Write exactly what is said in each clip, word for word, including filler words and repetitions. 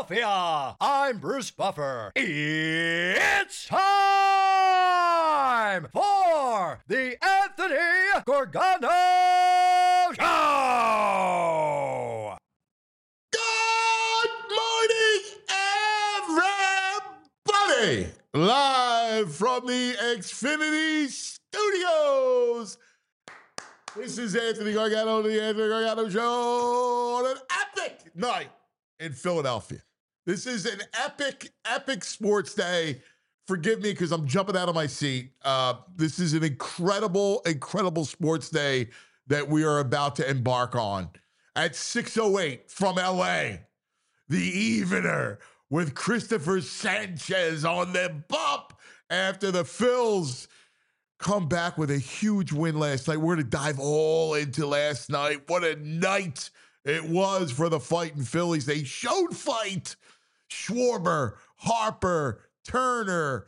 Philadelphia. I'm Bruce Buffer. It's time for the Anthony Gorgano Show. Good morning, everybody! Live from the Xfinity Studios. This is Anthony Gargano, the Anthony Gargano Show on an epic night in Philadelphia. This is an epic, epic sports day. Forgive me because I'm jumping out of my seat. Uh, this is an incredible, incredible sports day that we are about to embark on. At six oh eight from L A, the evener with Christopher Sanchez on the bump after the Phils come back with a huge win last night. We're going to dive all into last night. What a night it was for the Fighting Phillies. They showed fight. Schwarber, Harper, Turner,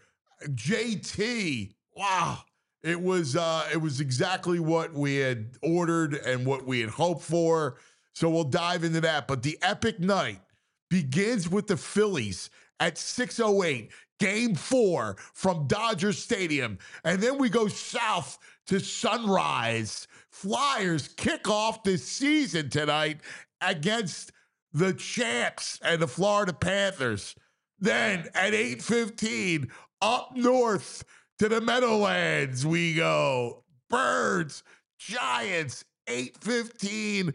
J T. Wow. It was uh, it was exactly what we had ordered and what we had hoped for. So we'll dive into that. But the epic night begins with the Phillies at six oh eight, game four from Dodger Stadium. And then we go south to Sunrise. Flyers kick off this season tonight against the champs and the Florida Panthers. Then at eight fifteen, up north to the Meadowlands we go. Birds, Giants, eight fifteen.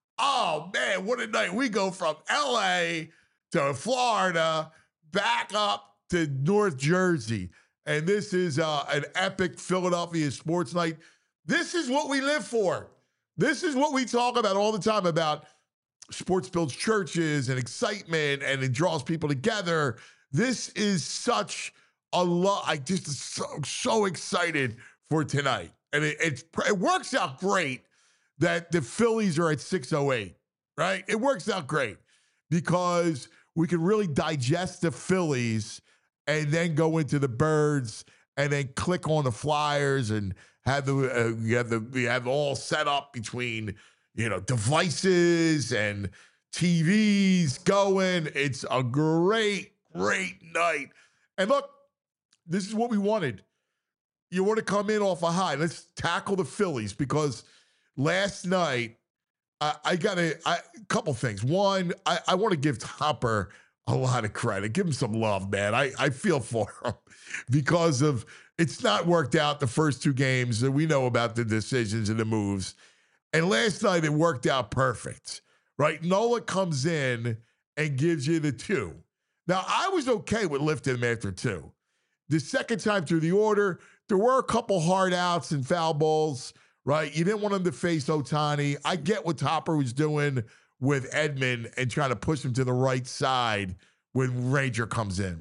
Oh, man, what a night. We go from L A to Florida, back up to North Jersey. And this is uh, an epic Philadelphia sports night. This is what we live for. This is what we talk about all the time, about sports builds churches and excitement, and it draws people together. This is such a lot. I just so, so excited for tonight. And it, it, it works out great that the Phillies are at six oh eight, right? It works out great because we can really digest the Phillies and then go into the Birds and then click on the Flyers and have the uh, we have the we have all set up between, you know, devices and T Vs going. It's a great, great night. And look, this is what we wanted. You want to come in off a high. Let's tackle the Phillies because last night, I, I got a, a couple things. One, I, I want to give Topper a lot of credit. Give him some love, man. I, I feel for him because of it's not worked out the first two games. And we know about the decisions and the moves. And last night, it worked out perfect, right? Nola comes in and gives you the two. Now, I was okay with lifting him after two. The second time through the order, there were a couple hard outs and foul balls. Right? You didn't want him to face Ohtani. I get what Topper was doing with Edman and trying to push him to the right side when Ranger comes in.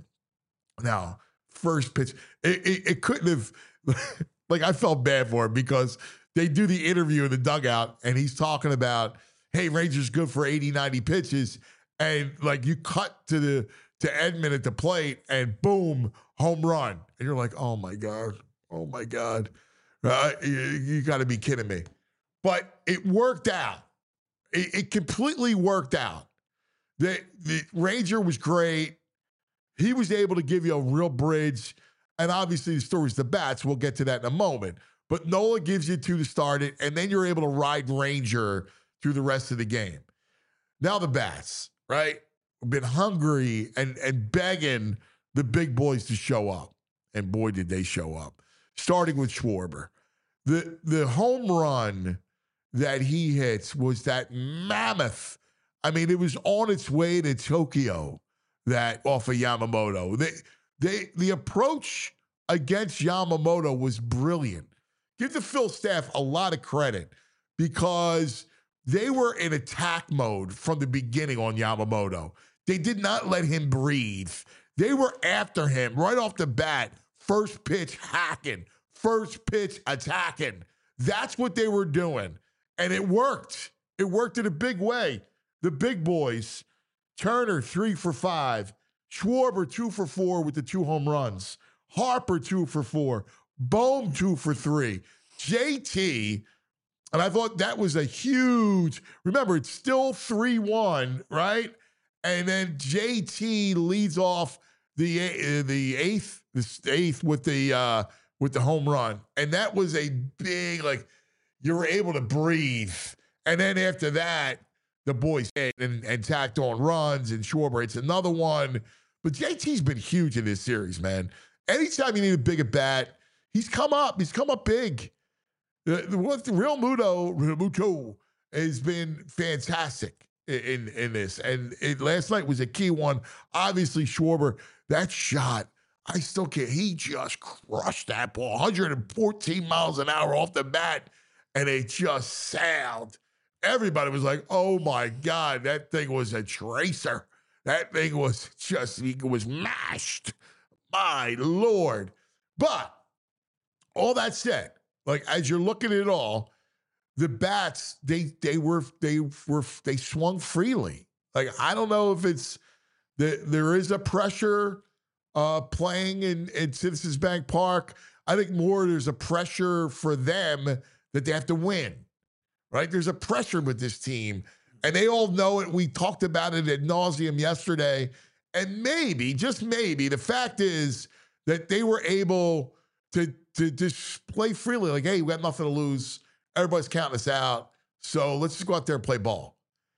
Now, first pitch, it, it, it couldn't have, like, I felt bad for him because they do the interview in the dugout and he's talking about, hey, Ranger's good for eighty, ninety pitches. And, like, you cut to the to Edman at the plate and boom, home run. And you're like, oh, my God. Oh, my God. Uh, you, you got to be kidding me. But it worked out. It, it completely worked out. The, the Ranger was great. He was able to give you a real bridge. And obviously the story's the bats. We'll get to that in a moment. But Nola gives you two to start it, and then you're able to ride Ranger through the rest of the game. Now the bats, right? We've been hungry and, and begging the big boys to show up. And boy, did they show up. Starting with Schwarber. The the home run that he hits was that mammoth. I mean, it was on its way to Tokyo, that off of Yamamoto. They, they, the approach against Yamamoto was brilliant. Give the Phil staff a lot of credit because they were in attack mode from the beginning on Yamamoto. They did not let him breathe. They were after him right off the bat. First pitch hacking. First pitch attacking. That's what they were doing. And it worked. It worked in a big way. The big boys, Turner, three for five. Schwarber, two for four with the two home runs. Harper, two for four. Bohm, two for three. J T, and I thought that was a huge, remember, it's still three one, right? And then J T leads off the uh, the eighth, the eighth with the uh, with the home run, and that was a big, like, you were able to breathe. And then after that, the boys hit and, and tacked on runs, and Schwarber hits another one. But J T's been huge in this series, man. Anytime you need a big at bat, he's come up. He's come up big. The, the, what the real Muto, Muto has been fantastic in in this, and it, last night was a key one. Obviously, Schwarber, that shot, I still can't. He just crushed that ball, one hundred fourteen miles an hour off the bat, and it just sailed. Everybody was like, "Oh my God, that thing was a tracer. That thing was just, it was mashed." My Lord! But all that said, like, as you're looking at it all, the bats, they they were they were they swung freely. Like, I don't know if it's that there is a pressure uh, playing in, in Citizens Bank Park. I think more there's a pressure for them that they have to win. Right? There's a pressure with this team, and they all know it. We talked about it ad nauseum yesterday, and maybe, just maybe, the fact is that they were able to to just play freely. Like, hey, we got nothing to lose. Everybody's counting us out, so let's just go out there and play ball.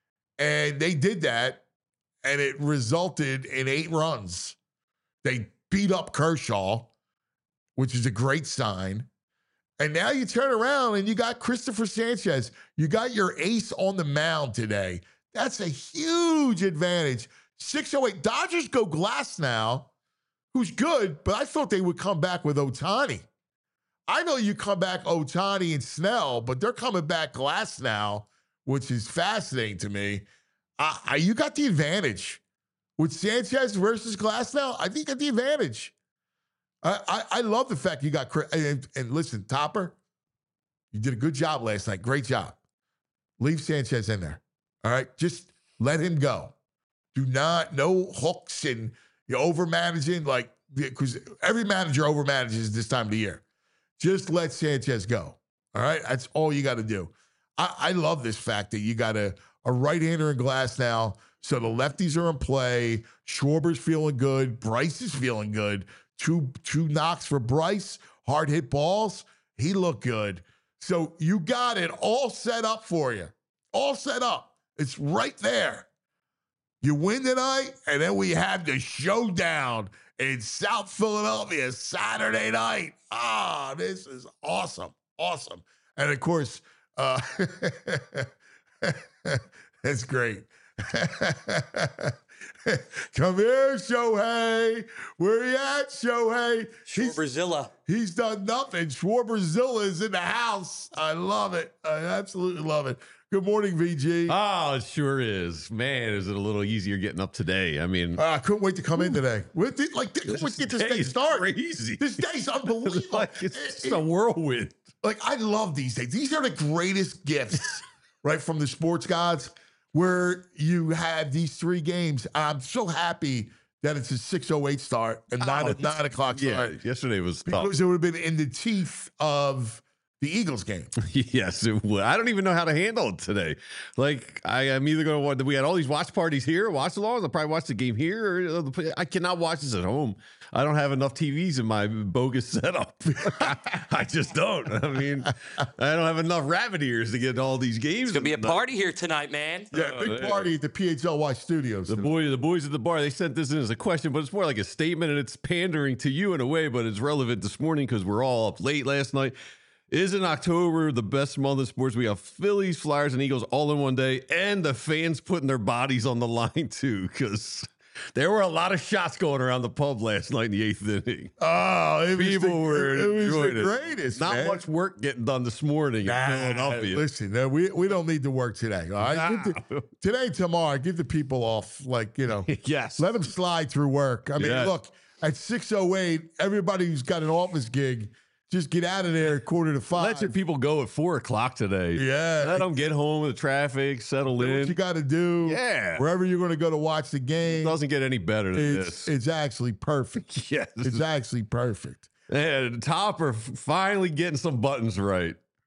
And they did that, and it resulted in eight runs. They beat up Kershaw, which is a great sign. And now you turn around and you got Christopher Sanchez. You got your ace on the mound today. That's a huge advantage. six oh eight. Dodgers go Glass now, who's good, but I thought they would come back with Ohtani. I know you come back Ohtani and Snell, but they're coming back Glass now, which is fascinating to me. Uh, you got the advantage. With Sanchez versus Glass now, I think you got the advantage. I, I, I love the fact you got Chris. And, and listen, Topper, you did a good job last night. Great job. Leave Sanchez in there. All right? Just let him go. Do not, no hooks and you're over-managing, like, because every manager over-manages this time of the year. Just let Sanchez go. All right? That's all you got to do. I, I love this fact that you got a, a right-hander in Glass now, so the lefties are in play. Schwarber's feeling good. Bryce is feeling good. Two, two knocks for Bryce. Hard hit balls. He looked good. So you got it all set up for you. All set up. It's right there. You win tonight, and then we have the showdown in South Philadelphia Saturday night. Ah, this is awesome. Awesome. And, of course, uh, that's great. Come here, Shohei. Where you at, Shohei? Schwarberzilla. He's, he's done nothing. Schwarberzilla is in the house. I love it. I absolutely love it. Good morning, V G. Oh, it sure is. Man, is it a little easier getting up today? I mean, uh, I couldn't wait to come in today. With it, like, this, let's get this day started. Crazy. This day's unbelievable. Like, it's just a whirlwind. Like, I love these days. These are the greatest gifts, right, from the sports gods, where you have these three games. I'm so happy that it's a six oh eight start and not Oh, a nine o'clock start. Yeah, yesterday was tough. Because it would have been in the teeth of the Eagles game. Yes, it would. I don't even know how to handle it today. Like, I am either going to watch, we had all these watch parties here, watch alongs. I'll probably watch the game here. Or I cannot watch this at home. I don't have enough T Vs in my bogus setup. I just don't. I mean, I don't have enough rabbit ears to get all these games. It's going to be a party here tonight, man. Yeah, big party at the P H L Y studios. The boy, the boys at the bar, they sent this in as a question, but it's more like a statement, and it's pandering to you in a way, but it's relevant this morning because we're all up late last night. Isn't October the best month of sports? We have Phillies, Flyers, and Eagles all in one day, and the fans putting their bodies on the line too, because there were a lot of shots going around the pub last night in the eighth inning. Oh, it was People the, were it was enjoying the it. greatest. Not man. much work getting done this morning Nah, in Philadelphia. listen, no, we we don't need to work today. All right, Nah. Give the, today, tomorrow, give the people off. Like, you know, Yes. let them slide through work. I mean, Yes. look, at six oh eight, everybody who's got an office gig, just get out of there at quarter to five. Let your people go at four o'clock today. Yeah. Let them get home with the traffic, settle Do what in. you got to do. Yeah. Wherever you're going to go to watch the It game, doesn't get any better than it's, this. it's actually perfect. Yes. It's actually perfect. And Topper finally getting some buttons right.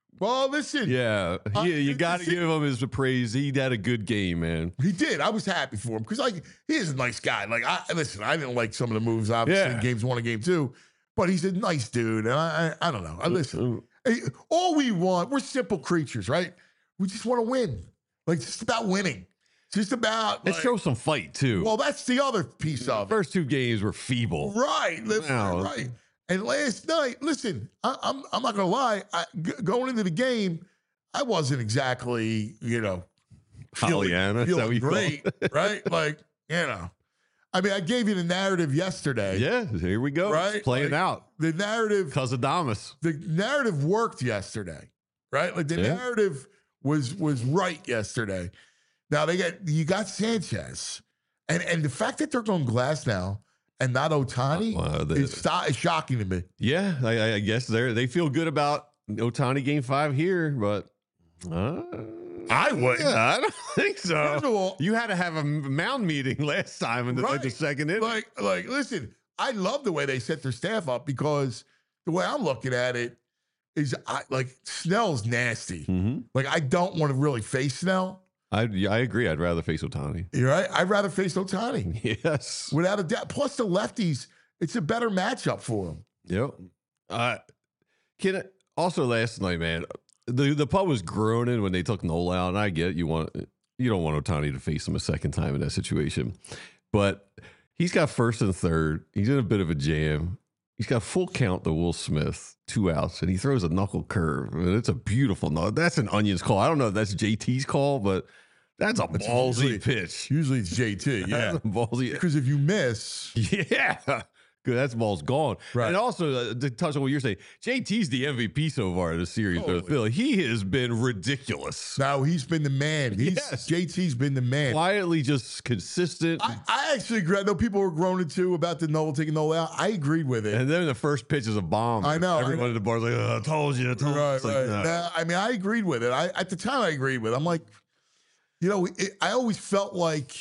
Well, listen. Yeah, Uh, you, you got to listen. give him his praise. He had a good game, man. He did. I was happy for him because, like, he is a nice guy. Like, I listen. I didn't like some of the moves, obviously, Yeah. in games one and game two, but he's a nice dude. And I, I, I don't know. I listen. Hey, all we want, we're simple creatures, right? We just want to win. Like, it's just about winning. It's just about. Let's like, show some fight too. Well, that's the other piece of it. First two games were feeble. Right. Listen, Wow. right. And last night, listen, I, I'm I'm not gonna lie. I, g- going into the game, I wasn't exactly, you know, feeling, Pollyanna, is that what feeling you call great, right? Like, you know, I mean, I gave you the narrative yesterday. Yeah, here we go. Right? It's playing Like, out. The narrative, Cause of Damas. the narrative worked yesterday, right? Like the Yeah. narrative was was right yesterday. Now they got you got Sanchez, and and the fact that they're going glass now and not Otani Wow, the- is, sto- is shocking to me. Yeah, I, I guess they they feel good about Otani game five here, but uh, I wouldn't. yeah, I don't think First so. of all, You had to have a mound meeting last time in the, like the Right. second inning. like, like, listen, I love the way they set their staff up because the way I'm looking at it is, I like Snell's nasty. Mhm. Like, I don't want to really face Snell. I yeah, I agree. I'd rather face Otani. You're right. I'd rather face Otani Yes. without a doubt. Plus, the lefties, it's a better matchup for them. Yep. Uh, can I, also last night, man, the the pub was groaning when they took Nola out, and I get you want you don't want Otani to face him a second time in that situation, but he's got first and third. He's in a bit of a jam. He's got full count to Will Smith, two outs, and he throws a knuckle curve. And it's a beautiful no. That's an Onions call. I don't know if that's J T's call, but that's a It's ballsy usually- pitch. Usually it's J T. Yeah. That's a ballsy. Because if you miss, Yeah. Good. That ball's gone. Right. And also, uh, to touch on what you're saying, J T's the M V P so far in the series for Totally. Philly. He has been ridiculous. now he's been the man. He's, Yes. J T's been the man. Quietly just consistent. I, I actually agree. I know people were groaning too about the Nola taking Nola out. I agreed with it. and then the first pitch is a bomb. I know, I Everyone know. at the bar's like, oh, I told you. I told you. Right, It's like, right. nah. Now, I mean, I agreed with it. I at the time I agreed with it. I'm like, you know, it, I always felt like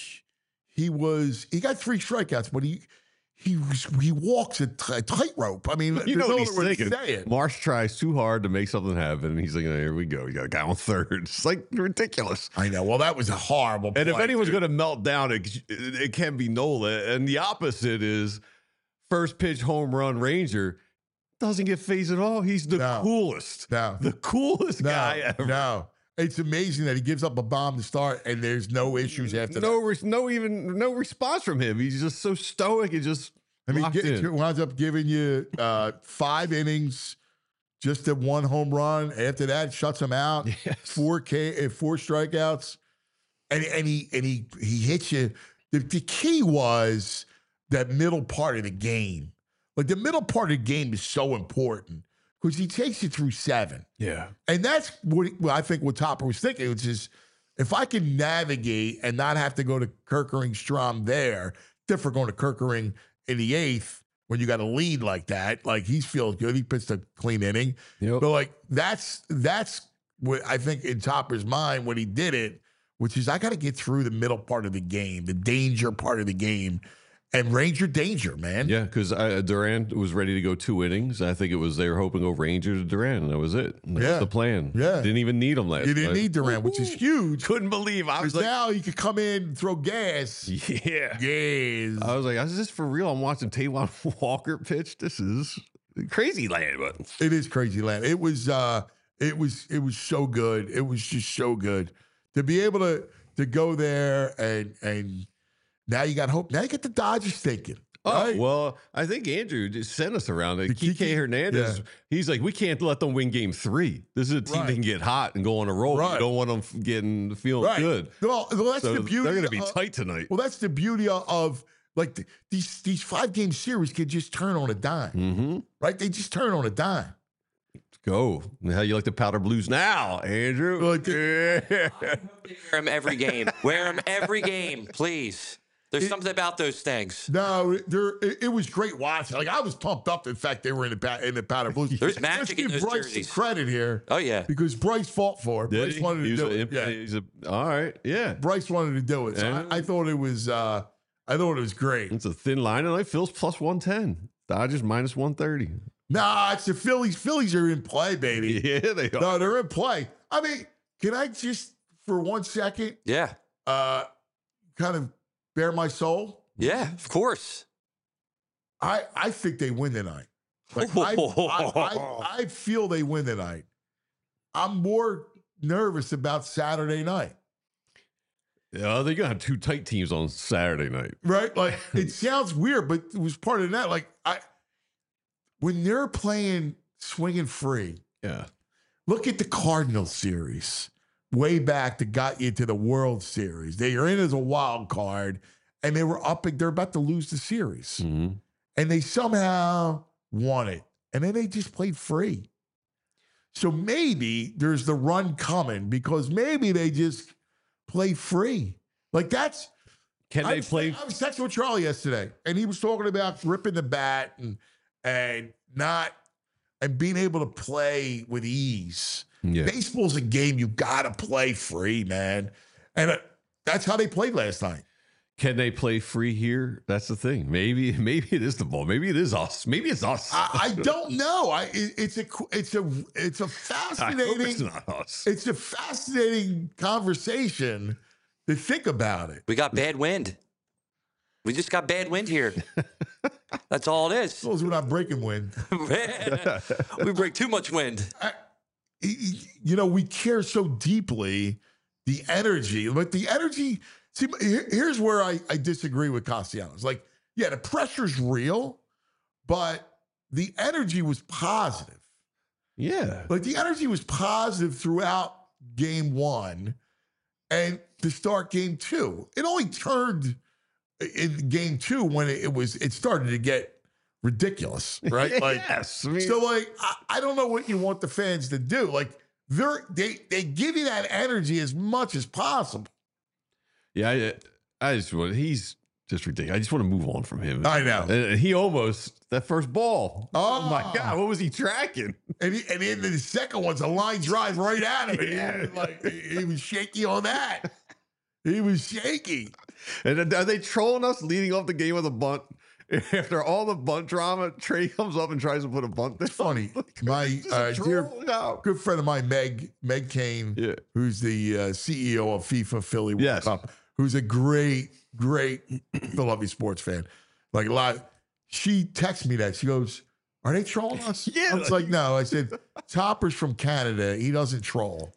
he was. He got three strikeouts, but he he was, he walks a t- tightrope. I mean, You there's know no what he's other way to thinking. say it. Marsh tries too hard to make something happen, and he's like, oh, here we go. You got a guy on third. It's like ridiculous. I know. Well, that was a horrible. And if play, anyone's dude. going to melt down, it, it can be Nola. And the opposite is first pitch home run Ranger doesn't get phased at all. He's the No. coolest, no, the coolest no, guy ever. no. It's amazing that he gives up a bomb to start, and there's no issues after No, that. res- no, even no response from him. He's just so stoic and just I mean, locked get, in. it winds up giving you uh, five innings, just at one home run. After that, shuts him out. Yes. Four K, uh, four strikeouts, and and he and he he hits you. The, the key was that middle part of the game. Like the middle part of the game is so important because he takes you through seven, Yeah, and that's what, he- what I think what Topper was thinking, which is if I can navigate and not have to go to Kerkering Strom there, different going to Kerkering in the eighth when you got a lead like that. Like he feels good. He pitched a clean inning. yep. But like that's that's what I think in Topper's mind when he did it, which is I got to get through the middle part of the game, the danger part of the game, and Ranger danger, man. Yeah, because Duran was ready to go two innings. I think it was they were hoping to go Ranger to Duran, and that was it. That Yeah. was the plan. Yeah. Didn't even need him last You didn't night. need Durant, which is huge. Couldn't believe. I was Because like, now he could come in and throw gas. yeah. Gas. I was like, is this for real? I'm watching Taiwan Walker pitch. This is crazy land, but It is crazy land. It was uh it was it was so good. It was just so good. To be able to to go there and and now you got hope. Now you get the Dodgers thinking. oh Right? well, I think Andrew just sent us around. Like, The Kike Kike- Hernandez, yeah. he's like, we can't let them win game three. This is a team Right. that can get hot and go on a roll. Right. You don't want them f- getting feeling Right. good. Well, well, that's So the beauty. they're going to be of- tight tonight. Well, that's the beauty of like the, these these five game series could just turn on a dime, Mm-hmm. right? They just turn on a dime. Go. How you like the powder blues now, Andrew? Like yeah. Wear him every game. Wear him every game, please. There's It- something about those things. No, there it, it was great watching. Like I was pumped up. In fact, they were in the pa- in the powder blues. There's Let's magic in give those Bryce jerseys. some credit here Oh yeah. because Bryce fought for it. Did Bryce he? wanted to He's do a, it. Yeah, he's a, all right. Yeah. Bryce wanted to do it. So Yeah. I, I thought it was. Uh, I thought it was great. It's a thin line tonight. Phil's plus one ten. Dodgers minus one thirty. Nah, it's the Phillies. Phillies are in play, baby. Yeah, they are. No, they're in play. I mean, can I just, for one second, Yeah. uh, kind of bare my soul? Yeah, of course. I, I think they win tonight. Like I, I, I, I feel they win tonight. I'm more nervous about Saturday night. Yeah, they're gonna have two tight teams on Saturday night. Right? Like it sounds weird, but it was part of that. Like I, when they're playing swinging free, Yeah. look at the Cardinals series way back that got you to the World Series. They are in as a wild card, and they were up. They're about to lose the series, Mm-hmm. and they somehow won it, and then they just played free. So maybe there's the run coming because maybe they just play free. Like that's. Can I they was, play? I was texting with Charlie yesterday, and he was talking about ripping the bat and and not and being able to play with ease. Yeah. Baseball's a game you gotta play free, man, and uh, that's how they played last night. Can they play free here? That's the thing. Maybe, maybe it is the ball. Maybe it is us. Maybe it's us. I, I don't know. I it, it's a it's a it's a I hope fascinating. it's not us. It's a fascinating conversation to think about it. We got bad wind. We just got bad wind here. That's all it As is. long as we're not breaking wind. We break too much wind. I, you know, we care so deeply the energy, but the energy. See, here- here's where I, I disagree with Castellanos. Like, yeah, the pressure's real, but the energy was positive. Yeah. Like the energy was positive throughout game one and to start game two. It only turned in game two when it, it was it started to get ridiculous, right? Like yes. I mean, so like I, I don't know what you want the fans to do. Like they're they they give you that energy as much as possible. yeah, I, I just want, he's just ridiculous. I just want to move on from him. I know. And he almost, that first ball. Oh. my God. What was he tracking? And he, and then the second one's a line drive right at him. And Yeah. he, was like he was shaky on that. He was shaky. And then are they trolling us leading off the game with a bunt? After all the bunt drama, Trey comes up and tries to put a bunt there. Funny. My Is this a uh, dear troll? No. good friend of mine, Meg Meg Kane, Yeah. who's the uh, C E O of FIFA Philly World Yes. Cup, who's a great, great Philadelphia sports fan. Like a lot. She texts me that. She goes, "Are they trolling us?" Yeah. I was like, "No." I said, "Topper's from Canada. He doesn't troll."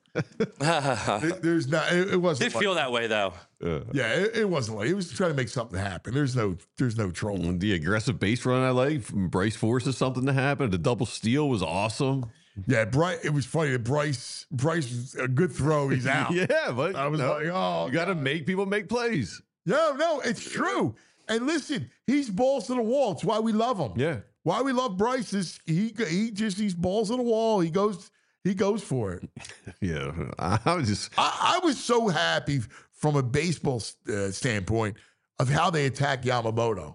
There- There's not. It, it wasn't. Did like- feel that way though. Uh, Yeah, it, it wasn't like he was trying to make something happen. There's no. There's no trolling. the aggressive base run I like from Bryce forces something to happen. The double steal was awesome. Yeah, Bryce. It was funny that Bryce. Bryce, a good throw. He's out. Yeah, but I was no, like, oh, you got to make people make plays. No, no, it's true. And listen, he's balls to the wall. It's why we love him. Yeah. Why we love Bryce is he he just he's balls to the wall. He goes he goes for it. Yeah. I was just, I, I was so happy from a baseball uh, standpoint of how they attacked Yamamoto.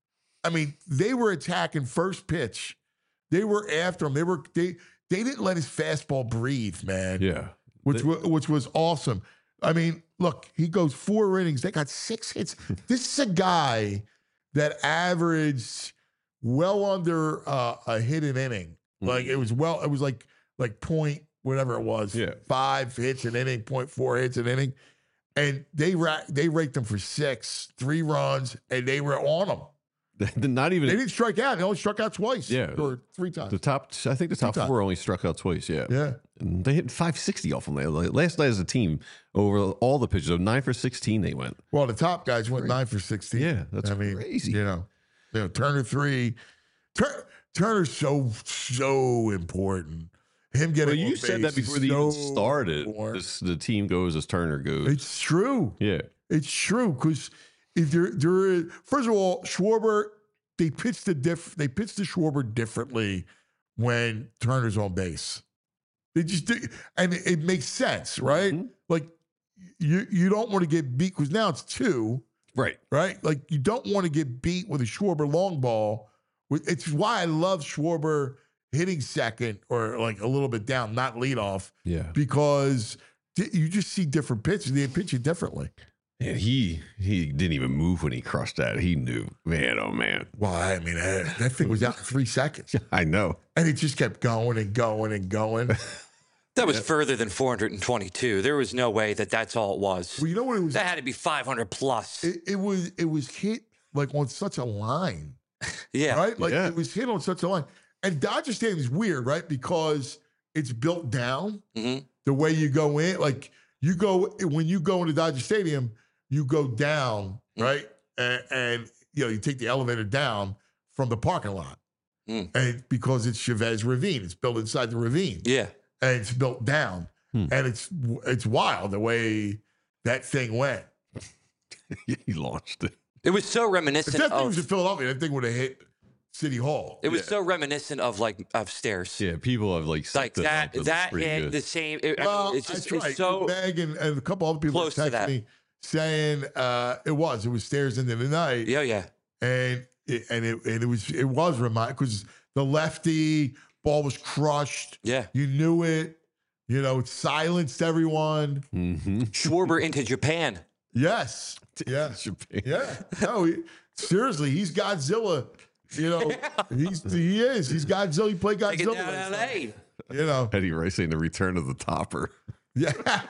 I mean, they were attacking first pitch. They were after him. They were they they didn't let his fastball breathe, man. yeah. Which wa- which was awesome. I mean, look, he goes four innings. They got six hits. This is a guy that averaged well under uh, a hit an inning. Like it was well, it was like like point whatever it was. Yeah. Five hits an inning, point four hits an inning, and they ra- they raked them for six, three runs, and they were on them. Not even They didn't strike out. They only struck out twice. Yeah. or three times. the top. I think the top times. four only struck out twice. Yeah. Yeah. And they hit five sixty off them last last night as a team over all the pitches. So nine for sixteen they went. Well, the top guys went nine for sixteen. Yeah, that's I mean, crazy. You know, you know, Turner three. Tur- Turner's so so important. Him getting. Well, you on said that base is before they so even started. important. This, the team goes as Turner goes. It's true. yeah. It's true because if there there is first of all, Schwarber they pitched the diff they pitched the Schwarber differently when Turner's on base. They just do, and it, it makes sense, right? Mhm. Like you you don't want to get beat because now it's two. Right. Right? Like you don't want to get beat with a Schwarber long ball. It's why I love Schwarber hitting second or like a little bit down, not lead off, Yeah. because di- you just see different pitches. They pitch it differently. And he he didn't even move when he crushed that. He knew, man, oh man. Well, I mean, uh, that thing was out in three seconds. I know. And it just kept going and going and going. That was further than four hundred twenty-two. There was no way that that's all it was. Well, you know what it was? That had to be five hundred plus. It, it was it was hit like on such a line, yeah. right? Like Yeah. it was hit on such a line. And Dodger Stadium is weird, right? Because it's built down hmm the way you go in. Like you go when you go into Dodger Stadium, you go down, right? And, and you know you take the elevator down from the parking lot, Mm. and because it's Chavez Ravine, it's built inside the ravine. Yeah. And it's built down, Hmm. and it's it's wild the way that thing went. He launched it. It was so If reminiscent that thing was in of. Philadelphia, that thing would have hit City Hall. It was so reminiscent of like of stairs. Yeah, people have like Like set that. up. It looks That pretty hit good. the same. It, I mean, Well, it's just that's it's right. so. Meg and, and a couple other people close to texted that. me saying uh, it was it was stairs into the night, Yeah, yeah. and it, and it and it was it was remind because the lefty ball was crushed. Yeah. You knew it. You know, it silenced everyone. Mm-hmm. Schwarber into Japan. Yes. Yeah. Japan. Yeah. No, he, seriously, he's Godzilla. You know, he's he is. He's Godzilla. He played Take it Godzilla. down last L night. A. You know. Eddie Rice saying the return of the topper. Yeah.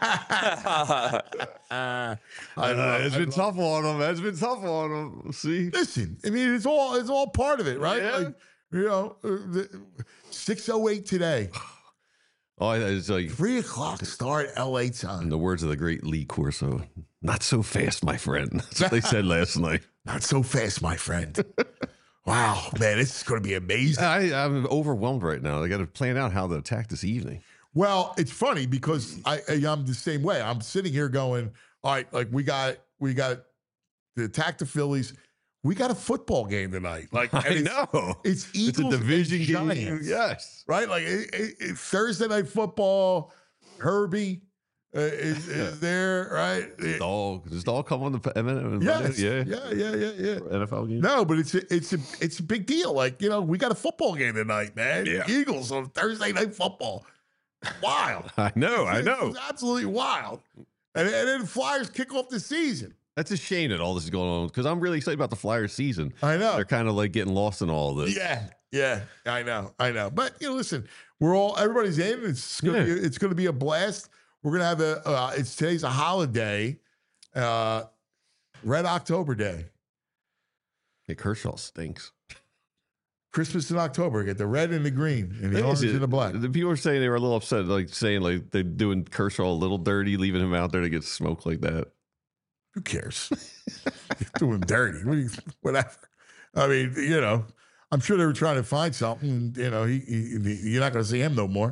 Uh, I Uh, love- it's I been love- tough on him. It's been tough on him. See? Listen, I mean, it's all it's all part of it, right? Yeah. Like, you know, six oh eight today, Oh, it's like three o'clock start L A in time. the words of the great Lee Corso, not so fast, my friend. That's what they said last night. Not so fast, my friend. Wow, man, this is going to be amazing. I, I'm overwhelmed right now. I got to plan out how to attack this evening. Well, it's funny because I I- I'm the same way. I'm sitting here going, all right, like we got we got to attack the Phillies. We got a football game tonight. Like I and it's, know. it's It's a Eagles and division game. Giants, Yes. right? Like it, it, it- Thursday night football. Herbie uh, is, is Yeah. there, right? It- Dog. Does dog come on the M N F? yes, Yeah. yeah, yeah, yeah, yeah. N F L game? No, but it's a, it's a it's a big deal. Like you know, we got a football game tonight, man. Yeah. Eagles on Thursday night football. Wild. I know. I know. It's absolutely wild. And, and then Flyers kick off the season. That's a shame that all this is going on because I'm really excited about the Flyers season. I know. They're kind of like getting lost in all of this. Yeah, yeah, I know, I know. But you know, listen, we're all everybody's in. It's gonna Yeah. be, it's gonna be a blast. We're gonna have a. Uh, it's today's a holiday, uh, Red October Day, Hey, Kershaw stinks. Christmas in October. Get the red and the green and the Thing orange is, and the black. The people are saying they were a little upset, like saying like they're doing Kershaw a little dirty, leaving him out there to get smoked like that. Who cares? Do him dirty. What do you- Whatever. I mean, you know, I'm sure they were trying to find something. And, you know, he, he, he- you're not going to see him no more.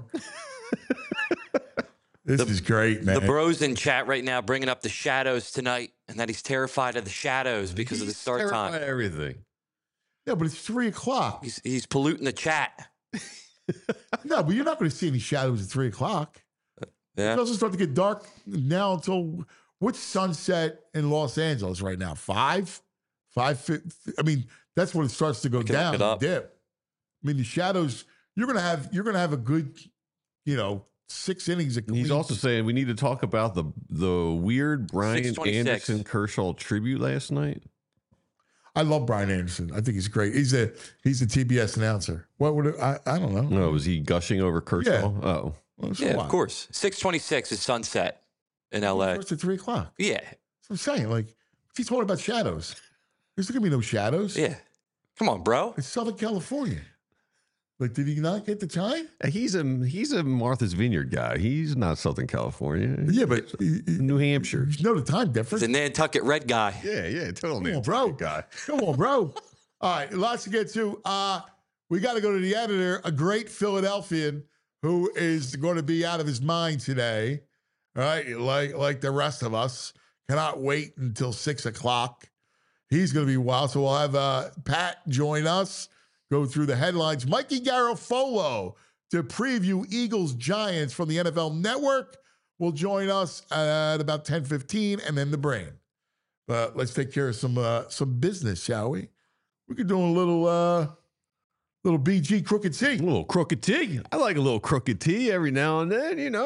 This is great, man. The bros in chat right now bringing up the shadows tonight, and that he's terrified of the shadows because of the He's start terrified time. of everything. yeah, but it's three o'clock. He's he's polluting the chat. No, but you're not going to see any shadows at three o'clock. Yeah. It doesn't start to get dark now until what's sunset in Los Angeles right now? Five, five. fi- I mean, that's when it starts to go can look down, it and up. dip. I mean, the shadows. You're gonna have. You're gonna have a good, you know, six innings. Of And he's clean- also saying we need to talk about the the weird Brian six twenty-six. Anderson Kershaw tribute last night. I love Brian Anderson. I think he's great. He's a he's a T B S announcer. What would it, I? I don't know. No, was he gushing over Kershaw? Yeah. Oh, Well, so Yeah, what? of course. six twenty-six is sunset in L A. Starts at three o'clock. Yeah. That's what I'm saying. Like, if he's talking about shadows, there's not gonna be no shadows. Yeah. Come on, bro. It's Southern California. Like, did he not get the time? he's a he's a Martha's Vineyard guy. He's not Southern California. Yeah, but you New Hampshire. know the time He's difference. a Nantucket red guy. Yeah, yeah, totally. Come on, bro. Guy. Come on, bro. All right, lots to get to. Uh, we got to go to the editor, a great Philadelphian who is going to be out of his mind today. All right, like like the rest of us, cannot wait until six o'clock. He's going to be wild. So we'll have uh, Pat join us, go through the headlines. Mikey Garofolo to preview Eagles Giants from the N F L Network will join us at about ten fifteen, and then the brain. But let's take care of some uh, some business, shall we? We could do a little uh, little B G crooked A T. little crooked tea. I like a little crooked tea every now and then, you know.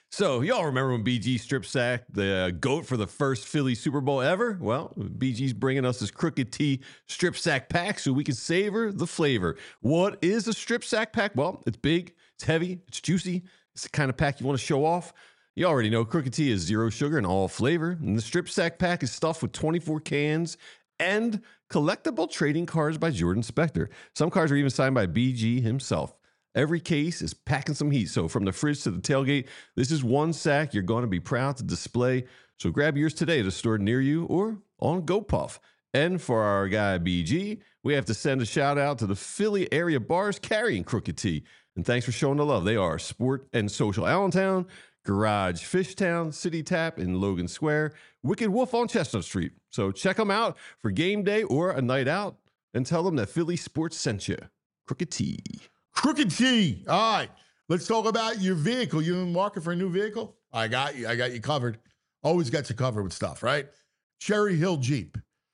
So, y'all remember when B G strip sacked the uh, GOAT for the first Philly Super Bowl ever? Well, B G's bringing us this Crooked T strip sack pack so we can savor the flavor. What is a strip sack pack? Well, it's big, it's heavy, it's juicy. It's the kind of pack you want to show off. You already know Crooked T is zero sugar and all flavor. And the strip sack pack is stuffed with twenty-four cans and collectible trading cards by Jordan Spector. Some cards are even signed by B G himself. Every case is packing some heat. So from the fridge to the tailgate, this is one sack you're going to be proud to display. So grab yours today at a store near you or on GoPuff. And for our guy B G, we have to send a shout out to the Philly area bars carrying Crooked T. And thanks for showing the love. They are Sport and Social Allentown, Garage Fishtown, City Tap in Logan Square, Wicked Wolf on Chestnut Street. So check them out for game day or a night out and tell them that Philly Sports sent you. Crooked T. Crooked T. All right. Let's talk about your vehicle. You in the market for a new vehicle? I got you. I got you covered. Always got you covered with stuff, right? Cherry Hill Jeep.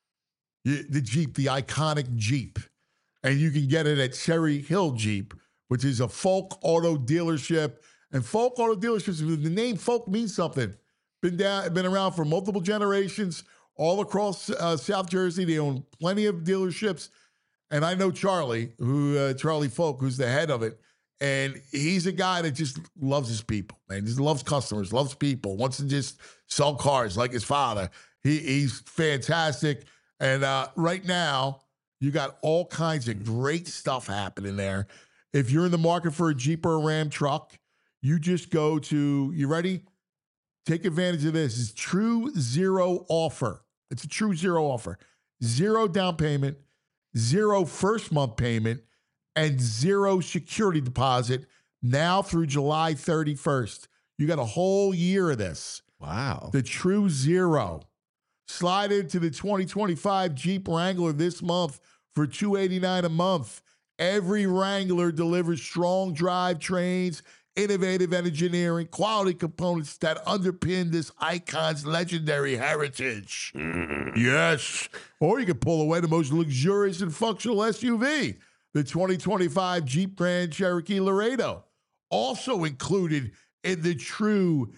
You, the Jeep, the iconic Jeep. And you can get it at Cherry Hill Jeep, which is a Folk Auto dealership. And Folk Auto dealerships, the name Folk means something. Been down, been around for multiple generations all across uh, South Jersey. They own plenty of dealerships. And I know Charlie, who uh, Charlie Folk, who's the head of it, and he's a guy that just loves his people, man. Just loves customers, loves people, wants to just sell cars like his father. He, he's fantastic. And uh, right now, you got all kinds of great stuff happening there. If you're in the market for a Jeep or a Ram truck, you just go to, you ready? Take advantage of this. It's True Zero offer. It's a True Zero offer. Zero down payment, zero first month payment, and zero security deposit now through July thirty-first. You got a whole year of this. Wow. The True Zero. Slide into the twenty twenty-five Jeep Wrangler this month for two hundred eighty-nine dollars a month. Every Wrangler delivers strong drive trains, innovative engineering, quality components that underpin this icon's legendary heritage. Mm. Yes. Or you can pull away the most luxurious and functional S U V, the twenty twenty-five Jeep Grand Cherokee Laredo, also included in the True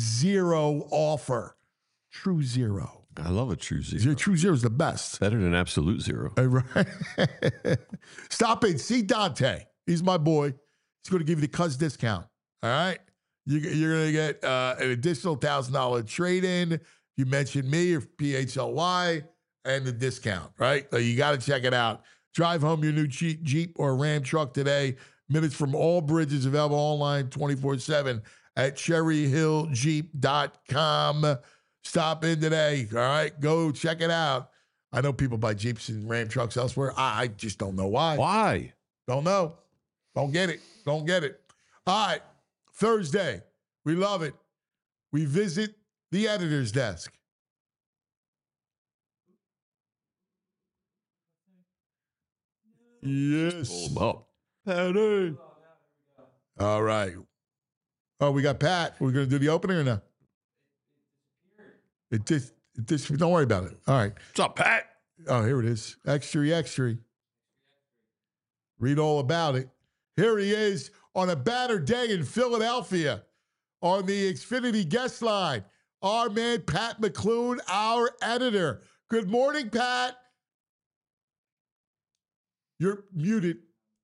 Zero offer. True Zero. I love a True Zero. True Zero is the best. Better than Absolute Zero. Uh, right. Stop in. See Dante. He's my boy. He's going to give you the cuz discount. All right? You, you're going to get uh, an additional one thousand dollars trade-in. You mentioned me or P H L Y and the discount, right? So you got to check it out. Drive home your new Jeep, Jeep or Ram truck today. Minutes from all bridges, available online twenty-four seven at cherry hill jeep dot com. Stop in today, all right? Go check it out. I know people buy Jeeps and Ram trucks elsewhere. I, I just don't know why. Why? Don't know. Don't get it. Don't get it. All right, Thursday. We love it. We visit the editor's desk. Yes. Oh, Patty. All right. Oh, we got Pat. We're going to do the opening or no? It just, it just, don't worry about it. All right. what's up, Pat? Oh, here it is. Extra, extra. Read all about it. Here he is on a battered day in Philadelphia on the Xfinity guest line. Our man, Pat McClune, our editor. Good morning, Pat. You're muted.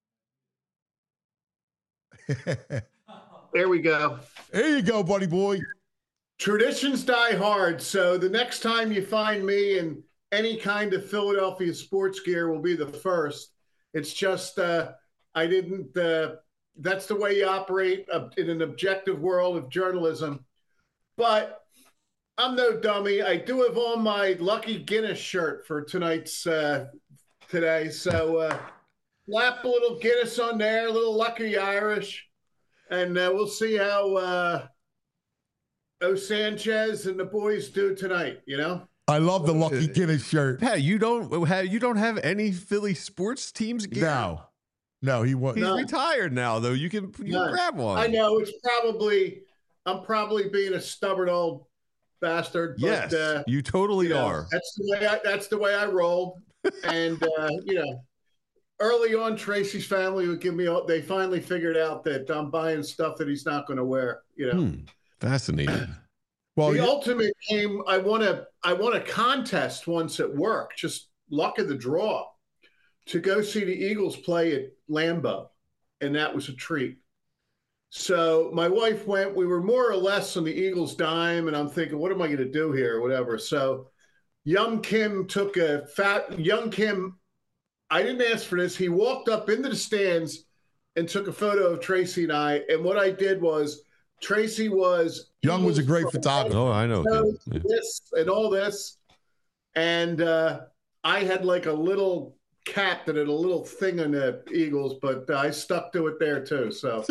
There we go. There you go, buddy boy. Traditions die hard, so the next time you find me in any kind of Philadelphia sports gear will be the first. It's just uh, I didn't uh, – that's the way you operate uh, in an objective world of journalism. But I'm no dummy. I do have on my Lucky Guinness shirt for tonight's uh, today. So uh, slap a little Guinness on there, a little Lucky Irish, and uh, we'll see how uh, – O Sanchez and the boys do tonight, you know? I love the Lucky Guinness shirt. Pat, you don't have you don't have any Philly sports teams gear? No. No, he wasn't. He's No. retired now, though. You can, you No. can grab one. I know it's probably I'm probably being a stubborn old bastard. But, Yes, uh, you totally you know, are. That's the way I that's the way I roll. And uh, you know, early on, Tracy's family would give me. They finally figured out that I'm buying stuff that he's not going to wear. You know. Hmm. Fascinating. Well, the you- ultimate game, I won a I won a contest once at work, just luck of the draw, to go see the Eagles play at Lambeau, and that was a treat. So my wife went. We were more or less on the Eagles' dime, and I'm thinking, what am I going to do here, or whatever. So Young Kim took a fat Young Kim. I didn't ask for this. He walked up into the stands and took a photo of Tracy and I. And what I did was, Tracy was Young was a great Eagles photographer. Oh, I know. knows Yeah. this and all this, and uh, I had like a little cap that had a little thing on the Eagles, but uh, I stuck to it there too. So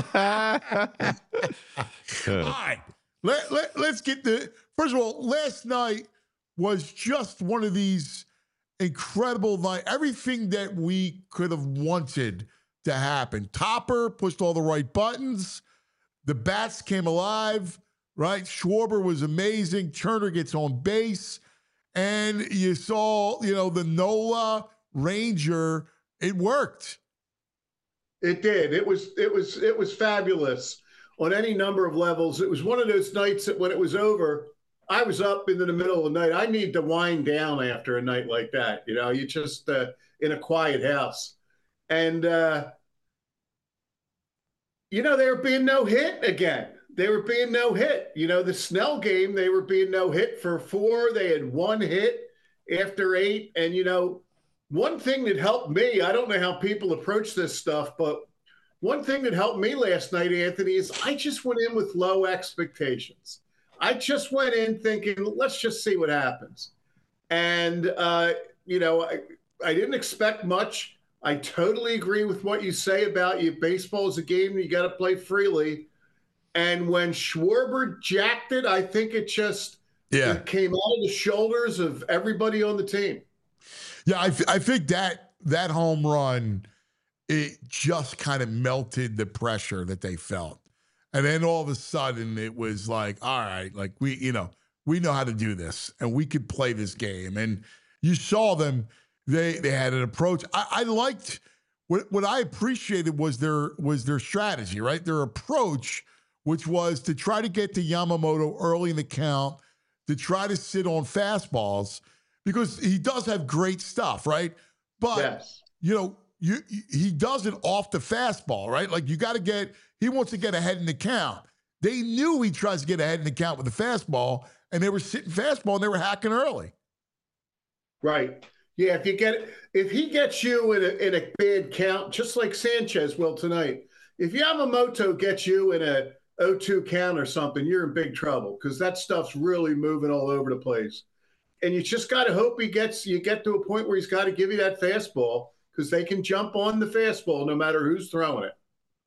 All right. Let, let, let's get the first of all, last night was just one of these incredible night. Everything that we could have wanted to happen. Topper pushed all the right buttons. The bats came alive, right? Schwarber was amazing. Turner gets on base. And you saw, you know, the Nola Ranger. It worked. it did. It was it was it was fabulous on any number of levels. It was one of those nights that when it was over, I was up into the middle of the night. I need to wind down after a night like that. You know, you just uh, in a quiet house. And, uh, you know, there being no hit again. They were being no hit. You know, the Snell game, they were being no hit for four. They had one hit after eight. And, you know, one thing that helped me, I don't know how people approach this stuff, but one thing that helped me last night, Anthony, is I just went in with low expectations. I just went in thinking, let's just see what happens. And, uh, you know, I, I didn't expect much. I totally agree with what you say about you. Baseball is a game you got to play freely. And when Schwarber jacked it, I think it just Yeah. it came out of the shoulders of everybody on the team. Yeah, I, I think that that home run, it just kind of melted the pressure that they felt. And then all of a sudden it was like, all right, like we, you know, we know how to do this and we could play this game. And you saw them, they they had an approach. I, I liked what what I appreciated was their was their strategy, right? Their approach, which was to try to get to Yamamoto early in the count, to try to sit on fastballs, because he does have great stuff, right? But Yes. you know, you he does it off the fastball, right? Like you got to get, he wants to get ahead in the count. They knew he tries to get ahead in the count with the fastball, and they were sitting fastball and they were hacking early. Right. Yeah, if you get if he gets you in a in a bad count, just like Sanchez will tonight, if Yamamoto gets you in a oh two count or something, you're in big trouble because that stuff's really moving all over the place. And you just got to hope he gets you get to a point where he's got to give you that fastball because they can jump on the fastball no matter who's throwing it.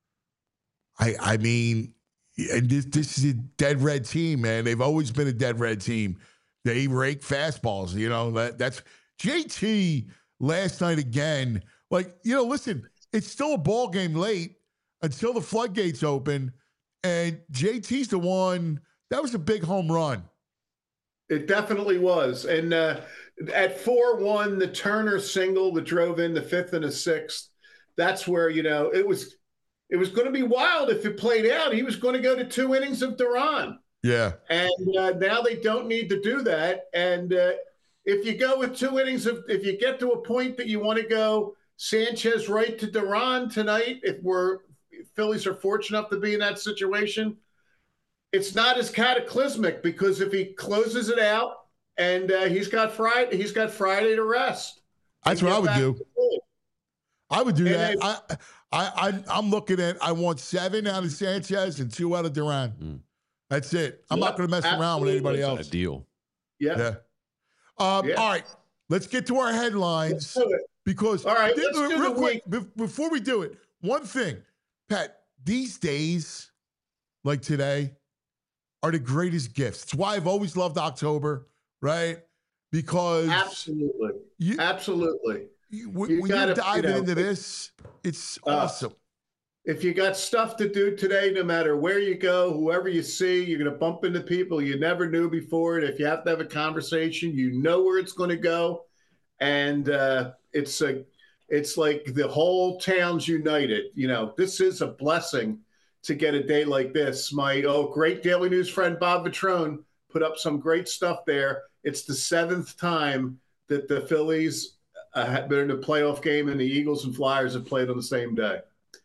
I I mean, and this this is a dead red team, man. They've always been a dead red team. They rake fastballs, you know. That that's J T last night again. Like, you know, listen, it's still a ball game late until the floodgates open, and J T's the one that was a big home run. It definitely was. And uh, at four one, the Turner single that drove in the fifth and the sixth, that's where, you know, it was it was going to be wild if it played out. He was going to go to two innings of Duran. Yeah. And uh, now they don't need to do that. And uh, if you go with two innings of, if you get to a point that you want to go Sanchez right to Duran tonight, if we're Phillies are fortunate enough to be in that situation, it's not as cataclysmic because if he closes it out and uh, he's got Friday, he's got Friday to rest. That's and what I get would back do. to play. I would do And that. then- I, I, I, I'm looking at, I want seven out of Sanchez and two out of Duran. Mm. That's it. I'm Yep, not going to mess around with anybody That's else. a deal. Yeah. Yeah. Um, Yeah. All right. Let's get to our Let's headlines do it. because, All right, th- let's do real the quick, be- before we do it, one thing, Pat, these days, like today, are the greatest gifts. It's why I've always loved October, right? Because Absolutely. you, Absolutely. you, when You when gotta, you're diving you know, into this, it's uh, awesome. If you got stuff to do today, no matter where you go, whoever you see, you're going to bump into people you never knew before. And if you have to have a conversation, you know where it's going to go. And uh, it's a, it's like the whole town's united. You know, this is a blessing to get a day like this. My oh great Daily News friend Bob Vitrone put up some great stuff there. It's the seventh time that the Phillies uh, have been in a playoff game and the Eagles and Flyers have played on the same day.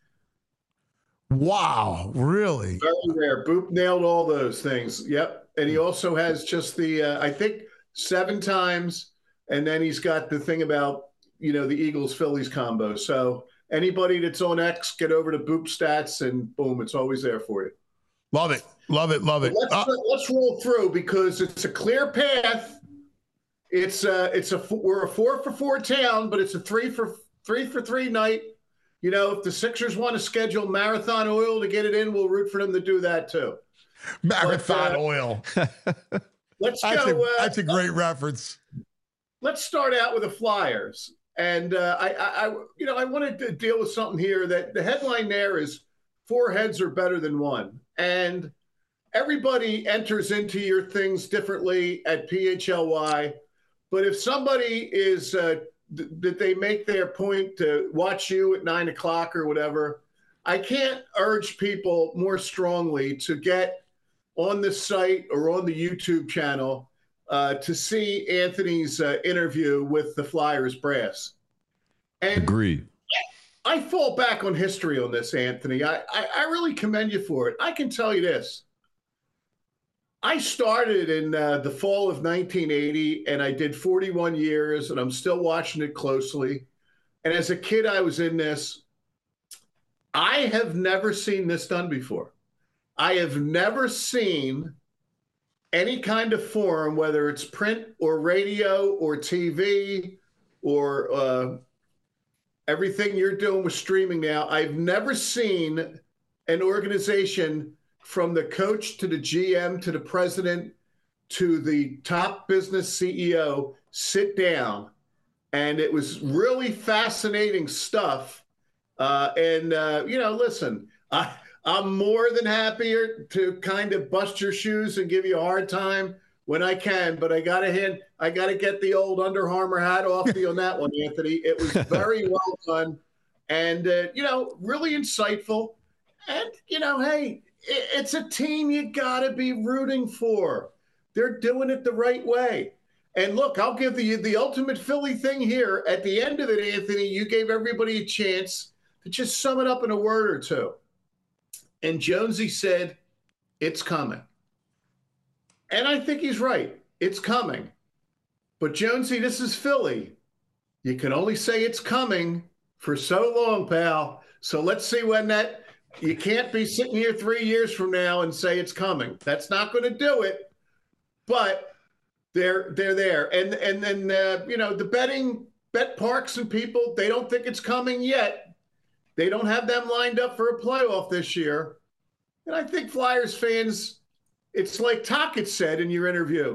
Wow, really? Very rare. Boop nailed all those things. Yep. And he also has just the, uh, I think, seven times. And then he's got the thing about, you know, the Eagles-Phillies combo. So anybody that's on X, get over to Boop Stats and boom, it's always there for you. Love it. Love it. Love it. Let's, Uh, let's roll through because it's a clear path. It's a, it's a, we're a four for four town, but it's a three for three for three night. You know, if the Sixers want to schedule Marathon Oil to get it in, we'll root for them to do that too. Marathon but, uh, Oil. Let's That's, go. a, Uh, that's a great reference. let's start out with the Flyers. And uh, I, I, I, you know, I wanted to deal with something here that the headline there is four heads are better than one. And everybody enters into your things differently at P H L Y. But if somebody is, uh, th- that they make their point to watch you at nine o'clock or whatever, I can't urge people more strongly to get on the site or on the YouTube channel uh, to see Anthony's uh, interview with the Flyers brass. And Agreed. I fall back on history on this, Anthony. I, I, I really commend you for it. I can tell you this. I started in uh, the fall of nineteen eighty, and I did forty-one years, and I'm still watching it closely. And as a kid, I was in this. I have never seen this done before. I have never seen any kind of forum, whether it's print or radio or T V or uh, everything you're doing with streaming now. I've never seen an organization from the coach to the G M to the president to the top business C E O sit down. And it was really fascinating stuff. Uh, and, uh, you know, listen, I, I'm more than happier to kind of bust your shoes and give you a hard time when I can. But I got to hand, I got to get the old Under Armour hat off you on that one, Anthony. It was very well done and, uh, you know, really insightful. And, you know, hey, it's a team you got to be rooting for. They're doing it the right way. And look, I'll give you the, the ultimate Philly thing here. At the end of it, Anthony, you gave everybody a chance to just sum it up in a word or two. And Jonesy said, it's coming. And I think he's right. It's coming. But Jonesy, this is Philly. You can only say it's coming for so long, pal. So let's see when that... You can't be sitting here three years from now and say it's coming. That's not going to do it. But they're they're there, and and then uh, you know the betting bet parks and people, they don't think it's coming yet. They don't have them lined up for a playoff this year. And I think Flyers fans, it's like Tocchet said in your interview.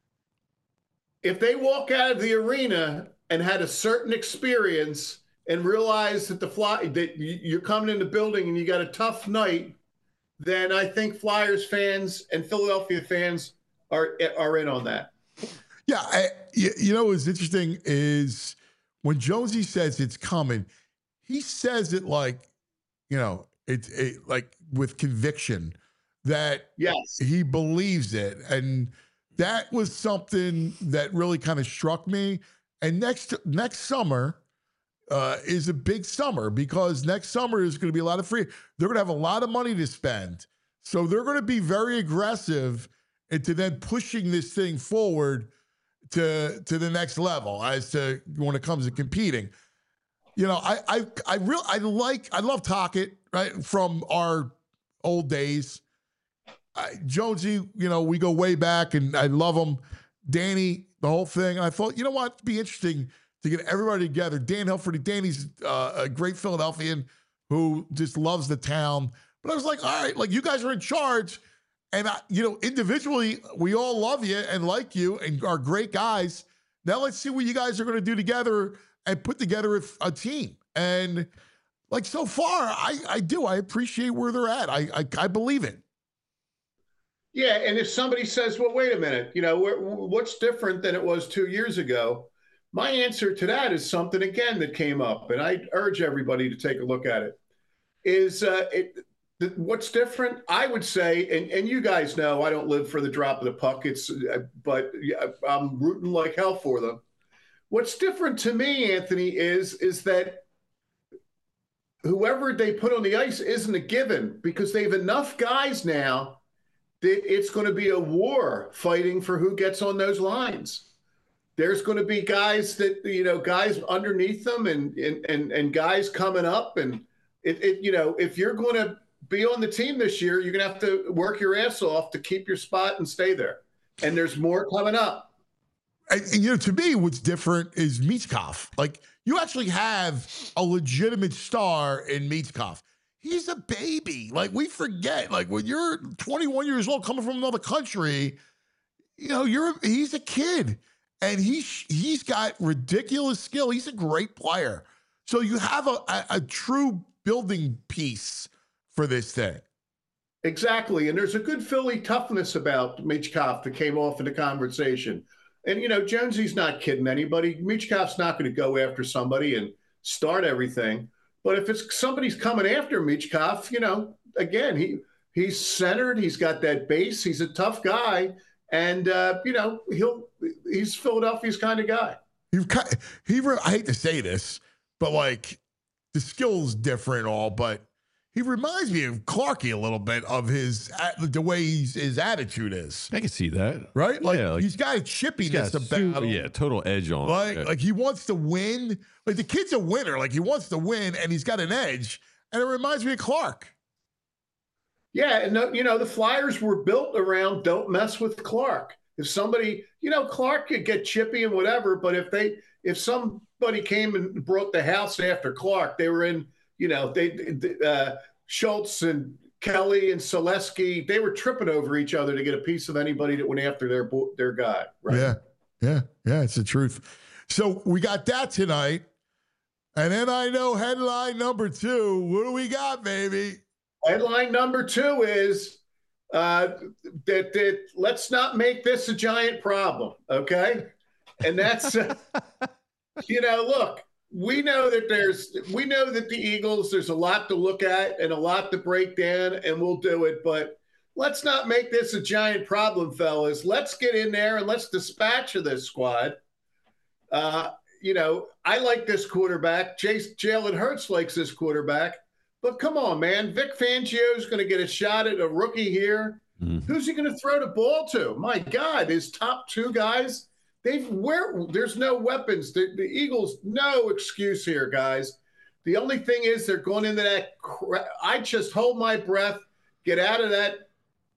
If they walk out of the arena and had a certain experience and realize that the fly that you're coming in the building and you got a tough night, then I think Flyers fans and Philadelphia fans are are in on that. Yeah, I, you, you know what's interesting is when Jonesy says it's coming, he says it like, you know, it's it, like with conviction that yes, he believes it, and that was something that really kind of struck me. And next next summer. Uh, is a big summer because next summer is going to be a lot of free. They're going to have a lot of money to spend. So they're going to be very aggressive into then pushing this thing forward to, to the next level as to when it comes to competing. You know, I I I real I like I love Tocchet, right, from our old days. I, Jonesy, you know, we go way back and I love him. Danny, the whole thing. And I thought, you know what, it'd be interesting to get everybody together. Dan Hilferty, Danny's uh, a great Philadelphian who just loves the town. But I was like, all right, like you guys are in charge. And, I, you know, individually, we all love you and like you and are great guys. Now let's see what you guys are going to do together and put together a, a team. And like so far, I, I do. I appreciate where they're at. I, I, I believe it. Yeah, and if somebody says, well, wait a minute, you know, what's different than it was two years ago? My answer to that is something, again, that came up, and I urge everybody to take a look at it, is uh, it, the, what's different, I would say, and, and you guys know I don't live for the drop of the puck. It's, uh, but yeah, I'm rooting like hell for them. What's different to me, Anthony, is is that whoever they put on the ice isn't a given because they have enough guys now that it's going to be a war fighting for who gets on those lines. There's going to be guys that, you know, guys underneath them and and and, and guys coming up. And, it, it, you know, if you're going to be on the team this year, you're going to have to work your ass off to keep your spot and stay there. And there's more coming up. And, and, you know, to me, what's different is Michkov. Like, you actually have a legitimate star in Michkov. He's a baby. Like, we forget. Like, when you're twenty-one years old, coming from another country, you know, you're he's a kid. And he, he's got ridiculous skill. He's a great player. So you have a, a, a true building piece for this thing. Exactly. And there's a good Philly toughness about Michkov that came off in the conversation. And, you know, Jonesy's not kidding anybody. Michkov's not going to go after somebody and start everything. But if it's somebody's coming after Michkov, you know, again, he he's centered. He's got that base. He's a tough guy. And, uh, you know, he'll he's Philadelphia's kind of guy. He, he, I hate to say this, but, like, the skill's different and all, but he reminds me of Clarkie a little bit of his the way he's, his attitude is. I can see that. Right? Like, yeah, like he's got a chippiness about him. Yeah, total edge on like, him. like he wants to win. Like, the kid's a winner. Like, he wants to win, and he's got an edge. And it reminds me of Clark. Yeah, and, you know, the Flyers were built around don't mess with Clark. If somebody, you know, Clark could get chippy and whatever, but if they, if somebody came and brought the house after Clark, they were in, you know, they, uh, Schultz and Kelly and Selesky, they were tripping over each other to get a piece of anybody that went after their their guy. Right? Yeah, yeah, yeah. It's the truth. So we got that tonight, and then I know headline number two. What do we got, baby? Headline number two is uh, that, that let's not make this a giant problem, okay? And that's, uh, you know, look, we know that there's, we know that the Eagles, there's a lot to look at and a lot to break down, and we'll do it. But let's not make this a giant problem, fellas. Let's get in there and let's dispatch of this squad. Uh, you know, I like this quarterback. Chase Jalen Hurts likes this quarterback. But come on, man. Vic Fangio is going to get a shot at a rookie here. Mm-hmm. Who's he going to throw the ball to? My God, his top two guys, they've where there's no weapons. The, the Eagles, no excuse here, guys. The only thing is they're going into that. Cra- I just hold my breath, get out of that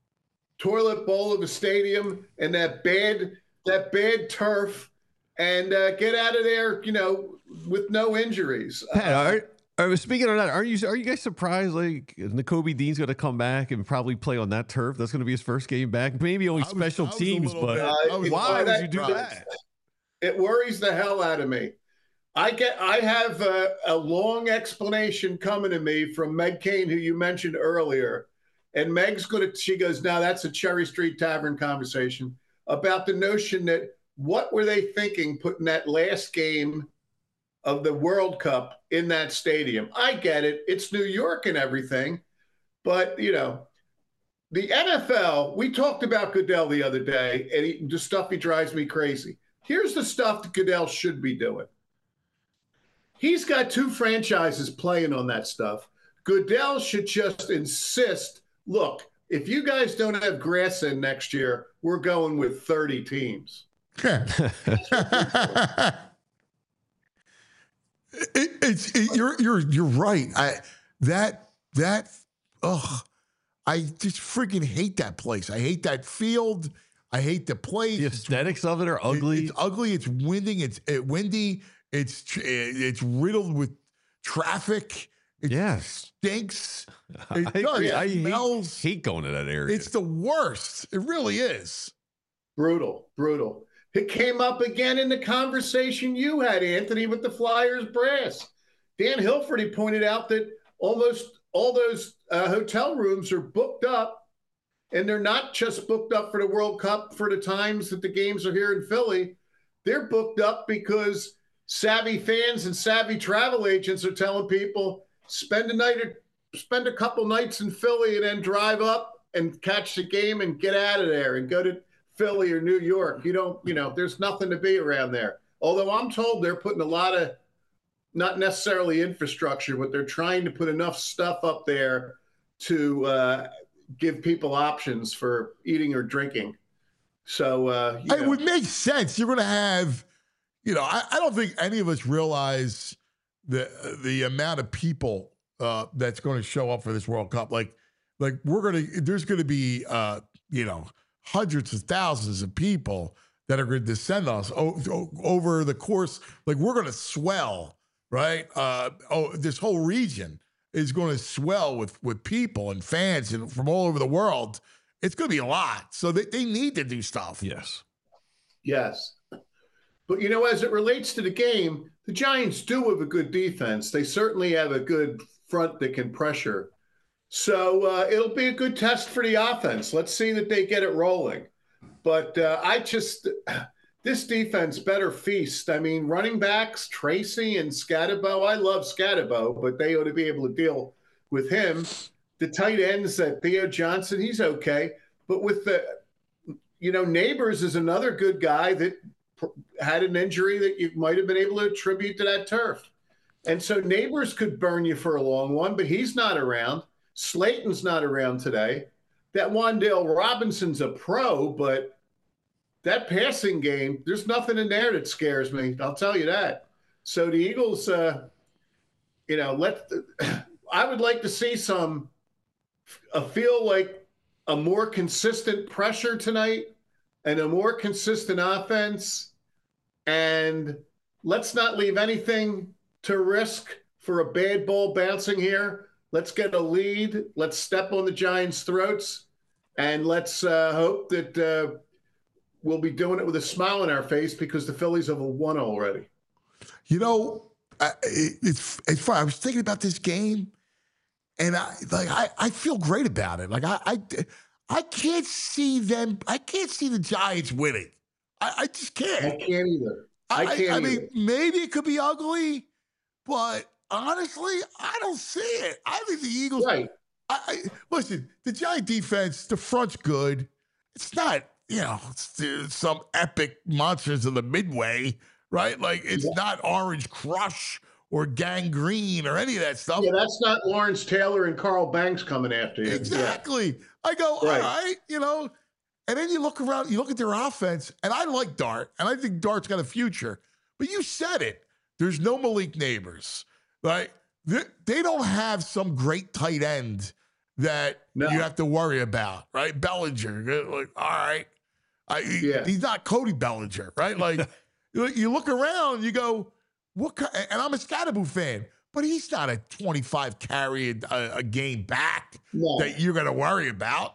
toilet bowl of a stadium and that bad that bad turf, and uh, get out of there, you know, with no injuries. Pat, uh, are, are, speaking of that, are you are you guys surprised like Nakobe Dean's going to come back and probably play on that turf? That's going to be his first game back. Maybe only was, special teams, but bit, uh, why would you do that? that? It worries the hell out of me. I get. I have a, a long explanation coming to me from Meg Kane, who you mentioned earlier, and Meg's going to. She goes, "Now that's a Cherry Street Tavern conversation about the notion that what were they thinking putting that last game of the World Cup in that stadium?" I get it. It's New York and everything. But, you know, the N F L, we talked about Goodell the other day, and he, the stuff he drives me crazy. Here's the stuff that Goodell should be doing. He's got two franchises playing on that stuff. Goodell should just insist, look, if you guys don't have grass in next year, we're going with thirty teams. it, it's it, you're you're you're right. I that that ugh, I just freaking hate that place. I hate that field. I hate the place. The aesthetics of it are ugly. It, it's ugly. It's winding. It's it, windy. It's it's riddled with traffic. It yes. stinks. I, It I, does. agree. It I hate, smells. hate going to that area. It's the worst. It really is. Brutal, brutal. It came up again in the conversation you had, Anthony, with the Flyers brass. Dan Hilford, he pointed out that almost all those uh, hotel rooms are booked up, and they're not just booked up for the World Cup for the times that the games are here in Philly. They're booked up because savvy fans and savvy travel agents are telling people, spend a night or spend a couple nights in Philly and then drive up and catch the game and get out of there and go to Philly or New York. You don't, you know, there's nothing to be around there. Although I'm told they're putting a lot of, not necessarily infrastructure, but they're trying to put enough stuff up there to uh, give people options for eating or drinking. So uh, you it know. would make sense. You're going to have, you know, I, I don't think any of us realize the the amount of people uh, that's going to show up for this World Cup. Like, like we're going to, there's going to be, uh, you know, hundreds of thousands of people that are going to descend on us o- over the course. Like, we're going to swell, right? Uh, oh, this whole region is going to swell with with people and fans and from all over the world. It's going to be a lot. So they, they need to do stuff. Yes. Yes. But, you know, as it relates to the game, the Giants do have a good defense. They certainly have a good front that can pressure. So uh, it'll be a good test for the offense. Let's see that they get it rolling. But uh, I just – this defense better feast. I mean, running backs, Tracy and Scatterbo. I love Scatterbo, but they ought to be able to deal with him. The tight ends, that Theo Johnson, he's okay. But with the – you know, Neighbors is another good guy that – had an injury that you might have been able to attribute to that turf. And so Neighbors could burn you for a long one, but he's not around. Slayton's not around today. That Wan'Dale Robinson's a pro, but that passing game, there's nothing in there that scares me. I'll tell you that. So the Eagles, uh, you know, let I would like to see some, I feel like a more consistent pressure tonight and a more consistent offense. And let's not leave anything to risk for a bad ball bouncing here. Let's get a lead. Let's step on the Giants' throats. And let's uh, hope that uh, we'll be doing it with a smile on our face because the Phillies have won already. You know, I, it, it's it's fun. I was thinking about this game, and I like I, I feel great about it. Like I, I I can't see them. I can't see the Giants winning. I, I just can't. I can't either. I can't I, I either. mean, maybe it could be ugly, but honestly, I don't see it. I think the Eagles. Right. I, I, listen, the Giant defense, the front's good. It's not, you know, it's, some epic monsters of the Midway, right? Like, it's Yeah. not Orange Crush or Gangrene or any of that stuff. Yeah, that's not Lawrence Taylor and Carl Banks coming after you. Exactly. I go, Right. all right, you know. And then you look around, you look at their offense, and I like Dart, and I think Dart's got a future. But you said it. There's no Malik Neighbors, right? They, they don't have some great tight end that No. you have to worry about, right? Bellinger, like, all right. I, he- Yeah. He's not Cody Bellinger, right? Like, you, you look around, you go, what? ki- And I'm a Scatterbo fan, but he's not a twenty-five carry a, a game back No. that you're going to worry about.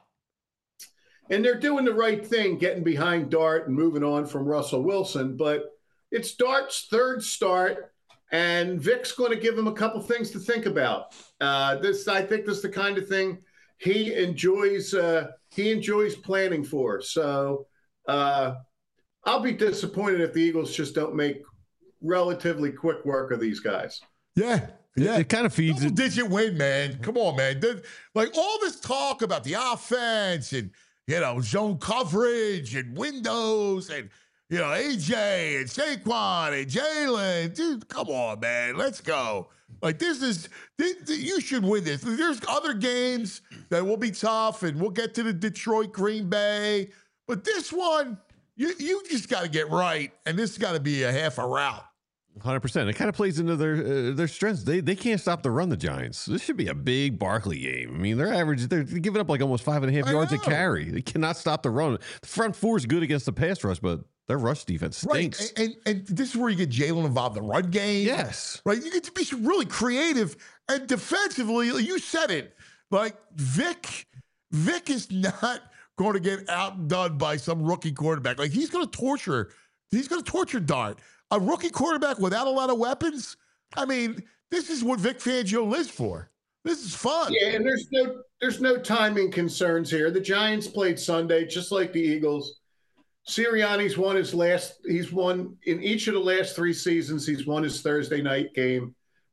And they're doing the right thing, getting behind Dart and moving on from Russell Wilson. But it's Dart's third start, and Vic's going to give him a couple things to think about. Uh, this, I think, this is the kind of thing he enjoys. Uh, he enjoys planning for. So uh, I'll be disappointed if the Eagles just don't make relatively quick work of these guys. Yeah. Yeah. It kind of feeds Double it. digit win, man. Come on, man. There- Like all this talk about the offense and, you know, zone coverage and windows and, you know, A J and Saquon and Jalen. Dude, come on, man. Let's go. Like, this is, this, you should win this. There's other games that will be tough, and we'll get to the Detroit, Green Bay. But this one, you, you just got to get right, and this has got to be a half a route. one hundred percent. It kind of plays into their uh, their strengths. They they can't stop the run, the Giants. This should be a big Barkley game. I mean, they're average. They're giving up like almost five and a half I yards a know. carry. They cannot stop the run. The front four is good against the pass rush, but their rush defense stinks. Right. And, and, and this is where you get Jalen involved in the run game. Yes. Right. You get to be really creative and defensively. You said it. Like Vic, Vic is not going to get outdone by some rookie quarterback. Like he's going to torture. He's going to torture Dart. A rookie quarterback without a lot of weapons. I mean, this is what Vic Fangio lives for. This is fun. Yeah, and there's no there's no timing concerns here. The Giants played Sunday, just like the Eagles. Sirianni's won his last. He's won in each of the last three seasons. He's won his Thursday night game.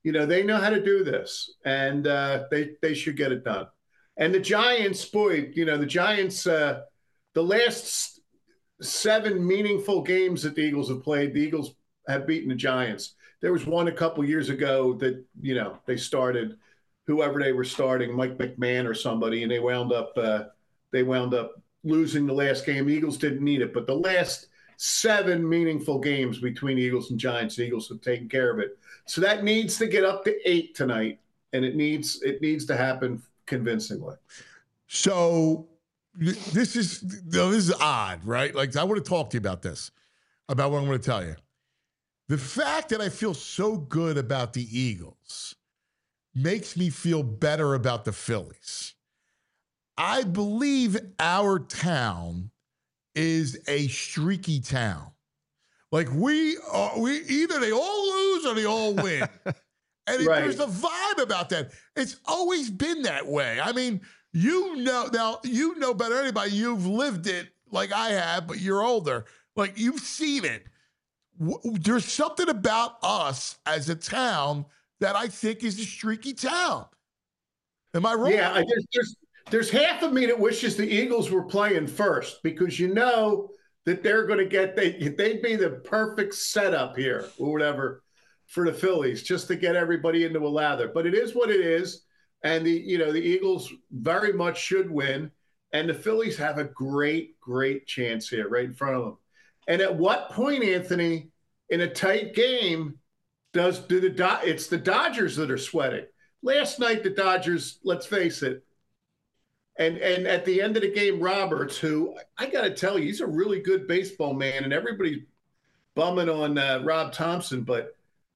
You know, they know how to do this, and uh, they they should get it done. And the Giants, boy, you know, the Giants, uh, the last seven meaningful games that the Eagles have played, the Eagles have beaten the Giants. There was one a couple years ago that, you know, they started whoever they were starting, Mike McMahon or somebody, and they wound up uh, they wound up losing the last game. The Eagles didn't need it, but the last seven meaningful games between the Eagles and Giants, the Eagles have taken care of it. So that needs to get up to eight tonight, and it needs it needs to happen convincingly. So this is this is odd, right? Like, I want to talk to you about this, about what I'm going to tell you. The fact that I feel so good about the Eagles makes me feel better about the Phillies. I believe our town is a streaky town. Like, we are, we either they all lose or they all win. And Right. there's a vibe about that. It's always been that way. I mean, you know, now you know better than anybody. You've lived it like I have, but you're older. Like, you've seen it. W- There's something about us as a town that I think is a streaky town. Am I wrong? Yeah, I guess there's there's half of me that wishes the Eagles were playing first, because you know that they're going to get they they'd be the perfect setup here or whatever for the Phillies, just to get everybody into a lather. But it is what it is, and the you know the Eagles very much should win, and the Phillies have a great great chance here right in front of them. And at what point, Anthony, in a tight game, does do the Do- it's the Dodgers that are sweating? Last night, the Dodgers, let's face it, and and at the end of the game, Roberts, who I got to tell you, he's a really good baseball man, and everybody's bumming on uh, Rob Thompson, but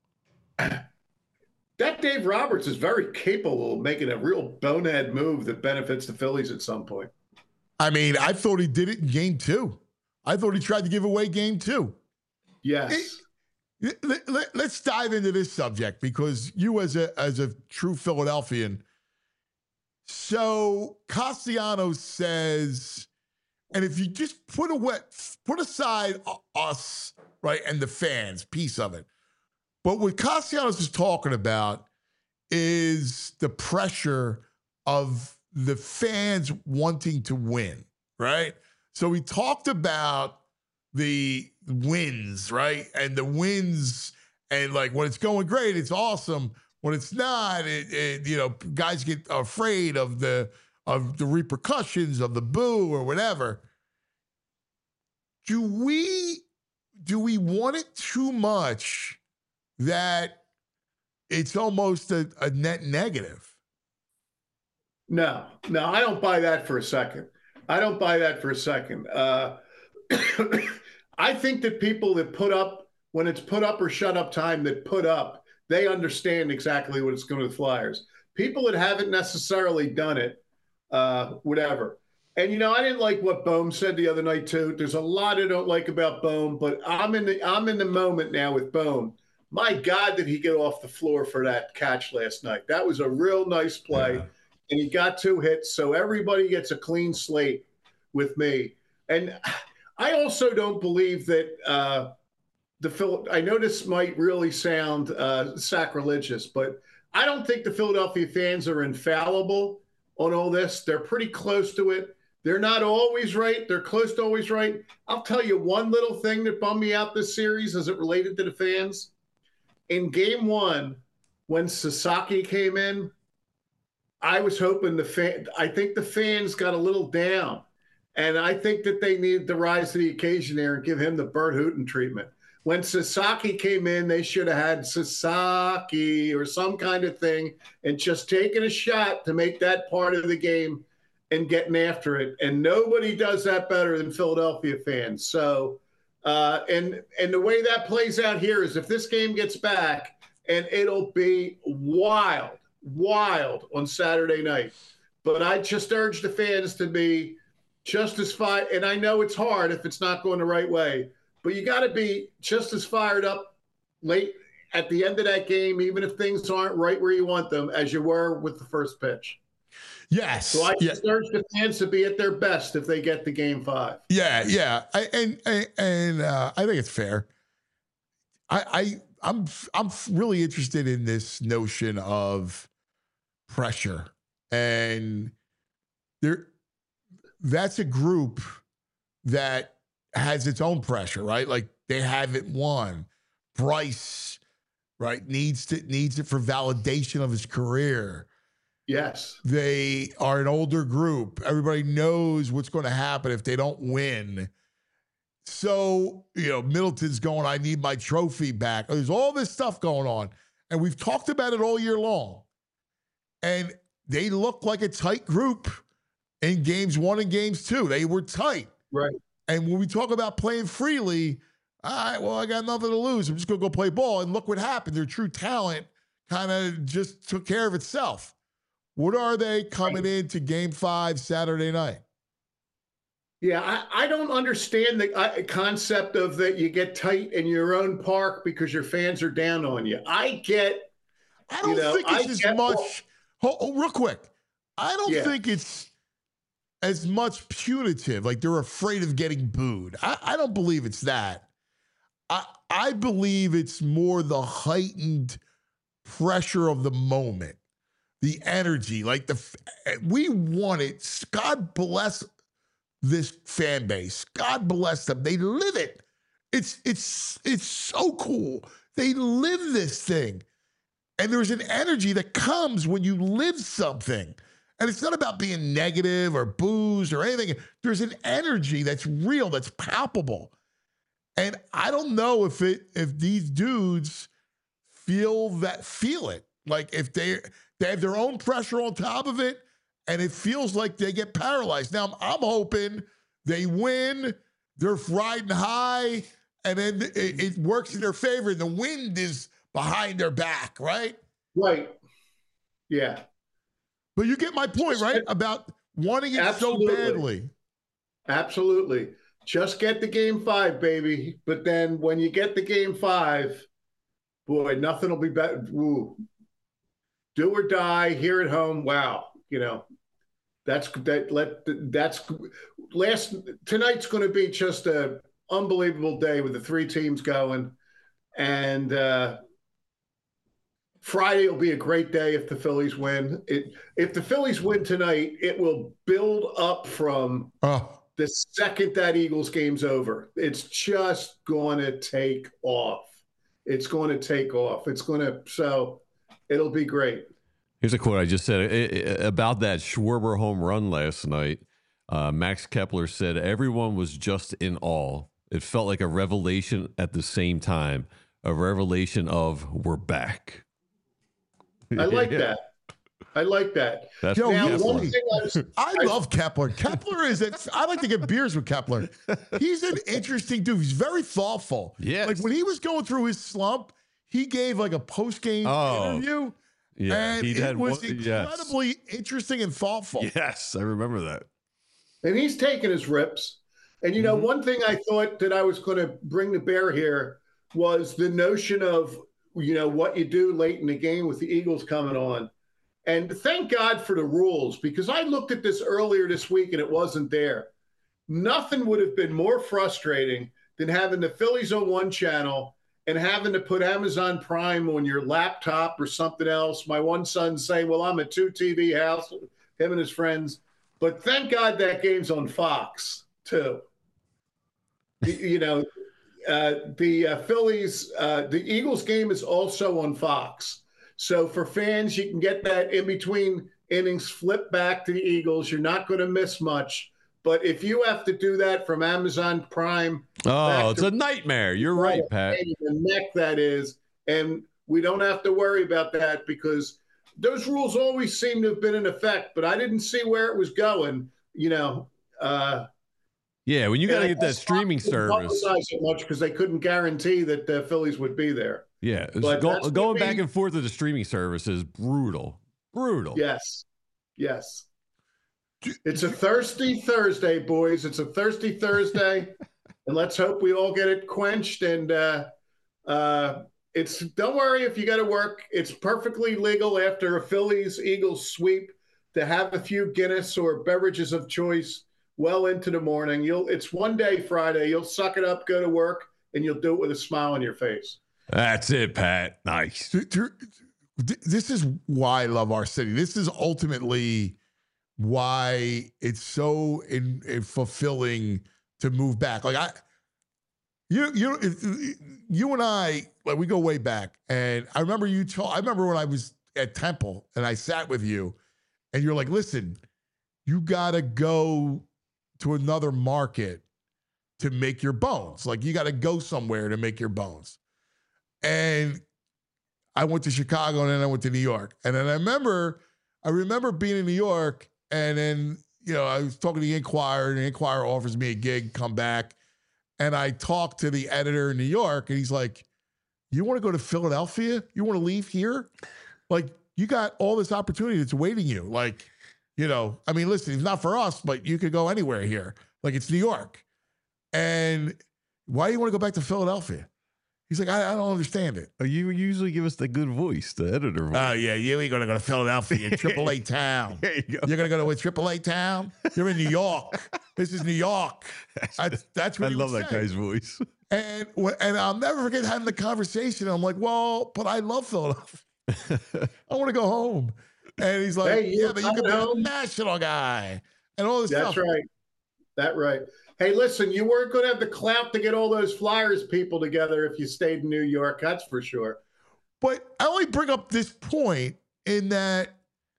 that Dave Roberts is very capable of making a real bonehead move that benefits the Phillies at some point. I mean, I thought he did it in game two. I thought he tried to give away game two. Yes. It, let, let, let's dive into this subject, because you, as a as a true Philadelphian, so Castellanos says, and if you just put away, put aside us, right, and the fans, piece of it, but what Castellanos is talking about is the pressure of the fans wanting to win, right? So we talked about the wins, right? And the wins, and like when it's going great, it's awesome. When it's not, it, it, you know, guys get afraid of the of the repercussions of the boo or whatever. Do we do we want it too much that it's almost a, a net negative? No, no, I don't buy that for a second. I don't buy that for a second. Uh, I think that people that put up, when it's put up or shut up time, that put up, they understand exactly what it's going to the Flyers. People that haven't necessarily done it, uh, whatever. And, you know, I didn't like what Bohm said the other night, too. There's a lot I don't like about Bohm, but I'm in the I'm in the moment now with Bohm. My God, did he get off the floor for that catch last night? That was a real nice play. Yeah. And he got two hits, so everybody gets a clean slate with me. And I also don't believe that uh, the Phil. I know this might really sound uh, sacrilegious, but I don't think the Philadelphia fans are infallible on all this. They're pretty close to it. They're not always right. They're close to always right. I'll tell you one little thing that bummed me out this series as it related to the fans. In game one, when Sasaki came in, I was hoping the fan, I think the fans got a little down, and I think that they needed to rise to the occasion there and give him the Bert Hooton treatment. When Sasaki came in, they should have had Sasaki or some kind of thing and just taken a shot to make that part of the game and getting after it. And nobody does that better than Philadelphia fans. So, uh, and and the way that plays out here is if this game gets back, and it'll be wild. wild on Saturday night. But I just urge the fans to be just as fired. And I know it's hard if it's not going the right way, but you got to be just as fired up late at the end of that game, even if things aren't right where you want them, as you were with the first pitch. Yes. So I yeah. just urge the fans to be at their best if they get to game five. Yeah, yeah. I, and and, and uh, I think it's fair. I, I I'm I'm really interested in this notion of pressure, and there that's a group that has its own pressure, right? Like they haven't won. Bryce, right, needs to needs it for validation of his career. Yes. They are an older group. Everybody knows what's going to happen if they don't win. So, you know, Middleton's going, I need my trophy back. There's all this stuff going on. And we've talked about it all year long. And they look like a tight group in games one and games two. They were tight. Right. And when we talk about playing freely, all right, well, I got nothing to lose. I'm just going to go play ball. And look what happened. Their true talent kind of just took care of itself. What are they coming right. into game five Saturday night? Yeah, I, I don't understand the uh, concept of that you get tight in your own park because your fans are down on you. I get. I don't you know, think it's I as much. Well, oh, real quick. I don't yeah. think it's as much punitive. Like they're afraid of getting booed. I, I don't believe it's that. I I believe it's more the heightened pressure of the moment, the energy. Like the we want it. God bless this fan base. God bless them. They live it. It's it's it's so cool. They live this thing. And there's an energy that comes when you live something. And it's not about being negative or booze or anything. There's an energy that's real, that's palpable. And I don't know if it if these dudes feel that feel it. Like if they they have their own pressure on top of it, and it feels like they get paralyzed. Now, I'm, I'm hoping they win, they're riding high, and then it, it works in their favor. The wind is behind their back, right? Right. Yeah. But you get my point, right? About wanting it Absolutely. so badly. Absolutely. Just get the game five, baby. But then when you get the game five, boy, nothing will be better. Woo. Do or die here at home. Wow. You know, that's that. Let that's last tonight's going to be just a unbelievable day with the three teams going, and uh, Friday will be a great day if the Phillies win. It if the Phillies win tonight, it will build up from Oh, the second that Eagles game's over. It's just going to take off. It's going to take off. It's going to so it'll be great. Here's a quote I just said it, it, about that Schwarber home run last night. Uh, Max Kepler said, everyone was just in awe. It felt like a revelation at the same time, a revelation of we're back. I like Yeah. that. I like that. That's Yo, Now, you- one thing I was, I love Kepler. Kepler is it. I like to get beers with Kepler. He's an interesting dude. He's very thoughtful. Yes. Like when he was going through his slump, he gave like a post-game Oh, interview. Yeah, and he'd it had was one- yes. incredibly interesting and thoughtful. Yes, I remember that. and he's taking his rips. And, you know, Mhm. one thing I thought that I was going to bring to bear here was the notion of, you know, what you do late in the game with the Eagles coming on. And thank God for the rules, because I looked at this earlier this week and it wasn't there. Nothing would have been more frustrating than having the Phillies on one channel and having to put Amazon Prime on your laptop or something else. My one son saying, well, I'm a two T V house, him and his friends. But thank God that game's on Fox, too. The- you know, uh, the uh, Phillies, uh, the Eagles game is also on Fox. So for fans, you can get that in between innings, flip back to the Eagles. You're not going to miss much. But if you have to do that from Amazon Prime, Oh, back it's to- a nightmare. You're right, Pat. the neck that is, and we don't have to worry about that because those rules always seem to have been in effect, but I didn't see where it was going. You know, uh, Yeah, when you got to and get that Fox streaming didn't service. publicize it much because they couldn't guarantee that the Phillies would be there. Yeah, it's But go, that's going what back we- and forth with the streaming service is brutal. Brutal. Yes, yes. It's a thirsty Thursday, boys. It's a thirsty Thursday, and let's hope we all get it quenched. And uh, uh, it's don't worry if you got to work. It's perfectly legal after a Phillies Eagles sweep to have a few Guinness or beverages of choice well into the morning. You'll it's one day Friday. You'll suck it up, go to work, and you'll do it with a smile on your face. That's it, Pat. Nice. This is why I love our city. This is ultimately why it's so in, in fulfilling to move back. Like I, you, you, you and I, like we go way back, and I remember you told. I remember when I was at Temple and I sat with you, and you're like, "Listen, you got to go to another market to make your bones. Like you got to go somewhere to make your bones." And I went to Chicago and then I went to New York. And then I remember, I remember being in New York, and then, you know, I was talking to the Inquirer, and the Inquirer offers me a gig, come back. And I talked to the editor in New York, and he's like, "You want to go to Philadelphia? You want to leave here? Like, you got all this opportunity that's waiting you. Like, you know, I mean, listen, it's not for us, but you could go anywhere here. Like, it's New York. And why do you want to go back to Philadelphia?" He's like, I, I don't understand it. Oh, you usually give us the good voice, the editor voice. Oh, yeah, you ain't going to go to Philadelphia, Triple A town. There you go. You're going to go to a Triple A town? You're in New York. This is New York. That's, that's what I he love would that say. guy's voice. And and I'll never forget having the conversation. I'm like, well, but I love Philadelphia. I want to go home. And he's like, Hey, you yeah, but you could be home? a national guy and all this That's stuff. right. That right. Hey, listen, you weren't going to have the clout to get all those Flyers people together if you stayed in New York. That's for sure. But I only bring up this point in that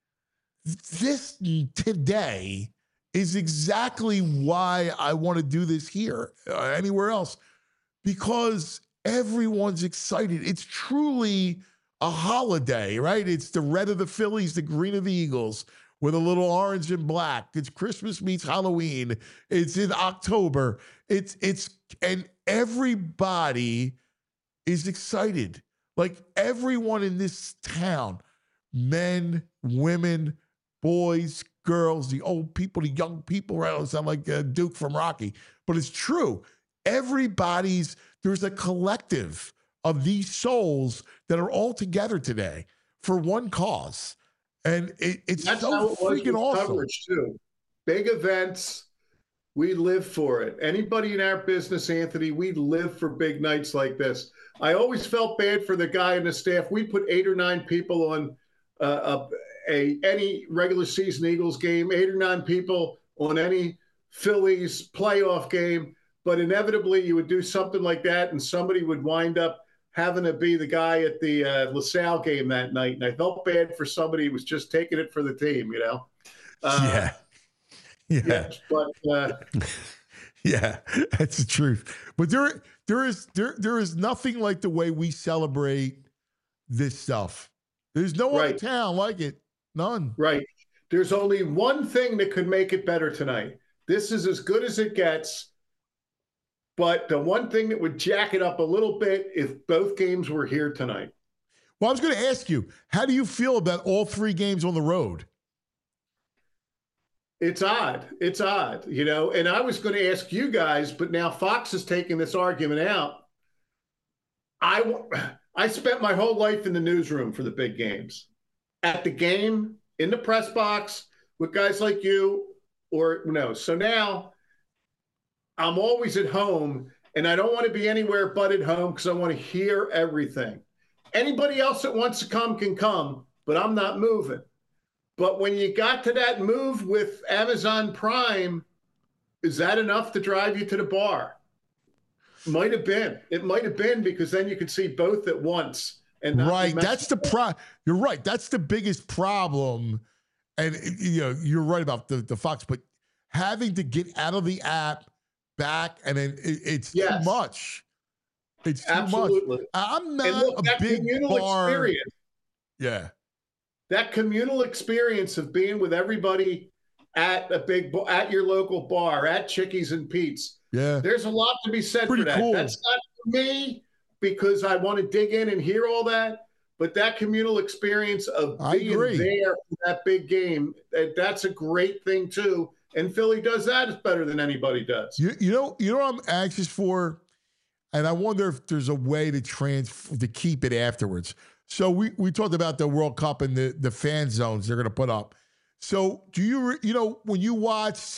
this today is exactly why I want to do this here, uh, anywhere else, because everyone's excited. It's truly a holiday, right? It's the red of the Phillies, the green of the Eagles, with a little orange and black. It's Christmas meets Halloween. It's in October. It's it's and everybody is excited. Like everyone in this town, men, women, boys, girls, the old people, the young people, right? I sound like uh, Duke from Rocky, but it's true. Everybody's, there's a collective of these souls that are all together today for one cause. And it, it's That's so how it was freaking with awesome. coverage too. Big events, we live for it. Anybody in our business, Anthony, we live for big nights like this. I always felt bad for the guy in the staff. We put eight or nine people on uh, a, a any regular season Eagles game, eight or nine people on any Phillies playoff game. But inevitably, you would do something like that, and somebody would wind up having to be the guy at the uh, LaSalle game that night. And I felt bad for somebody who was just taking it for the team, you know? Uh, yeah. Yeah. yeah. But uh, yeah, that's the truth. But there, there is there, there is nothing like the way we celebrate this stuff. There's no Right. other town like it. None. right. There's only one thing that could make it better tonight. This is as good as it gets. But the one thing that would jack it up a little bit if both games were here tonight. Well, I was going to ask you, how do you feel about all three games on the road? It's odd. It's odd, you know. And I was going to ask you guys, but now Fox is taking this argument out. I, I spent my whole life in the newsroom for the big games. At the game, in the press box, with guys like you, or no. So now I'm always at home, and I don't want to be anywhere but at home because I want to hear everything. Anybody else that wants to come can come, but I'm not moving. But when you got to that move with Amazon Prime, is that enough to drive you to the bar? Might have been. It might have been, because then you could see both at once. And not Right. be That's the pro. You're right. That's the biggest problem. And you know, you're right about the, the Fox, but having to get out of the app back, and then it, it's Yes. too much. It's too Absolutely. much. I'm And not look, a that big communal bar. experience, Yeah. that communal experience of being with everybody at a big, bar, at your local bar, at Chickies and Pete's. Yeah. There's a lot to be said Pretty for that. cool. That's not for me because I want to dig in and hear all that. But that communal experience of I being agree. there for that big game, that, that's a great thing too. And Philly does that better than anybody does. You, you know, you know what I'm anxious for? And I wonder if there's a way to trans to keep it afterwards. So we, we talked about the World Cup and the, the fan zones they're going to put up. So do you, re- you know, when you watch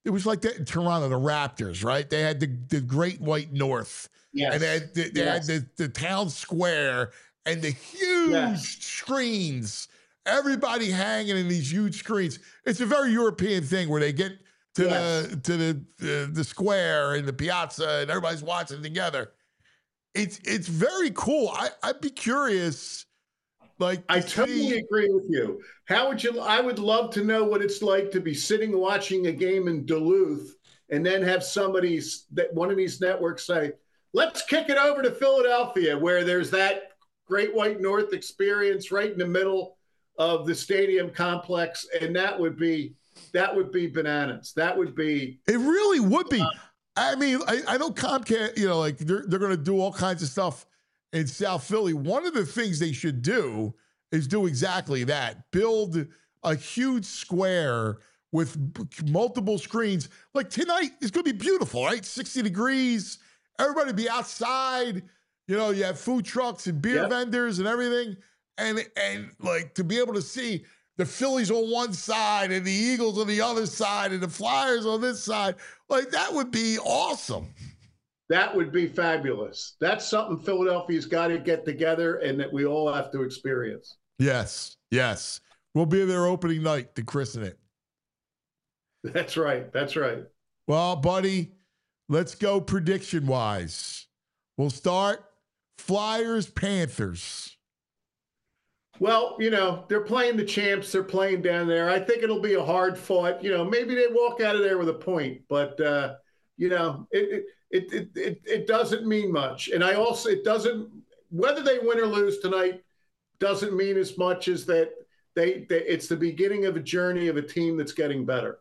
it was like that in Toronto, the Raptors, right? They had the, the Great White North. Yes. And they had, the, they Yes. had the, the town square and the huge Yes. screens. Everybody hanging in these huge screens. It's a very European thing where they get to Yes. the to the, the the square and the piazza and everybody's watching together. It's it's very cool. I, I'd be curious. Like I to totally see- agree with you. How would you? I would love to know what it's like to be sitting watching a game in Duluth and then have somebody that one of these networks say, "Let's kick it over to Philadelphia," where there's that Great White North experience right in the middle of the stadium complex, and that would be that would be bananas. That would be It really would be. I mean, I, I know Comcast, you know, like they're they're going to do all kinds of stuff in South Philly. One of the things they should do is do exactly that. Build a huge square with b- multiple screens. Like tonight is going to be beautiful, right? sixty degrees. Everybody be outside. You know, you have food trucks and beer Yep. vendors and everything. And and like to be able to see the Phillies on one side and the Eagles on the other side and the Flyers on this side, like that would be awesome. that would be fabulous. That's something Philadelphia's got to get together, and that we all have to experience. Yes, yes. We'll be there opening night to christen it. That's right. That's right. Well, buddy, let's go prediction wise. We'll start Flyers, Panthers. Well, you know, they're playing the champs. They're playing down there. I think it'll be a hard fought. You know, maybe they walk out of there with a point, but uh, you know, it it, it it it doesn't mean much. And I also it doesn't whether they win or lose tonight doesn't mean as much as that they, they it's the beginning of a journey of a team that's getting better.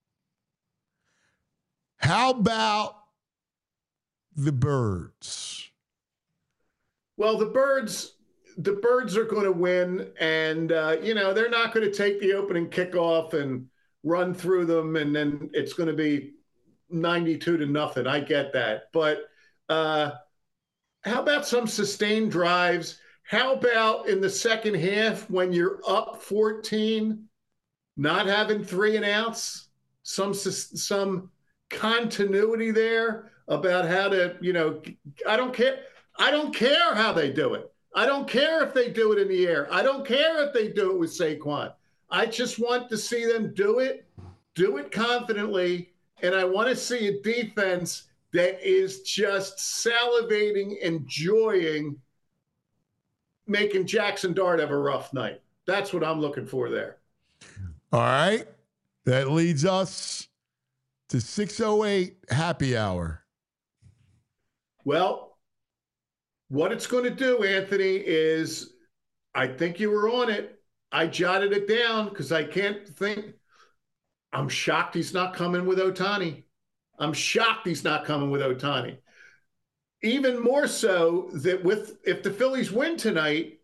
How about the Birds? Well, the Birds. The Birds are going to win, and uh, you know they're not going to take the opening kickoff and run through them, and then it's going to be ninety-two to nothing. I get that, but uh, how about some sustained drives? How about in the second half when you're up fourteen, not having three and outs, some some continuity there about how to, you know, I don't care. I don't care how they do it. I don't care if they do it in the air. I don't care if they do it with Saquon. I just want to see them do it, do it confidently, and I want to see a defense that is just salivating, enjoying making Jackson Dart have a rough night. That's what I'm looking for there. All right. That leads us to six oh eight happy hour. Well, what it's going to do, Anthony, is I think you were on it. I jotted it down because I can't think. I'm shocked he's not coming with Ohtani. I'm shocked he's not coming with Ohtani. Even more so that with if the Phillies win tonight,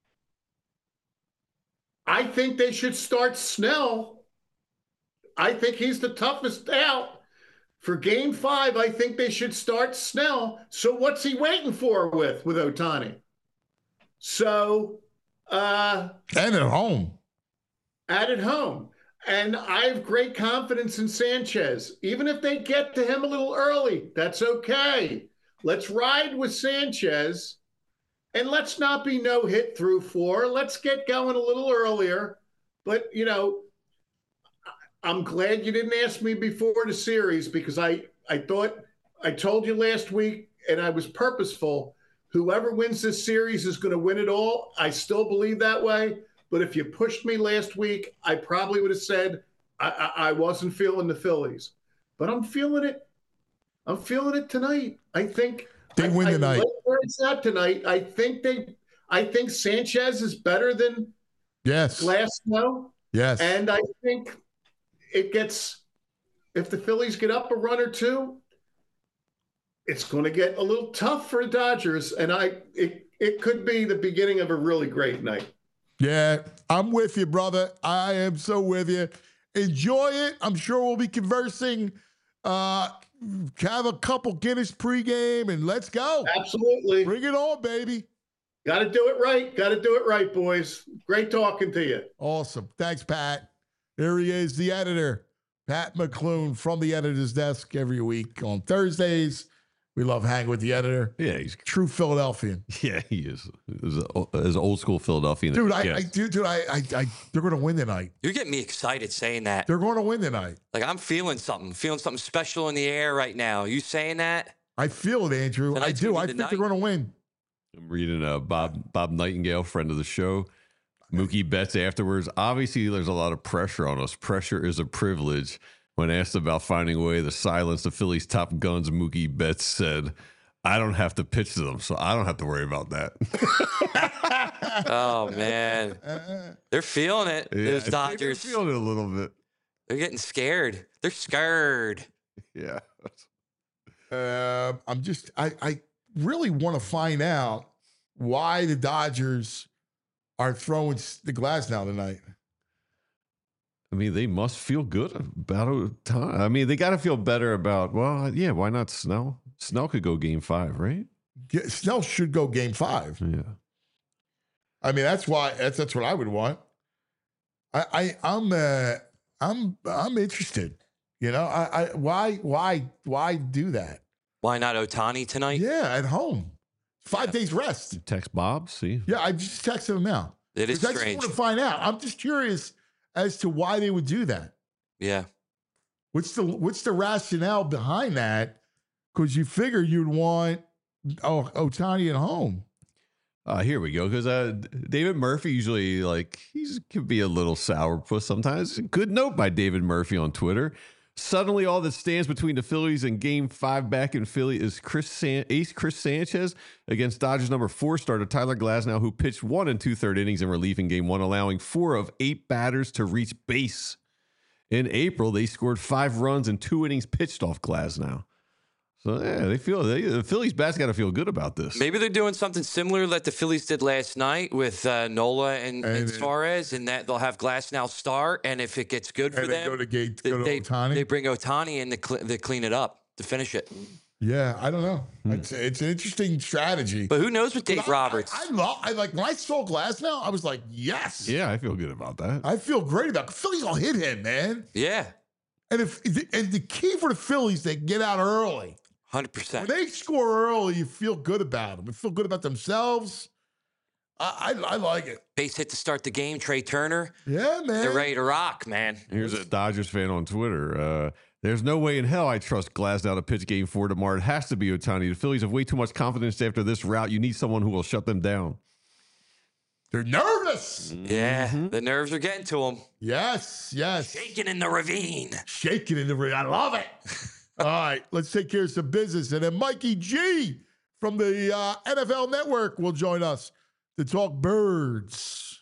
I think they should start Snell. I think he's the toughest out. For game five, I think they should start Snell. So what's he waiting for with, with Ohtani? So uh, And at home. at at home. And I have great confidence in Sanchez. Even if they get to him a little early, that's okay. Let's ride with Sanchez. And let's not be no hit through four. Let's get going a little earlier. But, you know, I'm glad you didn't ask me before the series because I, I thought I told you last week, and I was purposeful. Whoever wins this series is going to win it all. I still believe that way. But if you pushed me last week, I probably would have said I, I, I wasn't feeling the Phillies. But I'm feeling it. I'm feeling it tonight. I think They win I, tonight. I like where it's at tonight. I think they. I think Sanchez is better than Yes. Glasnow, Yes. and I think it gets, if the Phillies get up a run or two, it's going to get a little tough for the Dodgers. And I, it, it could be the beginning of a really great night. Yeah, I'm with you, brother. I am so with you. Enjoy it. I'm sure we'll be conversing. Uh, have a couple Guinness pregame and let's go. Absolutely. Bring it on, baby. Got to do it right. Got to do it right, boys. Great talking to you. Awesome. Thanks, Pat. There he is, the editor Pat McClune from the editor's desk every week on Thursdays. We love hanging with the editor. Yeah, he's True Philadelphian. yeah, he is. He's a- As old school Philadelphian. Dude, I, Yeah. I dude, dude, I, I, I they're going to win tonight. You're getting me excited saying that. They're going to win tonight. Like I'm feeling something, feeling something special in the air right now. You saying that? I feel it, Andrew. I Tonight's do. gonna I be the think they're night. going to win. I'm reading uh, Bob Bob Nightingale, friend of the show. Mookie Betts afterwards. Obviously, there's a lot of pressure on us. Pressure is a privilege. When asked about finding a way to silence the Phillies' top guns, Mookie Betts said, I don't have to pitch to them, so I don't have to worry about that. Oh man, they're feeling it. Yeah, Those I think they're Dodgers, feeling it a little bit. they're getting scared. They're scared. Yeah. Uh, I'm just, I, I really want to find out why the Dodgers are throwing s- the glass now tonight. I mean, they must feel good about it. I mean, they got to feel better about, well, yeah, why not Snell? Snell could go game five, right? Yeah, Snell should go game five. Yeah. I mean, that's why that's that's what I would want. I, I I'm uh, I'm I'm interested. You know, I, I why why why do that? Why not Otani tonight? Yeah, at home, five Yeah. days rest. Text Bob, see? Yeah, I just texted him now. It is 'Cause I just strange. want to find out. I'm just curious as to why they would do that. Yeah. What's the what's the rationale behind that? Because you figure you'd want oh Otani at home. Uh, here we go. Because uh, David Murphy usually, like, he's could be a little sourpuss sometimes. Good note by David Murphy on Twitter. Suddenly, all that stands between the Phillies and Game Five back in Philly is Chris San- Ace Chris Sanchez against Dodgers number four starter Tyler Glasnow, who pitched one and two third innings in relief in Game One, allowing four of eight batters to reach base. In April, they scored five runs and two innings pitched off Glasnow. So yeah, they feel they, the Phillies bats got to feel good about this. Maybe they're doing something similar that the Phillies did last night with uh, Nola and, and, And- Suarez, and that they'll have Glass now start, and if it gets good for And they them, go to gate, they, go to they, Otani. they bring Otani in to, cl- to clean it up, to finish it. yeah, I don't know. Hmm. It's it's an interesting strategy. But who knows with Dave But I- Roberts? I, I love. I like when I saw Glass now. I was like, yes. Yeah, I feel good about that. I feel great about it. Phillies will hit him, man. yeah, And if and the key for the Phillies, they get out early. one hundred When percent. they score early, you feel good about them. You feel good about themselves. I I, I like it. Base hit to start the game, Trey Turner. Yeah, man. They're ready to rock, man. Here's a Dodgers fan on Twitter. Uh, There's no way in hell I trust Glasnow to pitch game four tomorrow. It has to be Otani. The Phillies have way too much confidence after this route. You need someone who will shut them down. They're nervous. Yeah, the nerves are getting to them. Yes, yes. Shaking in the ravine. Shaking in the ring. I love it. All right, let's take care of some business. And then Mikey G from the uh, N F L Network will join us to talk birds.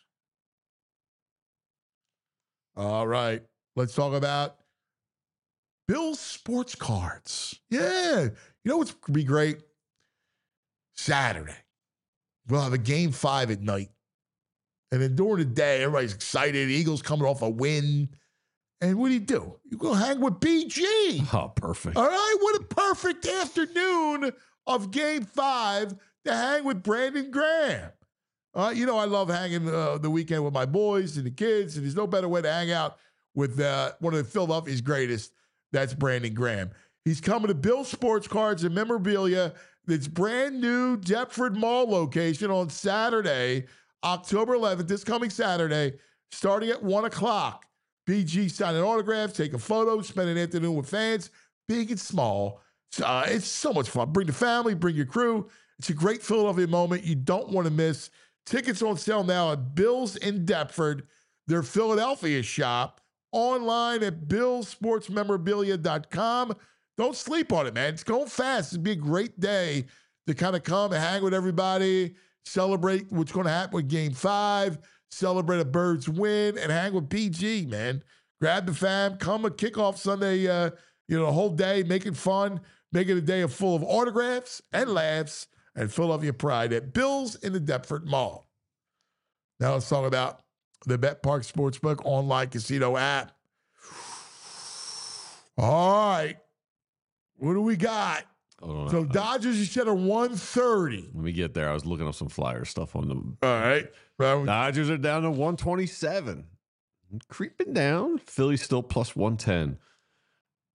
All right, let's talk about Bill's Sports Cards. Yeah. You know what's going to be great? Saturday. We'll have a game five at night. And then during the day, everybody's excited. Eagles coming off a win. And what do you do? You go hang with B G. Oh, perfect. All right, what a perfect afternoon of game five to hang with Brandon Graham. Uh, you know, I love hanging uh, the weekend with my boys and the kids, and there's no better way to hang out with uh, one of the Philadelphia's greatest. That's Brandon Graham. He's coming to Bill Sports Cards and Memorabilia. It's brand new Deptford Mall location on Saturday, October eleventh, this coming Saturday, starting at one o'clock. B G signing autographs, taking photos, spending an afternoon with fans, big and small. Uh, it's so much fun. Bring the family, bring your crew. It's a great Philadelphia moment you don't want to miss. Tickets on sale now at Bill's in Deptford, their Philadelphia shop, online at bills sports memorabilia dot com. Don't sleep on it, man. It's going fast. It'd be a great day to kind of come and hang with everybody, celebrate what's going to happen with game five, celebrate a Birds win, and hang with P G, man. Grab the fam, come a kickoff Sunday, uh, you know, the whole day, make it fun, make it a day of full of autographs and laughs and Philadelphia pride at Bill's in the Deptford Mall. Now let's talk about the Bet Park Sportsbook online casino app. All right. What do we got? Hold on. So Uh, Dodgers, you said are one thirty. Let me get there. I was looking up some flyer stuff on the All right. Well, Dodgers are down to one twenty-seven. Creeping down. Philly's still plus one ten.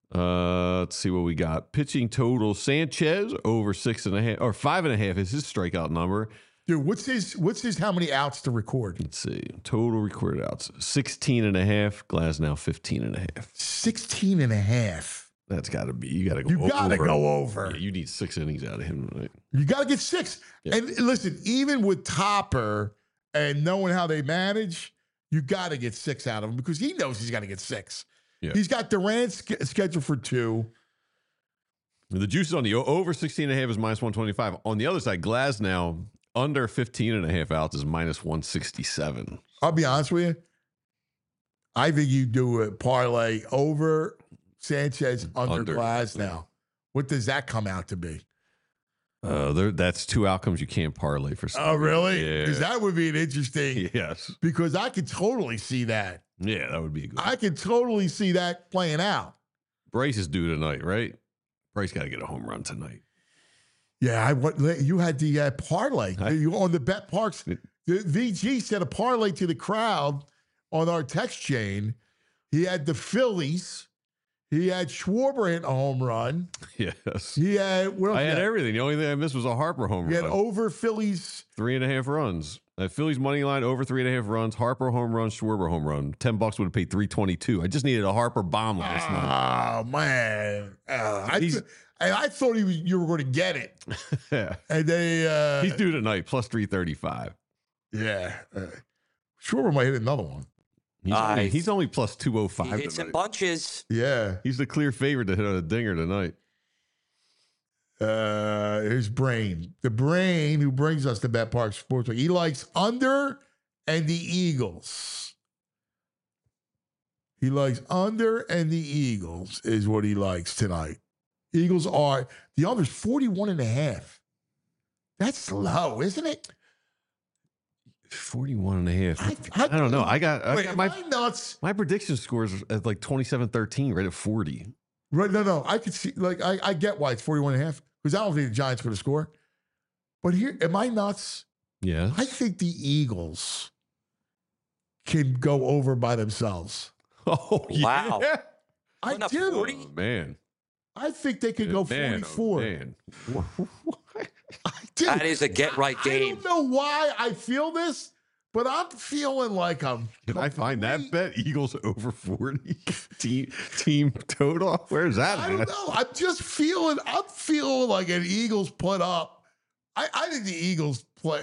Uh, let's see what we got. Pitching total: Sanchez over six and a half or five and a half is his strikeout number. Dude, what's his what's his how many outs to record? Let's see. Total recorded outs: sixteen and a half. Glasnow fifteen and a half. sixteen and a half. That's got to be. You got to go. You got to over. go over. Yeah, you need six innings out of him tonight. You got to get six. Yeah. And listen, even with Topper and knowing how they manage, you got to get six out of him because he knows he's got to get six. Yeah. He's got Durant sch- scheduled for two. The juice is on the o- over sixteen and a half is minus one twenty-five. On the other side, Glasnow under fifteen and a half outs is minus one sixty-seven. I'll be honest with you. I think you do a parlay over Sanchez under, Under, Glass yeah. now. What does that come out to be? Uh, there, that's two outcomes you can't parlay for. Oh, really? Yeah. Because that would be an interesting. Yes. Because I could totally see that. Yeah, that would be a good. I could totally see that playing out. Bryce is due tonight, right? Bryce got to get a home run tonight. Yeah, I what you had the uh, parlay I- you on the Bet Parks. It- The V G said a parlay to the crowd on our text chain. He had the Phillies. He had Schwarber hit a home run. Yes. He had what else I he had had? everything. The only thing I missed was a Harper home He had run. over Phillies. Three and a half runs. Uh, Phillies money line over three and a half runs. Harper home run. Schwarber home run. Ten bucks would have paid three twenty two. I just needed a Harper bomb last night. Oh man, uh, I, He's- th- and I thought he was, you were going to get it, Yeah. and they uh, He's due tonight plus three thirty five. yeah. Uh, Schwarber might hit another one. He's, Uh, only, he's only plus two oh He five. hits in bunches. Yeah. He's the clear favorite to hit on a dinger tonight. Uh, here's Brain. The Brain who brings us to Bet Park Sports. He likes under and the Eagles. He likes under and the Eagles is what he likes tonight. Eagles are, the under's forty-one and a half. That's low, isn't it? forty-one and a half. I- I, I- don't know. I got, I Wait, got am my I nuts? my prediction scores at like twenty-seven thirteen, right at forty. Right, no, no. I could see, like, I, I get why it's forty-one and a half because I don't think the Giants going to score. But here, am I nuts? Yeah. I think the Eagles can go over by themselves. Oh, Wow. yeah. I Went up do. forty? Oh, man. I think they could go Man, oh, forty-four. man. I do. That is a get right I game. don't know why I feel this, but I'm feeling like I'm. Can I find that complete- bet? Eagles over forty team team total. Where's that? I don't at? know. I'm just feeling. I'm feeling like an Eagles put up. I, I think the Eagles play.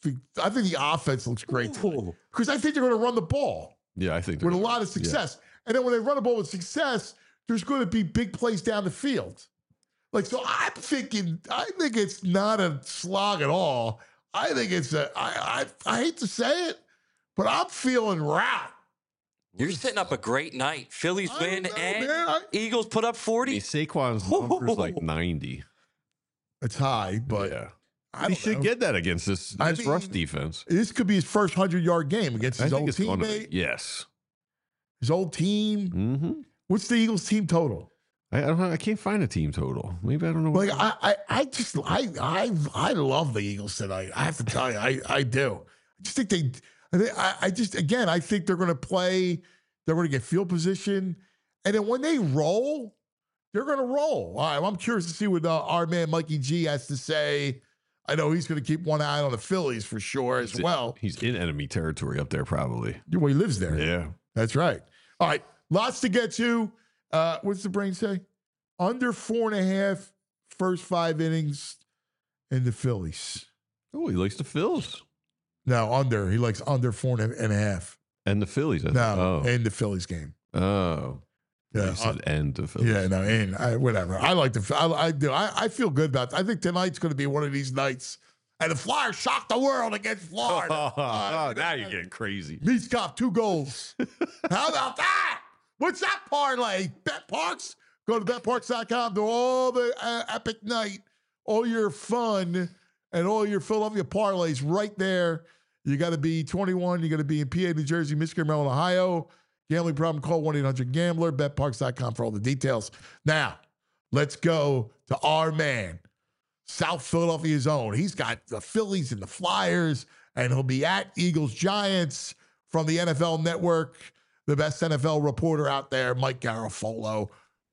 I think the offense looks great because I think they're going to run the ball Yeah, I think with a they're- lot of success. And then when they run the ball with success, there's going to be big plays down the field. Like, so I'm thinking, I think it's not a slog at all. I think it's a, I, I, I hate to say it, but I'm feeling rout. You're setting up a great night. Phillies I don't win know, and man. I- Eagles put up I mean, forty. Saquon's number's like ninety. It's high, but yeah. I He don't should know. get that against this, I this rush mean, defense. This could be his first hundred-yard game against I his think old it's going to teammate, be. Yes. his old team. Mm-hmm. What's the Eagles team total? I, I don't know. I can't find a team total. Maybe I don't know. Like what- I, I, I just I, I, I love the Eagles tonight. I have to tell you, I, I do. I just think they, I, think- I, I just again, I think they're going to play. They're going to get field position, and then when they roll, they're going to roll. All right, well, I'm curious to see what uh, our man Mikey G has to say. I know he's going to keep one eye on the Phillies for sure as He's in- well. He's in enemy territory up there, probably. Well, he lives there. Yeah. That's right. All right, lots to get to. Uh, what's the brain say? Under four and a half first five innings in the Phillies. Oh, he likes the Phils No, under. He likes under four and a, and a half. and the Phillies. I think. No, Oh. in the Phillies game. Oh. Yeah, He said and the Phillies. Yeah, no, in I, whatever. I like the. I, I do. I, I feel good about. I think tonight's going to be one of these nights, and the Flyers shock the world against Florida. Oh, Uh, now you're getting crazy. Meatskov, two goals. How about that? What's that parlay? Bet Parks? Go to bet parks dot com. Do all the uh, epic night, all your fun, and all your Philadelphia parlays right there. You got to be twenty-one. You got to be in P A, New Jersey, Michigan, Maryland, Ohio. Gambling problem, call one eight hundred gambler. bet parks dot com for all the details. Now, let's go to our man, South Philadelphia's own. He's got the Phillies and the Flyers, and he'll be at Eagles Giants from the N F L Network. The best N F L reporter out there, Mike Garafolo.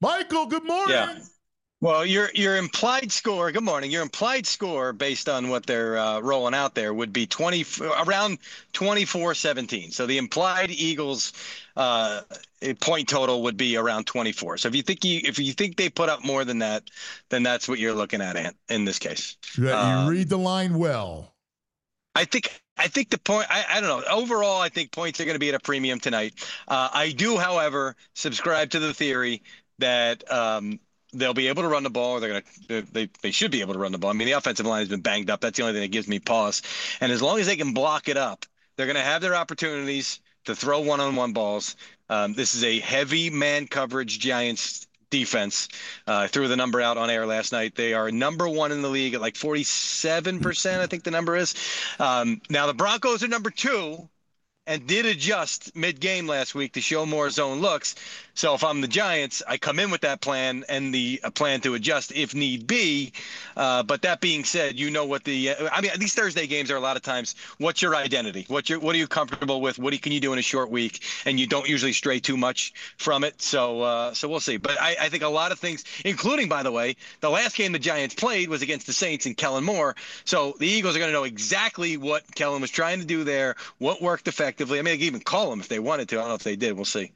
Michael, good morning. Yeah. Well, your your implied score. Good morning. Your implied score, based on what they're uh, rolling out there, would be twenty around twenty-four seventeen. So the implied Eagles uh, point total would be around twenty-four. So if you think you if you think they put up more than that, then that's what you're looking at, Ant, in this case. Yeah, you um, read the line well. I think I think the point. I, I don't know. Overall, I think points are going to be at a premium tonight. Uh, I do, however, subscribe to the theory that. Um, They'll be able to run the ball. Or they're gonna. They they should be able to run the ball. I mean, the offensive line has been banged up. That's the only thing that gives me pause. And as long as they can block it up, they're going to have their opportunities to throw one-on-one balls. Um, this is a heavy man coverage Giants defense. Uh, I threw the number out on air last night. They are number one in the league at like forty-seven percent. I think the number is. Um, now the Broncos are number two. And did adjust mid-game last week to show more zone looks. So if I'm the Giants, I come in with that plan and the a plan to adjust if need be. Uh, but that being said, you know what the uh, – I mean, these Thursday games are a lot of times, what's your identity? What's your, what are you comfortable with? What can you do in a short week? And you don't usually stray too much from it. So uh, so we'll see. But I, I think a lot of things, including, by the way, the last game the Giants played was against the Saints and Kellen Moore. So the Eagles are going to know exactly what Kellen was trying to do there, what worked effectively. I mean, they could even call them if they wanted to. I don't know if they did. We'll see.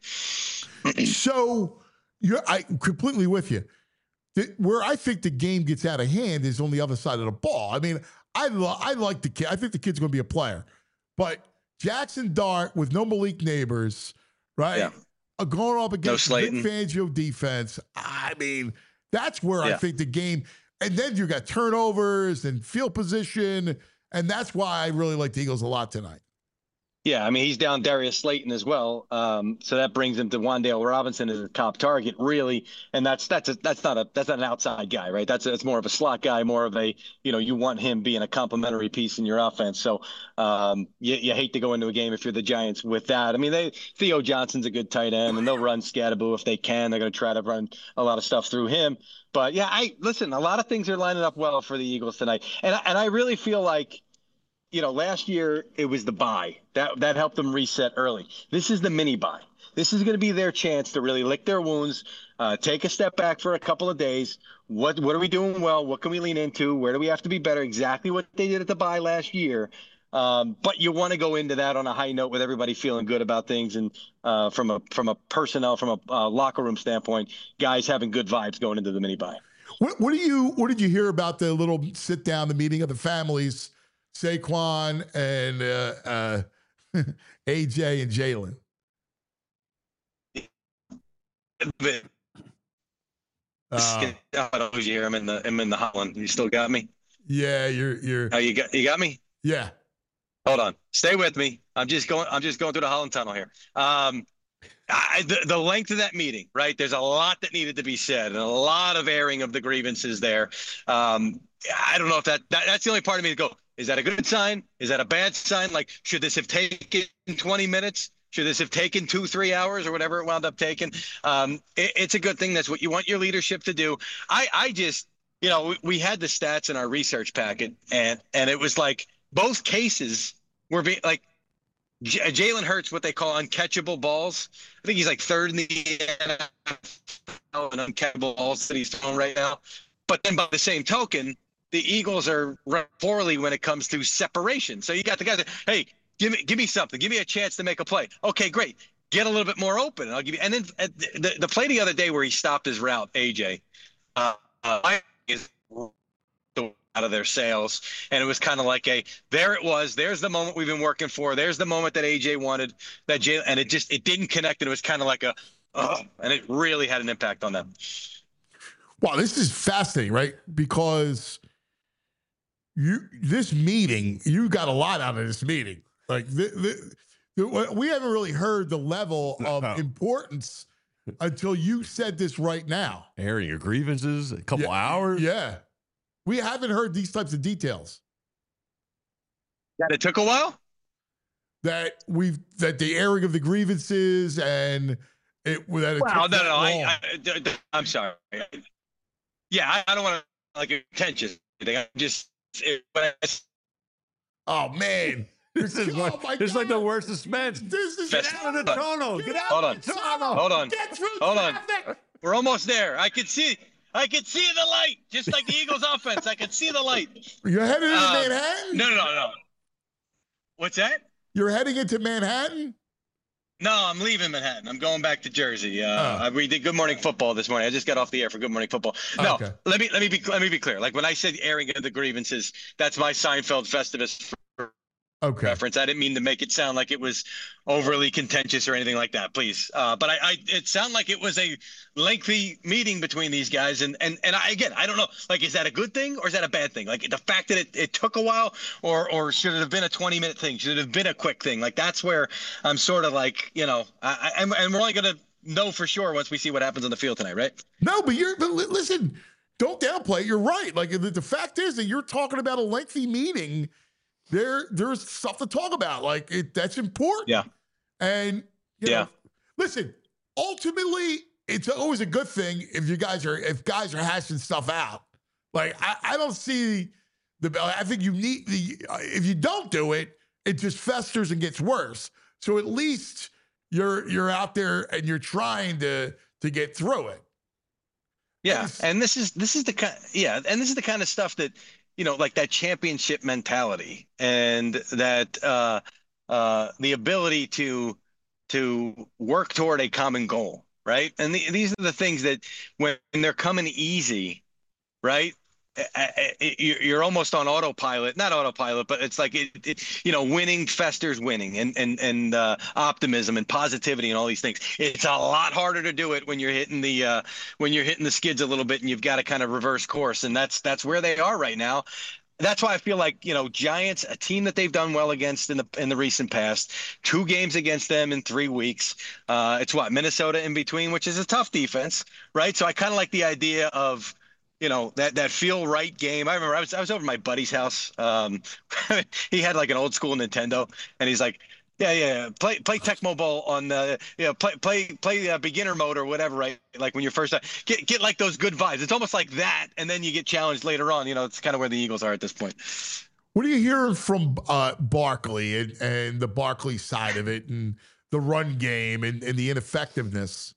So you're I completely with you. The, where I think the game gets out of hand is on the other side of the ball. I mean, I lo- I like the kid. I think the kid's going to be a player, but Jackson Dart with no Malik Neighbors, right? Yeah. Uh, going up against no Vic Fangio defense. I mean, that's where yeah. I think the game. And then you got turnovers and field position, and that's why I really like the Eagles a lot tonight. Yeah, I mean, he's down Darius Slayton as well, um, so that brings him to Wan'Dale Robinson as a top target, really. And that's that's a, that's not a that's not an outside guy, right? That's that's more of a slot guy, more of a you know you want him being a complementary piece in your offense. So um, you, you hate to go into a game if you're the Giants with that. I mean, they Theo Johnson's a good tight end, and they'll run Scatteraboo if they can. They're going to try to run a lot of stuff through him. But yeah, I listen. A lot of things are lining up well for the Eagles tonight, and and I really feel like. You know, last year it was the bye. That that helped them reset early. This is the mini bye. This is going to be their chance to really lick their wounds, uh, take a step back for a couple of days. What what are we doing well? What can we lean into? Where do we have to be better? Exactly what they did at the bye last year. Um, but you want to go into that on a high note with everybody feeling good about things, and uh, from a from a personnel, from a uh, locker room standpoint, guys having good vibes going into the mini bye. What what do you what did you hear about the little sit down, the meeting of the families? Saquon and uh, uh, A J and Jalen. Uh, I don't hear him in the I'm in the Holland. You still got me? Yeah, you're you're. Oh, you got you got me? Yeah. Hold on, stay with me. I'm just going. I'm just going through the Holland Tunnel here. Um, I, the, the length of that meeting, right? There's a lot that needed to be said, and a lot of airing of the grievances there. Um, I don't know if that, that that's the only part of me to go. Is that a good sign? Is that a bad sign? Like, should this have taken twenty minutes? Should this have taken two, three hours or whatever it wound up taking? Um, it, it's a good thing. That's what you want your leadership to do. I, I just, you know, we, we had the stats in our research packet, and and it was like both cases were being like J- Jalen Hurts, what they call uncatchable balls. I think he's like third in the N F L in uncatchable balls that he's throwing right now. But then by the same token, the Eagles are run poorly when it comes to separation. So you got the guys that, hey, give me give me something. Give me a chance to make a play. Okay, great. Get a little bit more open, and I'll give you. And then uh, the, the play the other day where he stopped his route, A J, uh, uh, is out of their sails. And it was kind of like a, there it was. There's the moment we've been working for. There's the moment that A J wanted, that Jay, and it just, it didn't connect. And it was kind of like a, oh, and it really had an impact on them. Wow, this is fascinating, right? Because you this meeting, you got a lot out of this meeting. Like the, the, the, we haven't really heard the level of no. importance until you said this right now. Airing your grievances, a couple yeah, hours. Yeah, we haven't heard these types of details. That it took a while. That we've that the airing of the grievances and it. That it well, no, no, no. I, I, I, I'm sorry. Yeah, I, I don't want to like contentious. I just. It, oh man, this is oh like, this is like the worst suspense. This is get out of the tunnel. Get out Hold of on. the tunnel. Hold on. Get through Hold traffic. on. We're almost there. I can see. I can see the light, just like the Eagles' offense. I can see the light. You're headed into Uh, Manhattan? No, no, no, no. What's that? You're heading into Manhattan? No, I'm leaving Manhattan. I'm going back to Jersey. Uh, Oh. We did Good Morning Football this morning. I just got off the air for Good Morning Football. No, Okay. let me let me be let me be clear. Like when I said airing of the grievances, that's my Seinfeld Festivus Okay. reference. I didn't mean to make it sound like it was overly contentious or anything like that, please. Uh, but I, I, it sounded like it was a lengthy meeting between these guys. And, and, and I, again, I don't know, like, is that a good thing or is that a bad thing? Like the fact that it, it took a while, or, or should it have been a twenty minute thing? Should it have been a quick thing? Like, that's where I'm sort of like, you know, I, I, and we're only going to know for sure once we see what happens on the field tonight, right? No, but you're, but li- listen, don't downplay it. You're right. Like the, the fact is that you're talking about a lengthy meeting. There, there's stuff to talk about. Like it, that's important. Yeah. And you Yeah. know, listen, ultimately, it's always a good thing if you guys are if guys are hashing stuff out. Like I, I don't see the. I think you need the. If you don't do it, it just festers and gets worse. So at least you're you're out there and you're trying to to get through it. Yeah, and this is this is the kind yeah, and this is the kind of stuff that, you know, like that championship mentality and that uh, uh, the ability to to work toward a common goal, right? And the, these are the things that when they're coming easy, right? I- I- You're almost on autopilot, not autopilot, but it's like it, it you know, winning festers winning, and and and uh, optimism and positivity and all these things. It's a lot harder to do it when you're hitting the uh, when you're hitting the skids a little bit, and you've got to kind of reverse course, and that's that's where they are right now. That's why I feel like, you know, Giants, a team that they've done well against in the in the recent past, two games against them in three weeks. Uh, it's what, Minnesota in between, which is a tough defense, right? So I kind of like the idea of, you know, that that feel right game. I remember I was I was over at my buddy's house. Um, he had like an old school Nintendo, and he's like, yeah, yeah, play play Tecmo Bowl on the, you know, play play play uh, beginner mode or whatever, right? Like when you're first get get like those good vibes. It's almost like that, and then you get challenged later on. You know, it's kind of where the Eagles are at this point. What are you hearing from uh, Barkley and, and the Barkley side of it, and the run game and, and the ineffectiveness?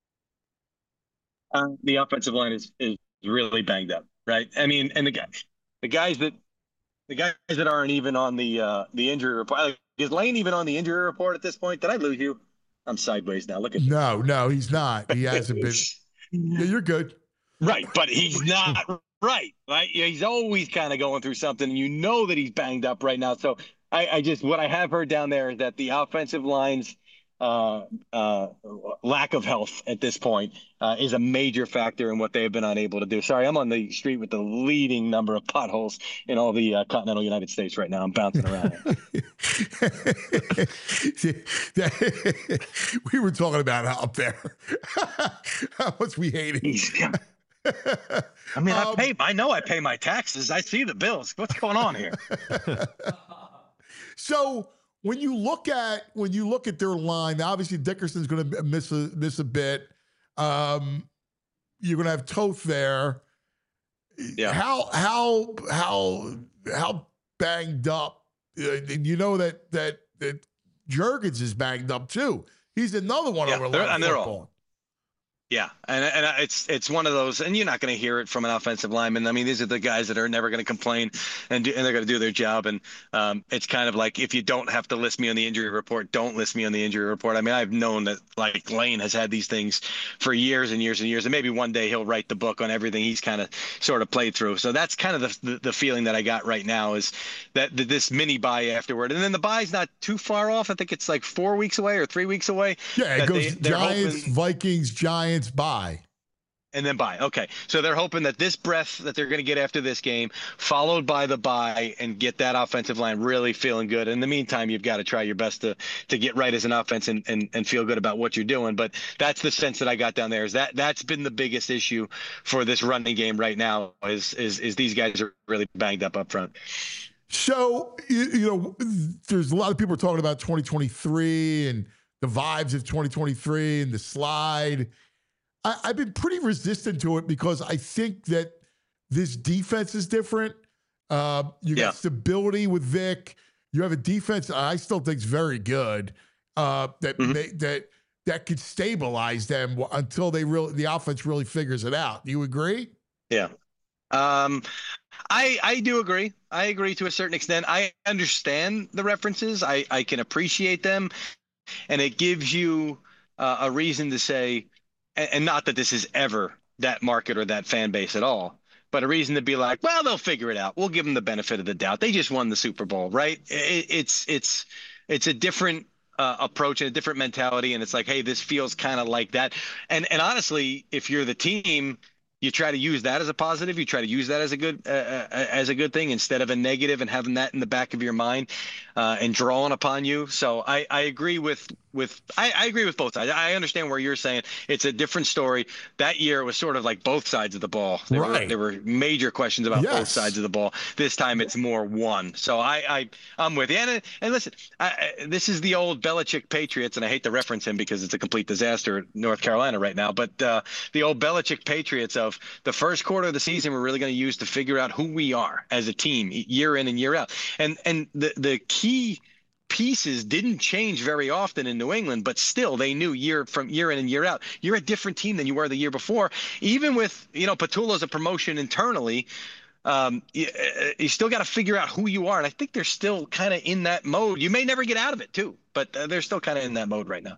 Uh, the offensive line is is really banged up, right? I mean, and the guys, the guys that the guys that aren't even on the uh, the injury report. Like, is Lane even on the injury report at this point? Did I lose you? I'm sideways now. Look at you. No, no, he's not. He hasn't been. Yeah, you're good. Right, but he's not right. Right, yeah, he's always kind of going through something. And you know that he's banged up right now. So I, I just what I have heard down there is that the offensive line's uh, uh, lack of health at this point uh, is a major factor in what they have been unable to do. Sorry, I'm on the street with the leading number of potholes in all the uh, continental United States right now. I'm bouncing around. We were talking about up there how much we hate it. I mean, I Um, pay. I know I pay my taxes. I see the bills. What's going on here? So when you look at when you look at their line, obviously Dickerson's going to miss a miss a bit. Um, you're going to have Toth there. Yeah. How how how how banged up? Uh, and you know that that that Jurgens is banged up too. He's another one Yeah, over they're- a lot of and they're all- football. Yeah, and and it's it's one of those, and you're not going to hear it from an offensive lineman. I mean, these are the guys that are never going to complain, and do, and they're going to do their job. And um, it's kind of like, if you don't have to list me on the injury report, don't list me on the injury report. I mean, I've known that like Lane has had these things for years and years and years, and maybe one day he'll write the book on everything he's kind of sort of played through. So that's kind of the, the the feeling that I got right now, is that that this mini bye afterward, and then the bye's not too far off. I think it's like four weeks away or three weeks away. Yeah, it that goes they- they're Giants, hoping- Vikings, Giants, bye. And then bye. Okay. So they're hoping that this breath that they're going to get after this game, followed by the bye, and get that offensive line really feeling good. In the meantime, you've got to try your best to to get right as an offense and, and, and feel good about what you're doing. But that's the sense that I got down there, is that that's been the biggest issue for this running game right now, is is is these guys are really banged up up front. So, you, you know, there's a lot of people talking about twenty twenty-three and the vibes of twenty twenty-three and the slide. I, I've been pretty resistant to it because I think that this defense is different. Uh, you got Yeah. stability with Vic. You have a defense I still think is very good. Uh, that Mhm. may, that that could stabilize them until they really the offense really figures it out. Do you agree? Yeah. Um, I I do agree. I agree to a certain extent. I understand the references. I, I can appreciate them. And it gives you uh, a reason to say, and, and not that this is ever that market or that fan base at all, but a reason to be like, well, they'll figure it out. We'll give them the benefit of the doubt. They just won the Super Bowl, right? It, it's it's it's a different uh, approach and a different mentality. And it's like, hey, this feels kind of like that. And and honestly, if you're the team, you try to use that as a positive. You try to use that as a good uh, uh, as a good thing instead of a negative, and having that in the back of your mind uh, and drawing upon you. So I, I agree with with I, I agree with both sides. I understand where you're saying it's a different story. That year it was sort of like both sides of the ball. There right. were there were major questions about yes. both sides of the ball. This time it's more one. So I, I I'm with you. And and listen, I, I, this is the old Belichick Patriots, and I hate to reference him because it's a complete disaster in North Carolina right now. But uh, the old Belichick Patriots of the first quarter of the season we're really going to use to figure out who we are as a team year in and year out. And and the the key pieces didn't change very often in New England, but still they knew year from year in and year out, you're a different team than you were the year before. Even with, you know, Patullo's a promotion internally, um, you, you still got to figure out who you are. And I think they're still kind of in that mode. You may never get out of it too, but uh, they're still kind of in that mode right now.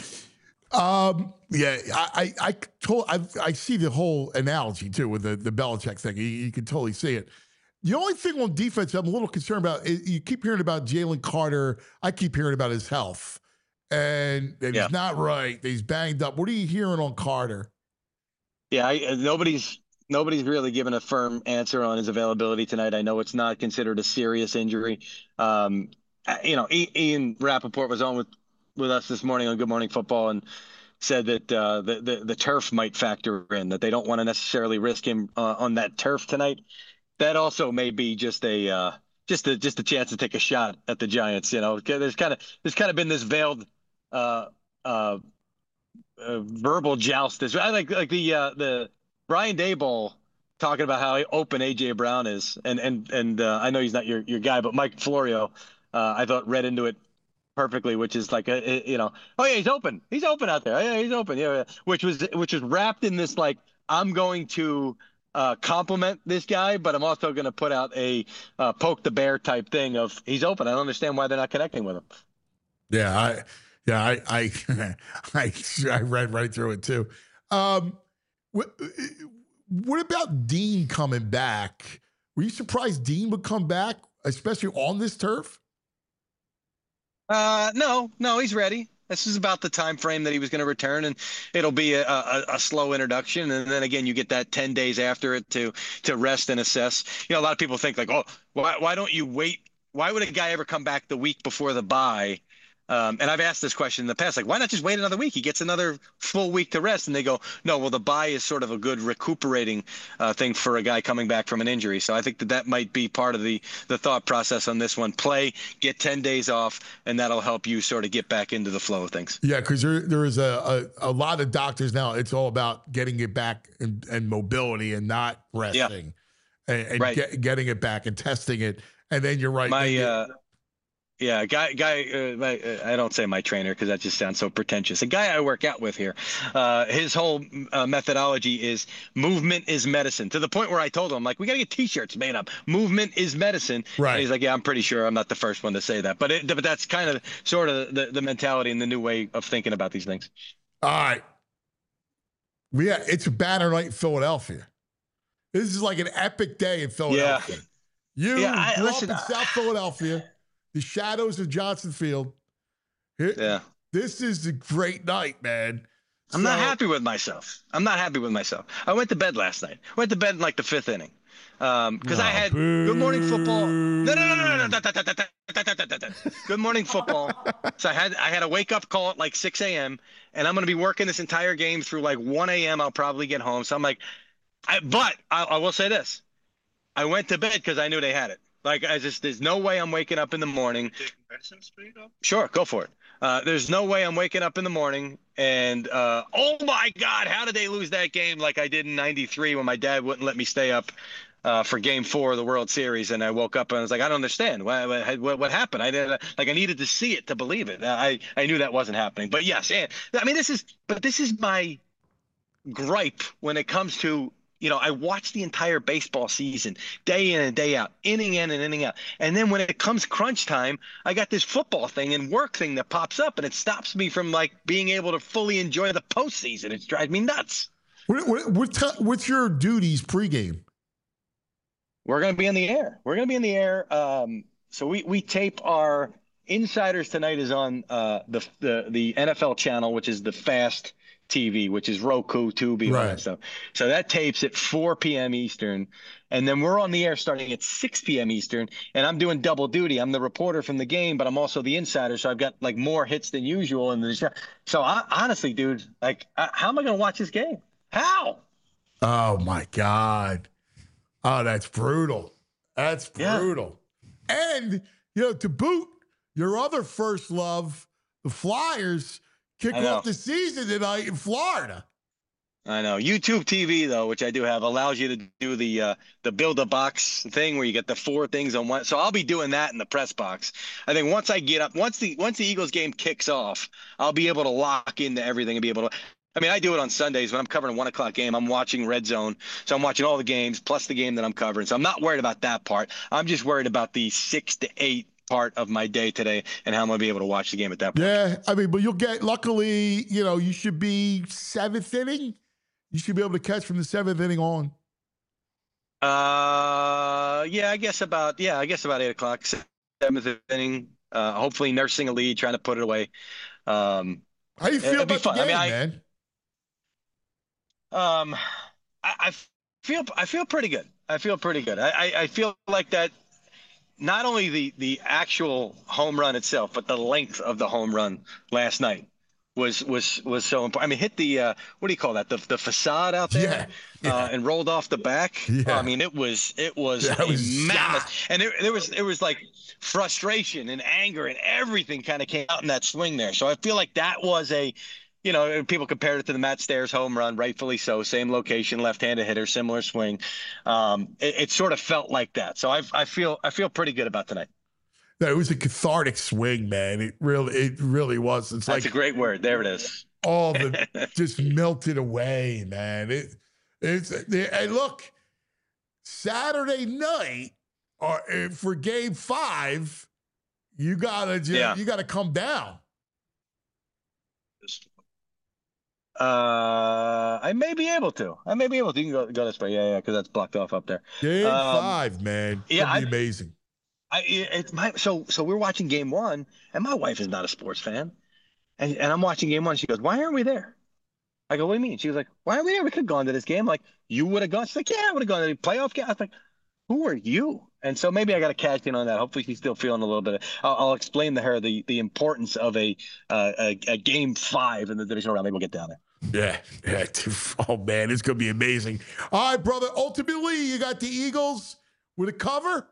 Um, yeah, I, I, I, told, I, I see the whole analogy too with the, the Belichick thing. You, you can totally see it. The only thing on defense I'm a little concerned about is you keep hearing about Jalen Carter. I keep hearing about his health, and, and yeah. he's not right. He's banged up. What are you hearing on Carter? Yeah, I, nobody's nobody's really given a firm answer on his availability tonight. I know it's not considered a serious injury. Um, you know, Ian Rappaport was on with, with us this morning on Good Morning Football and said that uh, the, the the turf might factor in, that they don't want to necessarily risk him uh, on that turf tonight. That also may be just a uh, just a just a chance to take a shot at the Giants. You know, there's kind of there's kind of been this veiled uh, uh, uh, verbal joust. This I like like the uh, the Brian Daboll talking about how open A J Brown is, and and and uh, I know he's not your your guy, but Mike Florio, uh, I thought read into it perfectly, which is like a, a, you know, oh yeah, he's open, he's open out there, oh, yeah, he's open, yeah, yeah, which was which was wrapped in this like I'm going to. Uh, compliment this guy, but I'm also going to put out a uh, poke the bear type thing of he's open. I don't understand why they're not connecting with him. Yeah, I, yeah, I, I, I, I read right through it too. Um, what, what about Dean coming back? Were you surprised Dean would come back, especially on this turf? Uh, no, no, he's ready. This is about the time frame that he was going to return, and it'll be a, a, a slow introduction. And then again, you get that ten days after it to to rest and assess. You know, a lot of people think like, oh, why why don't you wait? Why would a guy ever come back the week before the bye? Um, and I've asked this question in the past, like, why not just wait another week? He gets another full week to rest. And they go, no, well, the bye is sort of a good recuperating uh, thing for a guy coming back from an injury. So I think that that might be part of the the thought process on this one. Play, get ten days off, and that'll help you sort of get back into the flow of things. Yeah, because there, there is a, a, a lot of doctors now, it's all about getting it back and, and mobility and not resting yeah. and, and right. get, getting it back and testing it. And then you're right. My, you, uh, Yeah, guy, guy. Uh, my, uh, I don't say my trainer because that just sounds so pretentious. A guy I work out with here, uh, his whole uh, methodology is movement is medicine. To the point where I told him, like, we gotta get T-shirts made up. Movement is medicine. Right. And he's like, yeah, I'm pretty sure I'm not the first one to say that, but it, but that's kind of sort of the, the mentality and the new way of thinking about these things. All right. Yeah, it's a banner night in Philadelphia. This is like an epic day in Philadelphia. Yeah. You yeah, I, grew listen, up in South Philadelphia. The shadows of Johnson Field. Here, yeah. This is a great night, man. I'm so, not happy with myself. I'm not happy with myself. I went to bed last night. Went to bed in like the fifth inning. Um, because oh, I had boo. Good Morning Football. No, no, no, no, no, no. Good Morning Football. So I had I had a wake up call at like six a.m. and I'm gonna be working this entire game through like one a.m. I'll probably get home. So I'm like, I, but I, I will say this. I went to bed because I knew they had it. Like, I just, there's no way I'm waking up in the morning. Sure, go for it. Uh, there's no way I'm waking up in the morning and, uh, oh my God, how did they lose that game like I did in ninety-three when my dad wouldn't let me stay up uh, for game four of the World Series. And I woke up and I was like, I don't understand. What, what, what happened? I did like I needed to see it to believe it. I, I knew that wasn't happening. But yes, and I mean, this is but this is my gripe when it comes to, you know, I watch the entire baseball season day in and day out, inning in and inning out. And then when it comes crunch time, I got this football thing and work thing that pops up and it stops me from like being able to fully enjoy the postseason. It drives me nuts. What, what, what t- what's your duties pregame? We're going to be in the air. We're going to be in the air. Um, so we, we tape our Insiders Tonight is on uh, the, the the N F L channel, which is the Fast T V, which is Roku, Tubi, all Right. that stuff. So that tapes at four p.m. Eastern. And then we're on the air starting at six p.m. Eastern. And I'm doing double duty. I'm the reporter from the game, but I'm also the insider. So I've got like more hits than usual in the show. So I, honestly, dude, like, I, how am I going to watch this game? How? Oh my God. Oh, that's brutal. That's Yeah. brutal. And, you know, to boot, your other first love, the Flyers, kick I know. off the season tonight in Florida. I know. YouTube T V though, which I do have, allows you to do the uh, the build a box thing where you get the four things on one. So I'll be doing that in the press box. I think once I get up, once the once the Eagles game kicks off, I'll be able to lock into everything and be able to. I mean, I do it on Sundays when I'm covering a one o'clock game. I'm watching Red Zone, so I'm watching all the games plus the game that I'm covering. So I'm not worried about that part. I'm just worried about the six to eight part of my day today and how I'm going to be able to watch the game at that point. Yeah, I mean, but you'll get, luckily, you know, you should be seventh inning. You should be able to catch from the seventh inning on. Uh, yeah, I guess about yeah, I guess about eight o'clock, seventh inning. Uh, hopefully nursing a lead, trying to put it away. Um, How you feel it'd be about the fun. I game, mean, I- man? Um, I, I feel I feel pretty good. I feel pretty good. I, I, I feel like that. Not only the the actual home run itself, but the length of the home run last night was was was so important. I mean, hit the uh, what do you call that? The the facade out there, Yeah, yeah. Uh, and rolled off the back. Yeah. I mean, it was it was That a was mammoth, and there, there was there was like frustration and anger and everything kind of came out in that swing there. So I feel like that was a. You know, people compared it to the Matt Stairs home run, rightfully so. Same location, left-handed hitter, similar swing. Um, it, it sort of felt like that. So I, I feel, I feel pretty good about tonight. No, it was a cathartic swing, man. It really, it really was. It's That's like a great word. There it is. all the just melted away, man. It, it's hey, look, Saturday night, or uh, for Game Five, you gotta just, Yeah. you gotta come down. Uh, I may be able to. I may be able to. You can go, go this way. Yeah, yeah, because that's blocked off up there. Game Um, Five, man. It's yeah, gonna be I- amazing. I it- it's my so so we're watching game one, and my wife is not a sports fan, and and I'm watching game one. She goes, "Why aren't we there?" I go, "What do you mean?" She was like, "Why aren't we there? We could have gone to this game. I'm like, you would have gone." She's like, "Yeah, I would have gone to the playoff game." I was like, "Who are you?" And so maybe I got to cash in on that. Hopefully, she's still feeling a little bit. I'll, I'll explain to her the the importance of a, uh, a a game five in the divisional round. Maybe we'll get down there. Yeah, yeah. Oh man, it's gonna be amazing. All right, brother. Ultimately, you got the Eagles with a cover.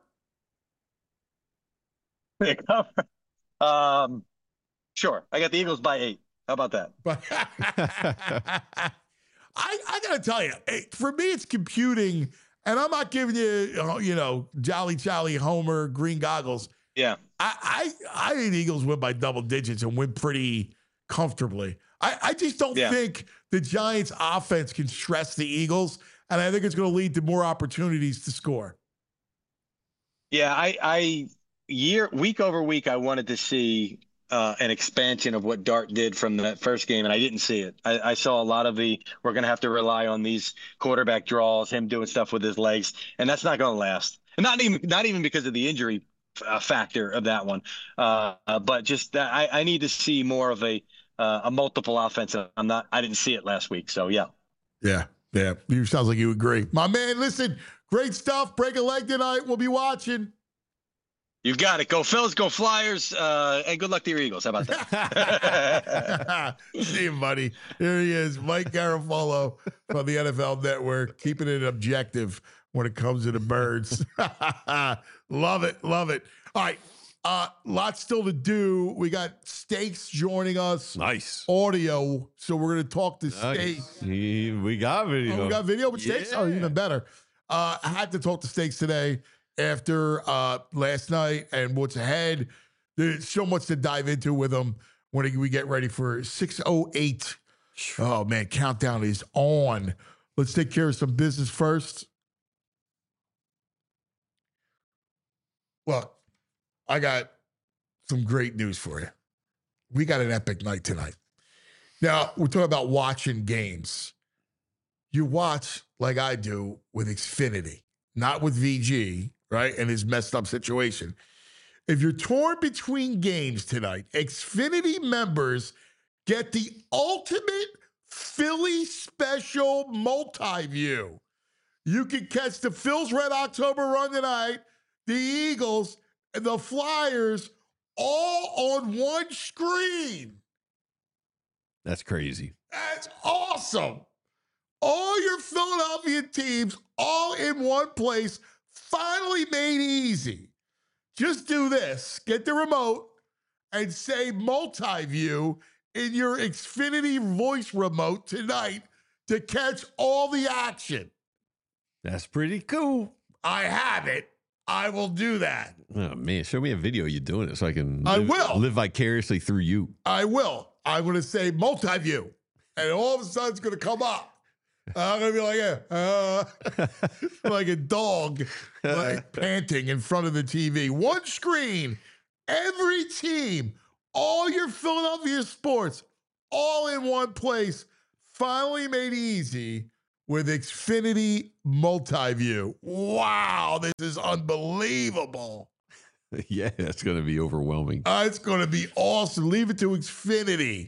um, sure. I got the Eagles by eight. How about that? But I, I gotta tell you, it- for me, it's computing, and I'm not giving you, uh, you know, Jolly Jolly Homer green goggles. Yeah. I, I, I think the Eagles win by double digits and win pretty comfortably. I, I just don't Yeah. think the Giants' offense can stress the Eagles, and I think it's going to lead to more opportunities to score. Yeah, I, I year week over week, I wanted to see uh, an expansion of what Dart did from that first game, and I didn't see it. I, I saw a lot of the we're going to have to rely on these quarterback draws, him doing stuff with his legs, and that's not going to last. And not even not even because of the injury uh, factor of that one, uh, uh, but just that I, I need to see more of a uh, a multiple offense. I'm not. I didn't see it last week, so yeah. Yeah, yeah. You sounds like you agree, my man. Listen, great stuff. Break a leg tonight. We'll be watching. You've got it. Go Phils, go Flyers, uh, and good luck to your Eagles. How about that? See you, buddy. Here he is, Mike Garafolo from the N F L Network, keeping it objective when it comes to the Birds. Love it, love it. All right, Uh, lots still to do. We got Stakes joining us. Nice. Audio. So we're going to talk to Nice. Stakes. He- we got video. Oh, we got video with Stakes? Oh, Yeah. even better. Uh, I had to talk to Stakes today after uh, last night and what's ahead. There's so much to dive into with him when we get ready for six oh eight. Oh, man, countdown is on. Let's take care of some business first. Look, I got some great news for you. We got an epic night tonight. Now, we're talking about watching games. You watch like I do with Xfinity, not with V G, right? And his messed up situation. If you're torn between games tonight, Xfinity members get the ultimate Philly special multi-view. You can catch the Phil's Red October run tonight, the Eagles, and the Flyers all on one screen. That's crazy. That's awesome. All your Philadelphia teams all in one place, finally made easy. Just do this. Get the remote and say multi-view in your Xfinity voice remote tonight to catch all the action. That's pretty cool. I have it. I will do that. Oh, man. Show me a video you doing it so I can I live, will. live vicariously through you. I will. I'm going to say multi-view. And all of a sudden it's going to come up. I'm going to be like a, uh, like a dog like panting in front of the T V. One screen, every team, all your Philadelphia sports, all in one place, finally made easy with Xfinity Multi-View. Wow, this is unbelievable. Yeah, that's going to be overwhelming. Uh, it's going to be awesome. Leave it to Xfinity.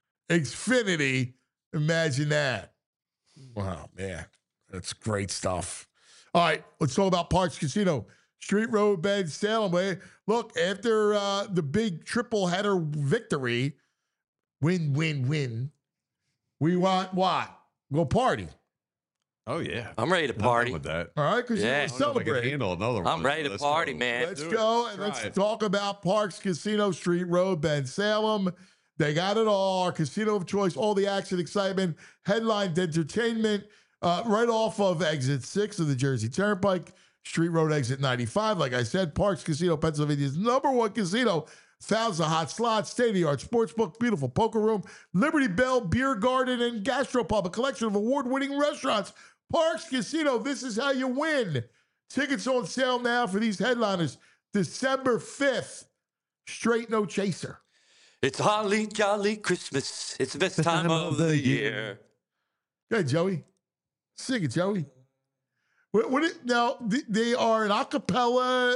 Xfinity, imagine that. Wow, man, that's great stuff. All right, let's talk about Parx Casino, Street Road, Bend, Salem. Way. Look, after uh, the big triple header victory, win, win, win, we want what? Go party. Oh, yeah. I'm ready to I'm done party. with that. All right, because Yeah. you I want to I don't know if I can celebrate. handle another one. I'm ready to Let's party, go. man. Let's do it. go and Try let's it. talk about Parx Casino, Street Road, Bend, Salem. They got it all. Our casino of choice, all the action, excitement, headlined entertainment, uh, right off of exit six of the Jersey Turnpike, Street Road, exit ninety-five. Like I said, Parx Casino, Pennsylvania's number one casino. Thousands of hot slots, state-of-the-art sportsbook, beautiful poker room, Liberty Bell, beer garden, and gastropub, a collection of award-winning restaurants. Parx Casino, this is how you win. Tickets on sale now for these headliners. December fifth, straight no chaser. It's holly jolly Christmas. It's the best time of the year. Hey, Joey. Sing it, Joey. What, what it, now, th- they are an a cappella.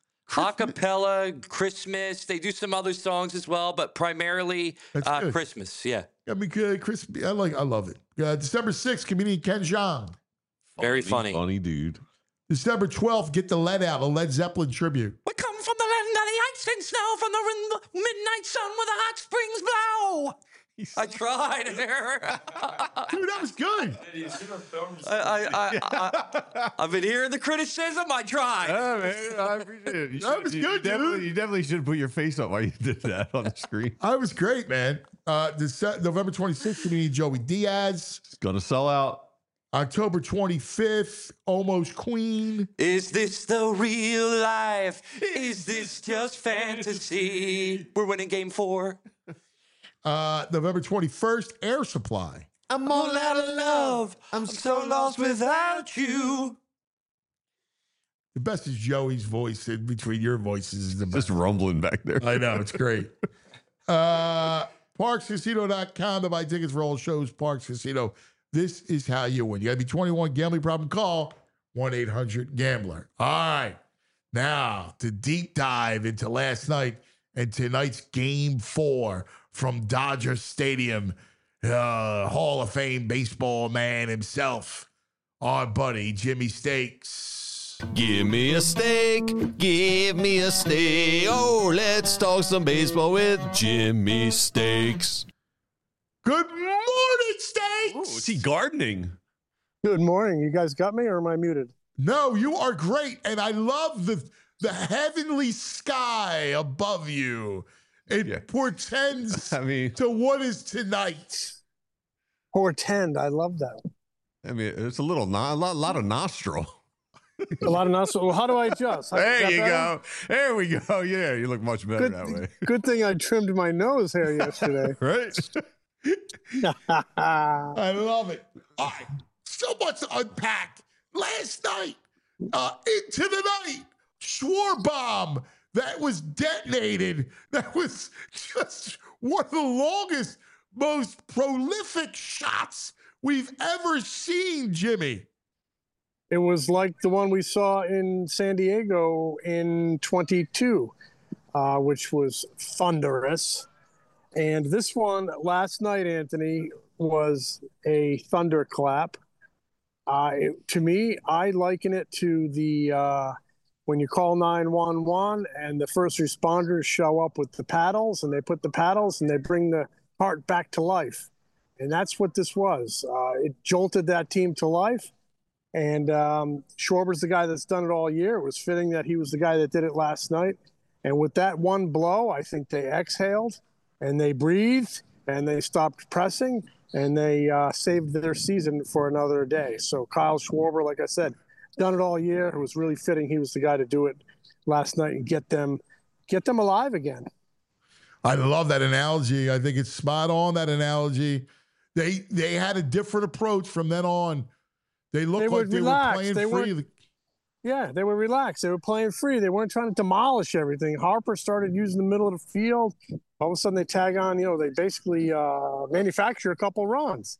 Acapella, Christmas. They do some other songs as well, but primarily That's uh, good. Christmas. Yeah. I mean, uh, Chris, I like, I love it. Uh, December sixth, comedian Ken Jeong. Very funny. Funny dude. December twelfth, Get the Lead Out, a Led Zeppelin tribute. We come from the land of the ice and snow, from the, rin- the midnight sun where the hot springs blow. I tried there. Dude, that was good. I, I, I, I, I've been hearing the criticism. I tried. Yeah, man, I appreciate it. You That should- was you, good, you definitely, dude. you definitely should put your face up while you did that on the screen. I was great, man. Uh, Dece- November twenty-sixth, comedian Joey Diaz. It's gonna sell out. October twenty-fifth, Almost Queen. Is this the real life? Is this just fantasy? We're winning game four. Uh, November twenty-first, Air Supply. I'm all out of love. I'm so lost without you. The best is Joey's voice in between your voices is the best. Just rumbling back there. I know, it's great. uh, Parx Casino dot com to buy tickets for all shows. Parx Casino. This is how you win. You got to be twenty-one. Gambling problem, call one eight hundred gambler. All right. Now, to deep dive into last night and tonight's game four from Dodger Stadium, uh, Hall of Fame baseball man himself, our buddy Jimmy Stakes. Give me a steak, give me a steak. Oh, let's talk some baseball with Jimmy Stakes. Good morning, Stakes. Oh, is he gardening? Good morning. You guys got me, or am I muted? No, you are great. And I love the the heavenly sky above you. It Yeah. portends I mean, to what is tonight. Portend. I love that. I mean, it's a little, no, a lot, lot of nostril. A lot of nostril. Well, how do I adjust? How- is There that you better? go. There we go. Yeah, you look much better Good, that way. good thing I trimmed my nose hair yesterday. Right? I love it. All right. So much to unpack. Last night, uh, into the night, Schwarbomb that was detonated. That was just one of the longest, most prolific shots we've ever seen, Jimmy. It was like the one we saw in San Diego in twenty-two, uh, which was thunderous. And this one last night, Anthony, was a thunderclap. Uh, it, to me, I liken it to the uh, when you call nine one one and the first responders show up with the paddles, and they put the paddles and they bring the heart back to life. And that's what this was. Uh, it jolted that team to life. And um, Schwarber's the guy that's done it all year. It was fitting that he was the guy that did it last night. And with that one blow, I think they exhaled and they breathed and they stopped pressing and they uh, saved their season for another day. So Kyle Schwarber, like I said, done it all year. It was really fitting he was the guy to do it last night and get them, get them alive again. I love that analogy. I think it's spot on, that analogy. They they had a different approach from then on. They looked They like were they relaxed. were playing They free. weren't- Yeah, they were relaxed. They were playing free. They weren't trying to demolish everything. Harper started using the middle of the field. All of a sudden, they tag on. You know, they basically uh, manufacture a couple runs.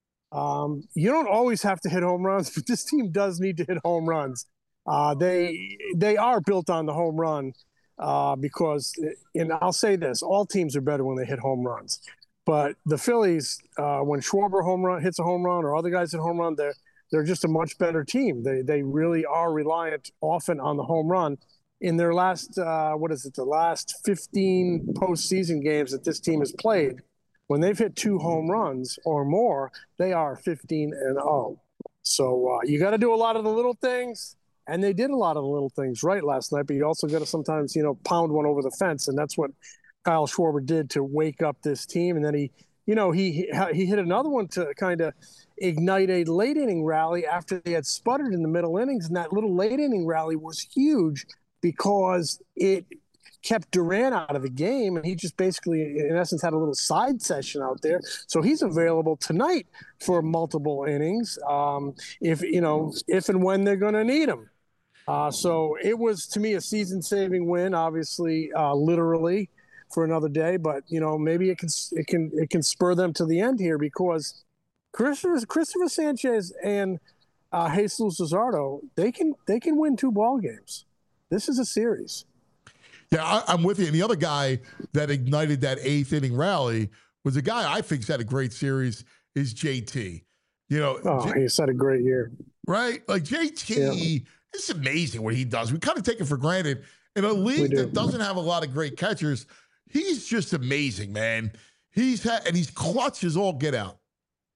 Um, you don't always have to hit home runs, but this team does need to hit home runs. Uh, they they are built on the home run uh, because, and I'll say this: all teams are better when they hit home runs. But the Phillies, uh, when Schwarber home run hits a home run, or other guys hit a home run, they're they're just a much better team. They they really are reliant often on the home run. In their last, uh, what is it, the last fifteen postseason games that this team has played, when they've hit two home runs or more, they are fifteen and oh. So uh, you got to do a lot of the little things, and they did a lot of the little things right last night. But you also got to sometimes, you know, pound one over the fence, and that's what Kyle Schwarber did to wake up this team. And then he, you know, he he hit another one to kind of ignite a late inning rally after they had sputtered in the middle innings. And that little late inning rally was huge because it kept Durant out of the game. And he just basically, in essence, had a little side session out there. So he's available tonight for multiple innings um, if, you know, if and when they're going to need him. Uh, so it was, to me, a season-saving win, obviously, uh, literally, for another day. But, you know, maybe it can it can it can spur them to the end here, because Christopher, Christopher Sanchez and uh, Jesus Luzardo, they can they can win two ball games. This is a series. Yeah, I, I'm with you. And the other guy that ignited that eighth inning rally was a guy I think's had a great series, is J T. You know, Oh, J- he's had a great year. right? Like J T, Yeah. it's amazing what he does. We kind of take it for granted. In a league do. that doesn't have a lot of great catchers, he's just amazing, man. He's had, and he's clutch as all get out.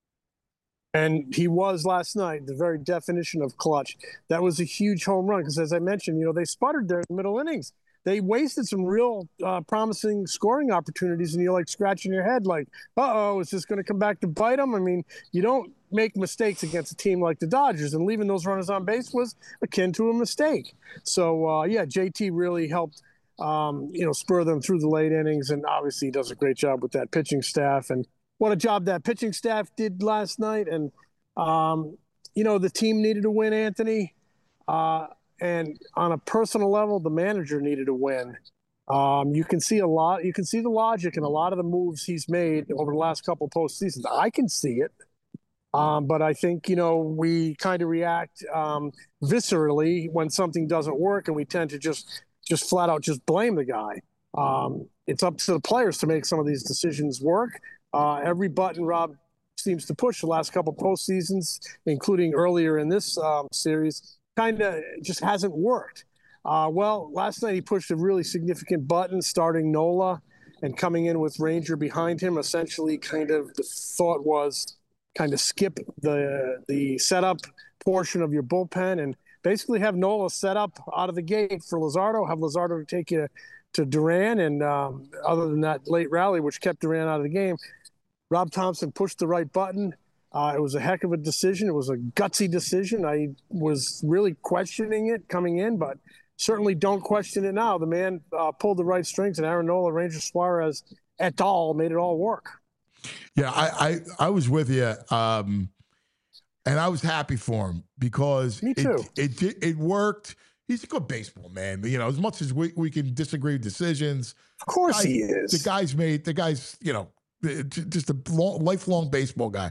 And he was last night, the very definition of clutch. That was a huge home run because, as I mentioned, you know, they sputtered there in the middle innings. They wasted some real uh, promising scoring opportunities, and you're like scratching your head like, uh-oh, is this going to come back to bite them? I mean, you don't make mistakes against a team like the Dodgers, and leaving those runners on base was akin to a mistake. So, uh, yeah, J T really helped, um, you know, spur them through the late innings, and obviously he does a great job with that pitching staff. And what a job that pitching staff did last night. And, um, you know, the team needed to win, Anthony. Uh, and on a personal level, the manager needed to win. Um, you can see a lot. You can see the logic in a lot of the moves he's made over the last couple of postseasons. I can see it. Um, but I think, you know, we kind of react um, viscerally when something doesn't work, and we tend to just just flat out just blame the guy. Um, it's up to the players to make some of these decisions work. Uh, every button Rob seems to push the last couple postseasons, including earlier in this um, series, kind of just hasn't worked. Uh, well, last night he pushed a really significant button, starting Nola and coming in with Ranger behind him. Essentially, kind of the thought was kind of skip the the setup portion of your bullpen and basically have Nola set up out of the gate for Luzardo, have Luzardo take you to Duran, and um, other than that late rally, which kept Duran out of the game, Rob Thompson pushed the right button. Uh, it was a heck of a decision. It was a gutsy decision. I was really questioning it coming in, but certainly don't question it now. The man uh, pulled the right strings, and Aaron Nola, Ranger Suarez, et al. Made it all work. Yeah, I I, I was with you, um, and I was happy for him because Me too. It, it it worked. He's a good baseball man. You know, as much as we, we can disagree with decisions, of course guys, he is. The guy's made the guy's you know just a long, lifelong baseball guy.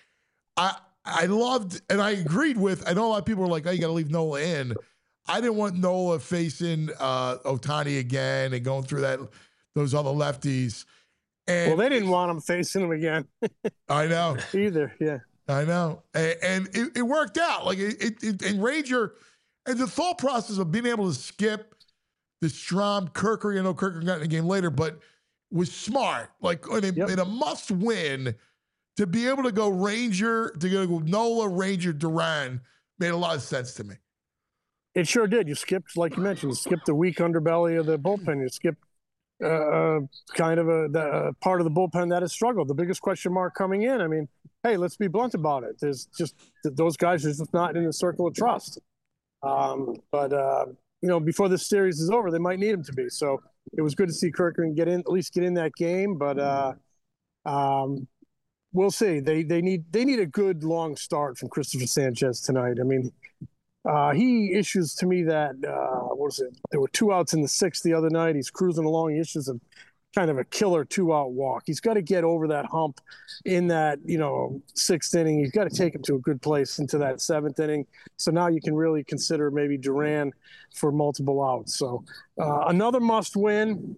I I loved and I agreed with. I know a lot of people were like, "Oh, you got to leave Nola in." I didn't want Nola facing uh, Ohtani again and going through that those other lefties. And well, they didn't want him facing him again. I know either. Yeah, I know, and, and it, it worked out. Like it, it, it, and Ranger, and the thought process of being able to skip the Strom Kirker. You know, Kirker got in the game later, but was smart. Like in a, yep. in a must win, to be able to go Ranger to go Nola, Ranger, Duran made a lot of sense to me. It sure did. You skipped, like you mentioned, you skipped the weak underbelly of the bullpen. You skipped uh, kind of a the, uh, part of the bullpen that has struggled. The biggest question mark coming in. I mean, hey, let's be blunt about it. There's just those guys are just not in the circle of trust. Um, but uh, you know, before this series is over, they might need him to be. So it was good to see Kirkland get in, at least get in that game. But uh, um, we'll see. They they need they need a good long start from Christopher Sanchez tonight. I mean. Uh, he issues to me that, uh, what was it? There were two outs in the sixth the other night. He's cruising along. He issues a kind of a killer two-out walk. He's got to get over that hump in that, you know, sixth inning. He's got to take him to a good place into that seventh inning. So now you can really consider maybe Duran for multiple outs. So uh, another must win.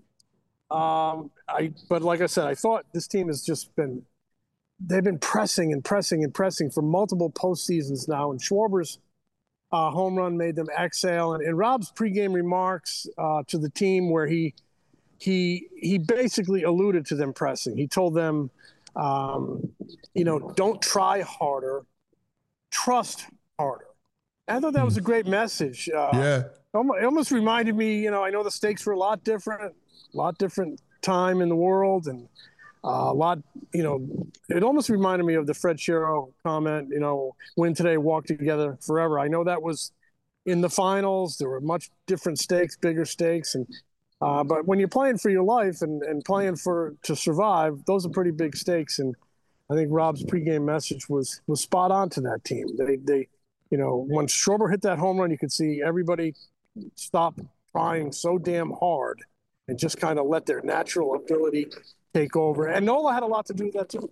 Um, I, but like I said, I thought this team has just been, they've been pressing and pressing and pressing for multiple postseasons now. And Schwarber's Uh, home run made them exhale, and, and Rob's pregame remarks uh, to the team, where he he he basically alluded to them pressing. He told them, um, you know, don't try harder, trust harder. And I thought that was a great message. Uh, yeah, it almost reminded me, you know, I know the stakes were a lot different, a lot different time in the world, and uh, a lot, you know, it almost reminded me of the Fred Shero comment, you know, win today, walk together forever. I know that was in the finals. There were much different stakes, bigger stakes. And, uh, but when you're playing for your life and, and playing for, to survive, those are pretty big stakes. And I think Rob's pregame message was, was spot on to that team. They, they, you know, when Schwarber hit that home run, you could see everybody stop trying so damn hard and just kind of let their natural ability take over. And Nola had a lot to do with that too.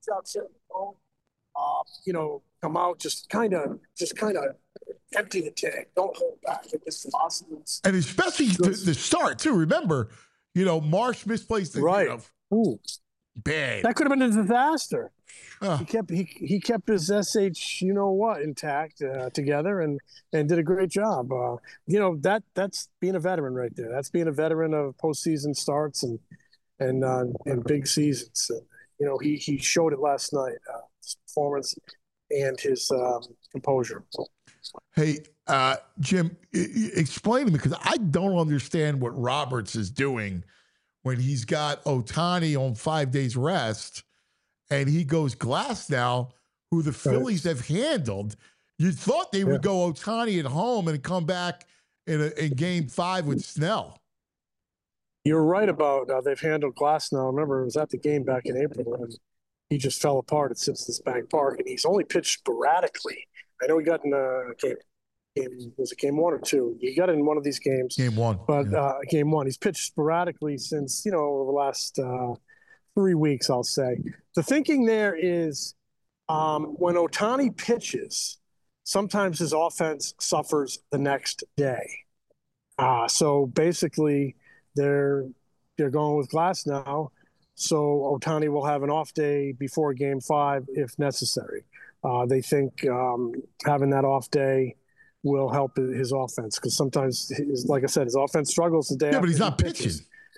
Uh, you know, come out, just kind of, just kind of empty the tank. Don't hold back. It's possible. And especially the, the start too. Remember, you know, Marsh misplaced the right. You know, Ooh, bad. That could have been a disaster. Uh, he kept he he kept his S H, you know what, intact uh, together, and and did a great job. Uh, you know that that's being a veteran right there. That's being a veteran of postseason starts and. and uh, and big seasons. Uh, you know, he he showed it last night, uh, his performance and his um, composure. Hey, uh, Jim, I- explain to me, because I don't understand what Roberts is doing when he's got Ohtani on five days rest and he goes Glasnow, who the Phillies have handled. You thought they would yeah. go Ohtani at home and come back in, a, in game five with Snell. You're right about uh, they've handled Glasnow. Remember, it was at the game back in April, and he just fell apart at Citizens Bank Park, and he's only pitched sporadically. I know he got in a game, game was it game one or two? He got in one of these games. Game one. But yeah. uh, game one. He's pitched sporadically since, you know, over the last uh, three weeks, I'll say. The thinking there is um, when Ohtani pitches, sometimes his offense suffers the next day. Uh, so basically, They're they're going with Glasnow, so Ohtani will have an off day before Game Five if necessary. Uh, they think um, having that off day will help his offense, because sometimes, his, like I said, his offense struggles the day. Yeah, but he's not he pitching.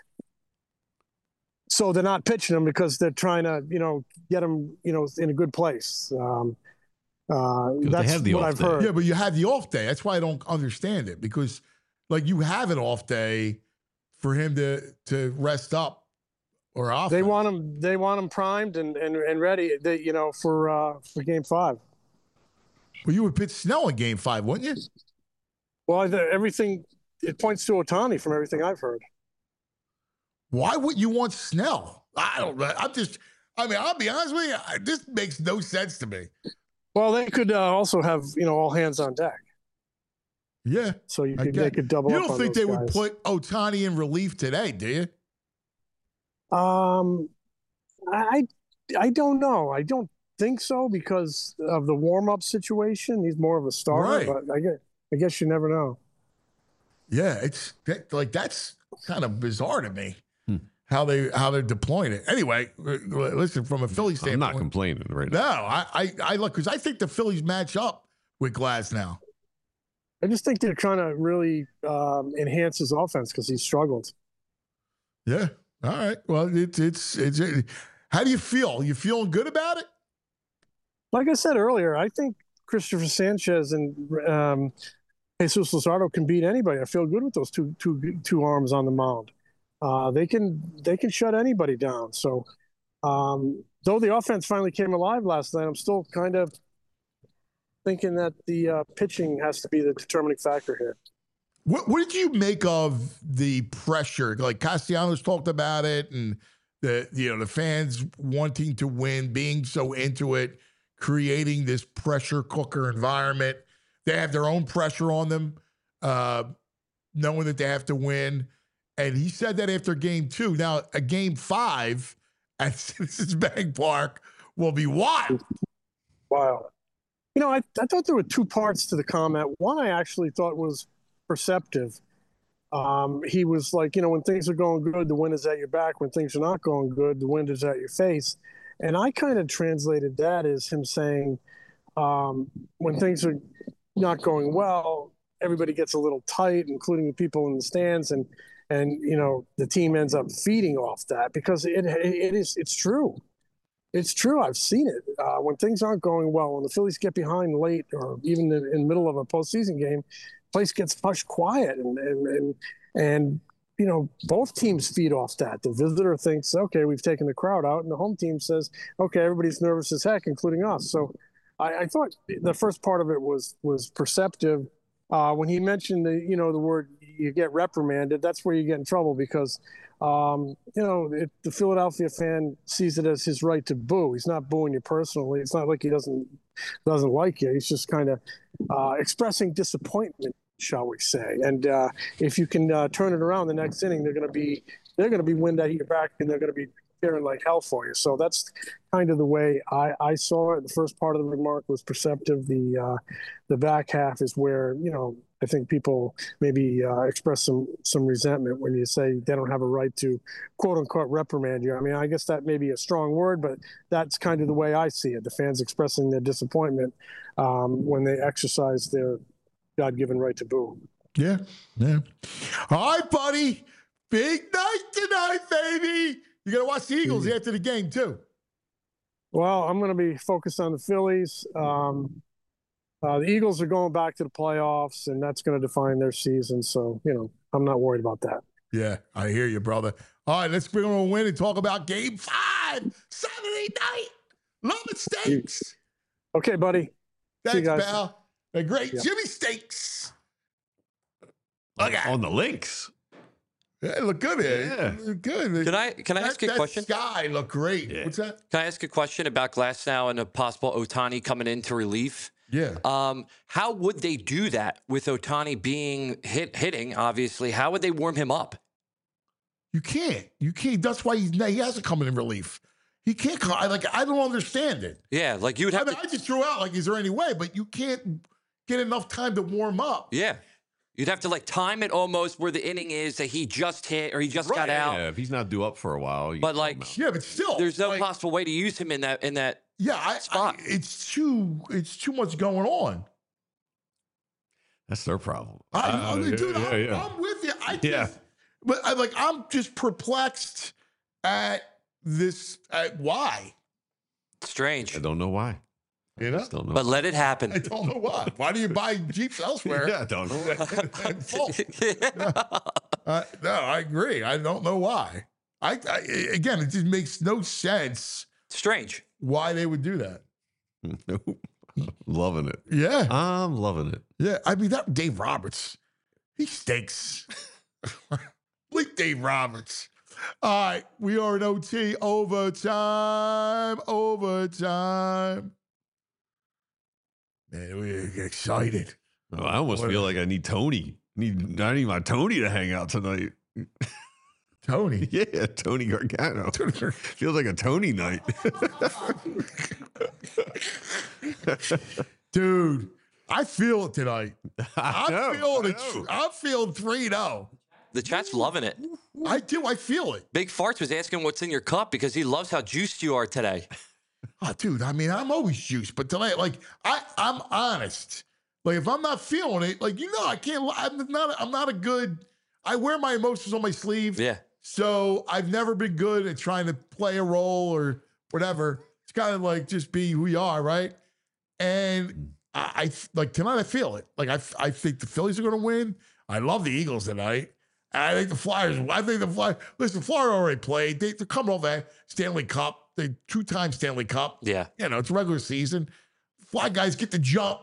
So they're not pitching him because they're trying to, you know, get him, you know, in a good place. Um, Uh, they that's have the what off I've day. heard. Yeah, but you had the off day. That's why I don't understand it because, like, you have an off day for him to to rest up or off. They want him. They want him primed and and, and ready. They, you know, for uh, for game five. Well, you would pitch Snell in game five, wouldn't you? Well, I- everything it points to Ohtani from everything I've heard. Why would you want Snell? I don't know. I'm just. I mean, I'll be honest with you. I, this makes no sense to me. Well, they could uh, also have, you know, all hands on deck. Yeah. So you I could get- they could double. You up don't on think those they would guys. put Ohtani in relief today, do you? Um, I I don't know. I don't think so because of the warm up situation. He's more of a starter, Right. but I guess I guess you never know. Yeah, it's that, like that's kind of bizarre to me Hmm. how they how they're deploying it. Anyway, l- l- listen from a Philly I'm standpoint. not complaining right No, now. I I, I look because I think the Phillies match up with Glass now. I just think they're trying to really um, enhance his offense because he's struggled. Yeah. All right. Well, it's it's it's. It, how do you feel? You feeling good about it? Like I said earlier, I think Christopher Sanchez and um, Jesus Luzardo can beat anybody. I feel good with those two two two arms on the mound. Uh, they can they can shut anybody down. So, um, though the offense finally came alive last night, I'm still kind of thinking that the uh, pitching has to be the determining factor here. What what did you make of the pressure? Like Castellanos talked about it, and the you know the fans wanting to win, being so into it, creating this pressure cooker environment. They have their own pressure on them, uh, knowing that they have to win. And he said that after game two. Now, a game five at Citizens Bank Park will be wild. Wow. You know, I, I thought there were two parts to the comment. One I actually thought was perceptive. Um, he was like, you know, when things are going good, the wind is at your back. When things are not going good, the wind is at your face. And I kind of translated that as him saying, um, when things are not going well, everybody gets a little tight, including the people in the stands. And, and you know, the team ends up feeding off that because it, it is, it's true. It's true. I've seen it. Uh, when things aren't going well, when the Phillies get behind late or even in, in the middle of a postseason game, place gets hushed quiet. And, and, and, and, you know, both teams feed off that. The visitor thinks, okay, we've taken the crowd out. And the home team says, okay, everybody's nervous as heck, including us. So I, I thought the first part of it was was perceptive. Uh, when he mentioned the, you know, the word you get reprimanded, that's where you get in trouble because, um, you know, it, the Philadelphia fan sees it as his right to boo. He's not booing you personally. It's not like he doesn't doesn't like you. He's just kind of uh, expressing disappointment, shall we say. And uh, if you can uh, turn it around the next inning, they're going to be they're going to be wind at your back and they're going to be cheering like hell for you. So that's kind of the way I, I saw it. The first part of the remark was perceptive. The uh, the back half is where, you know, I think people maybe uh, express some some resentment when you say they don't have a right to quote unquote reprimand you. I mean, I guess that may be a strong word, but that's kind of the way I see it. The fans expressing their disappointment um, when they exercise their God-given right to boo. Yeah, yeah. All right, buddy. Big night tonight, baby. You got to watch the Eagles Mhm. after the game, too. Well, I'm going to be focused on the Phillies. Um, uh, the Eagles are going back to the playoffs, and that's going to define their season. So, you know, I'm not worried about that. Yeah, I hear you, brother. All right, let's bring on a win and talk about game five, Saturday night. Love it, Steaks. Okay, buddy. See you Thanks, guys. pal. The great Yeah. Jimmy Steaks. On, Okay. on the links. Yeah, look good here. Yeah. Look good. Can I can I that, ask you a that question? sky look great. Yeah. What's that? Can I ask a question about Glasnow and a possible Ohtani coming into relief? Yeah. Um, how would they do that with Ohtani being hit hitting? Obviously, how would they warm him up? You can't. You can't. That's why he's, he hasn't come in relief. He can't come. I, like, I don't understand it. Yeah, like you would I have mean, to. I just threw out, like, is there any way? But you can't get enough time to warm up. Yeah, you'd have to like time it almost where the inning is that he just hit or he just got out. Yeah, if he's not due up for a while. you But, throw him like, out. Yeah, but still. There's no like, possible way to use him in that in that. Yeah, I, I, spot. it's too it's too much going on. That's their problem. I, Uh, I mean, yeah, dude, yeah, I'm, yeah. I'm with you. I just, Yeah. but I like I'm just perplexed at this. At why? Strange. I don't know why. You know? Still know. But let it happen. I don't know why. Why do you buy Jeeps elsewhere? Yeah, I don't know. In full? Uh, no, I agree. I don't know why. I, I again, it just makes no sense Strange. why they would do that. Nope. Loving it. Yeah, I'm loving it. yeah. I mean, that Dave Roberts, he stinks. Bleak Dave Roberts. All right, we are in O T, overtime, overtime. Man, we're excited. Oh, I almost What- feel like I need Tony. Need I need my Tony to hang out tonight. Tony. Yeah, Tony Gargano. Feels like a Tony night. Dude, I feel it tonight. I I'm know, feeling I it. know. I'm feeling three oh. The chat's loving it. I do. I feel it. Big Farts was asking what's in your cup because he loves how juiced you are today. Oh, dude, I mean, I'm always juiced, but tonight, like, I, I'm honest. Like, if I'm not feeling it, like, you know, I can't, li- I'm not, I'm not a good, I wear my emotions on my sleeve. Yeah. So I've never been good at trying to play a role or whatever. It's kind of like just be who you are, right? And I, I like tonight, I feel it. Like, I, I think the Phillies are going to win. I love the Eagles tonight. And I think the Flyers, I think the Flyers, listen, Florida already played. They, they're coming off that Stanley Cup. They two-time Stanley Cup. Yeah. You know, it's regular season. Fly guys get the jump.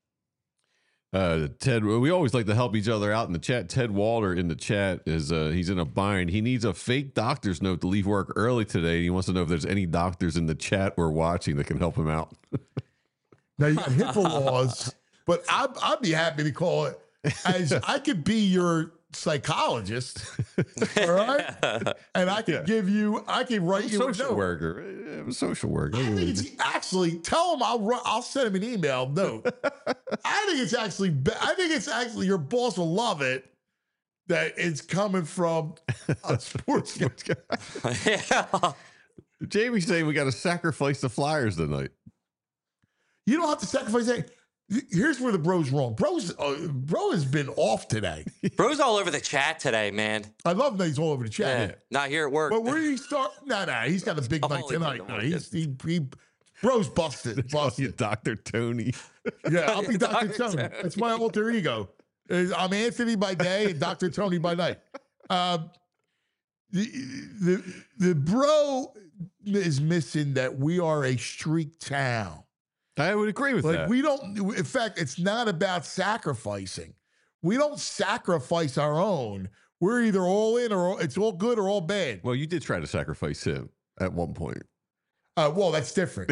Uh, Ted, we always like to help each other out in the chat. Ted Walter in the chat is uh, he's in a bind. He needs a fake doctor's note to leave work early today. He wants to know if there's any doctors in the chat or watching that can help him out. Now you got HIPAA laws, but I'd, I'd be happy to call it as I could be your psychologist, all right? And I could Yeah. give you, I can write you a Social note. worker. I'm a social worker. I think it's actually tell him I'll run, I'll send him an email note. I think it's actually be- I think it's actually your boss will love it that it's coming from a sports guy. Yeah. Jamie's saying we got to sacrifice the Flyers tonight. You don't have to sacrifice that. Here's where the bro's wrong. Bro's uh, bro has been off today. Bro's all over the chat today, man. I love that he's all over the Yeah. chat. Not here at work. But where did he start? No, no, he's got a big I'm night only tonight. kidding, No, I'm he's he, he bro's busted. You Busted. Doctor Tony. Yeah, I'll be Doctor Doctor Tony. Tony. That's my alter ego. Uh, I'm Anthony by day and Doctor Tony by night. Um, the, the the bro is missing that we are a streak town. I would agree with Like that. we don't. In fact, it's not about sacrificing. We don't sacrifice our own. We're either all in or all, it's all good or all bad. well, you did try to sacrifice him at one point. Uh, well, that's different.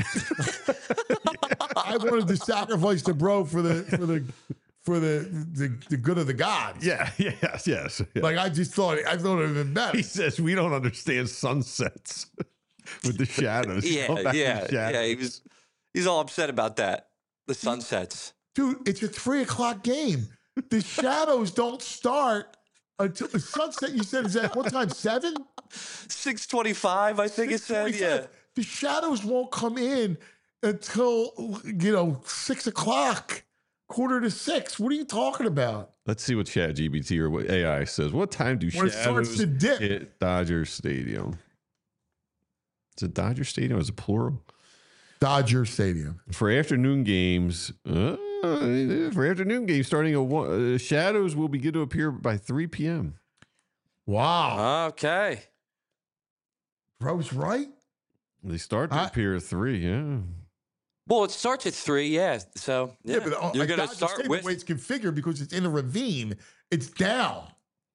I wanted to sacrifice the bro for the for the for the the, the good of the gods. Yeah, yes, yes. yeah. Like I just thought I thought it would have been better. He says we don't understand sunsets with the shadows. yeah, Go back to yeah, the shadows. yeah. He was. He's all upset about that. The sunsets. Dude, it's a three o'clock game. The shadows don't start until the sunset. You said is at what time? Seven? Six twenty-five, I think it said. Yeah. The shadows won't come in until you know six o'clock, quarter to six. What are you talking about? Let's see what Chat G B T or what A I says. What time do When it starts shadows to dip. hit Dodger Stadium? Is it Dodger Stadium? Is it plural? Dodger Stadium. For afternoon games, uh, for afternoon games starting at one, uh, shadows will begin to appear by three p.m. Wow, Okay. bro's right. They start to I- appear at three. Yeah. Well, it starts at three. Yeah. So yeah, but uh, you're like gonna Dodger start Stadium, with. the way it's configured because it's in a ravine. It's down.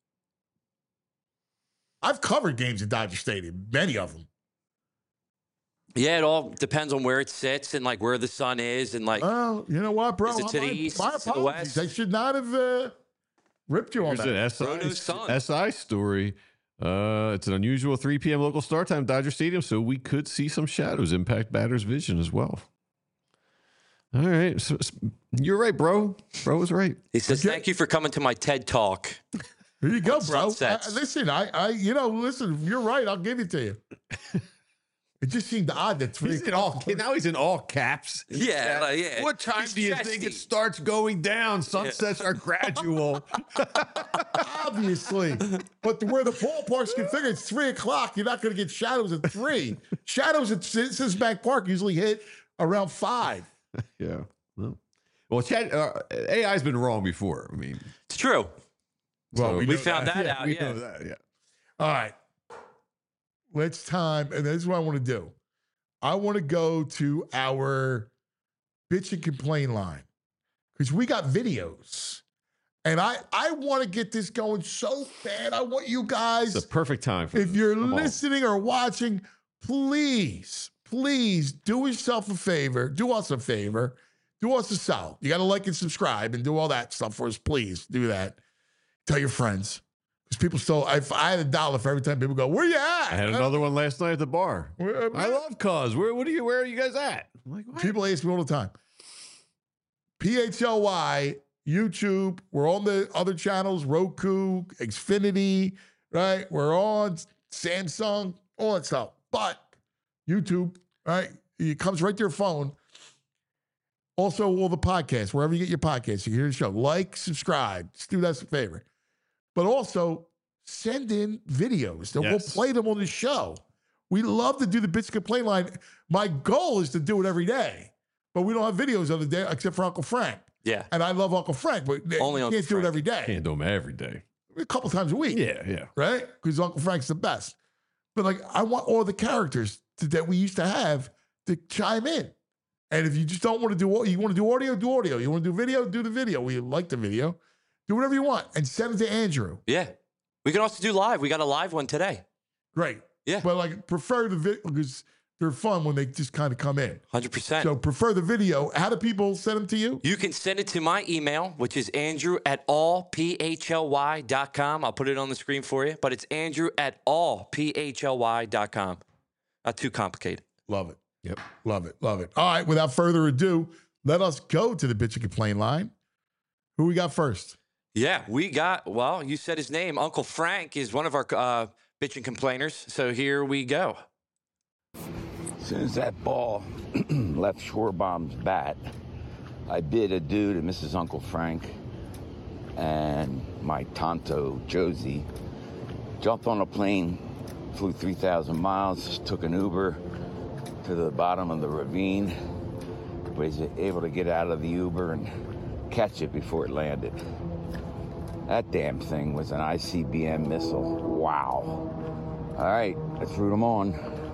I've covered games at Dodger Stadium, many of them. Yeah, it all depends on where it sits and like where the sun is and like. Oh, you know what, bro? Is it to the My- east, My to the apologies. west? I should not have uh, ripped you on Here's an that. S I, Bruno's son. S I story. Uh, it's an unusual three p.m. local start time, Dodger Stadium, so we could see some shadows impact batters' vision as well. All right. So, so- you're right, bro. Bro was right. He says, Okay. "Thank you for coming to my TED talk." Here you go, On bro. sunsets. I- listen, I, I, you know, listen. You're right. I'll give it to you. It just seemed odd that three. He's in all, now he's in all caps. Yeah, like, yeah. What time He's do you think chesty. it starts going down? Sunsets are gradual. Obviously, but where the ballpark's configured, it's three o'clock. You're not going to get shadows at three. Shadows at Citizens Bank Park usually hit around five. Yeah. Well, well chat, uh, A I's been wrong before. I mean, It's true. Well, So- We know found that Yeah, out, we yeah. know that, yeah. All right. Let's time, and this is what I want to do. I want to go to our bitch and complain line because we got videos. And I, I want to get this going so bad. I want you guys, it's the perfect time for if this. you're Come on. listening or watching, please, please do yourself a favor. Do us a favor. Do us a solid. You got to like and subscribe and do all that stuff for us. Please do that. Tell your friends. Because people still, I, I had a dollar for every time people go, where you at? I had another one last night at the bar. Where- I love Cuz. Where, what are you, where are you guys at? I'm like, what? People ask me all the time. P H L Y, YouTube. We're on the other channels, Roku, Xfinity, right? We're on Samsung, all that stuff. But YouTube, right? It comes right to your phone. Also, all the podcasts, wherever you get your podcasts, you can hear the show. Like, subscribe. Just do us a favor. But also, send in videos and Yes. we'll play them on the show. We love to do the Bitch Complain line. My goal is to do it every day, but we don't have videos of the day except for Uncle Frank. Yeah. And I love Uncle Frank, but Only you Uncle can't do it Frank. every day. Can't do them every day. A couple times a week. Yeah, yeah. Right? Because Uncle Frank's the best. But like, I want all the characters to, that we used to have to chime in. And if you just don't want to do, you want to do audio, do audio. You want to do video, do the video. We like the video. Do whatever you want and send it to Andrew. Yeah. We can also do live. We got a live one today. Great. Yeah. But like, prefer the video because they're fun when they just kind of come in. one hundred percent. So prefer the video. How do people send them to you? You can send it to my email, which is Andrew at all P H L Y dot com. I'll put it on the screen for you, but it's Andrew at all P H L Y dot com. Not too complicated. Love it. Yep. Love it. Love it. All right. Without further ado, let us go to the Bitch and Complain line. Who we got first? Yeah, we got, well, you said his name. Uncle Frank is one of our uh, bitchin' complainers. So here we go. As soon as that ball left Schwarbaum's bat, I bid adieu to Missus Uncle Frank and my Tonto Josie. Jumped on a plane, flew three thousand miles, took an Uber to the bottom of the ravine. Was able to get out of the Uber and catch it before it landed. That damn thing was an I C B M missile. Wow. All right, let's root them on.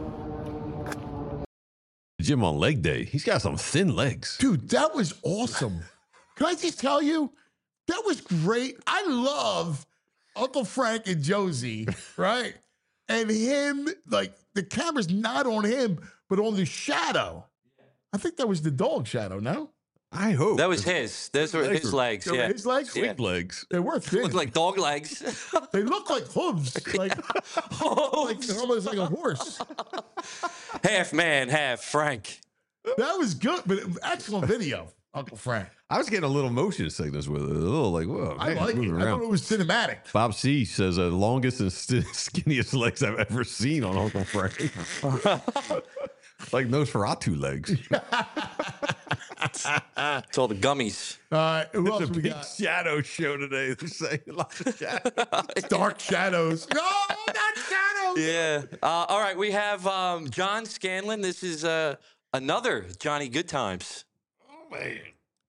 Jim on leg day. He's got some thin legs. Dude, that was awesome. Can I just tell you? That was great. I love Uncle Frank and Josie, right? And him, like, the camera's not on him, but on the shadow. I think that was the dog shadow, no? I hope. That was his. Those were legs his were- legs. They were Yeah. his legs? Yeah. Big legs. They were thin. Looked like dog legs. They look like hooves. Like, like almost like a horse. Half man, half Frank. That was good, but excellent video, Uncle Frank. I was getting a little motion sickness with it. A little like, whoa. I man, like it. moving I around. thought it was cinematic. Bob C says, uh, longest and st- skinniest legs I've ever seen on Uncle Frank. Like Nosferatu legs. It's all the gummies. All right, who else It's a we big got? shadow show today. They're saying a lot of shadows. Dark shadows. No, not shadows. Yeah. Uh, all right, we have um, John Scanlon. This is uh, another Johnny Good Times. Oh, man.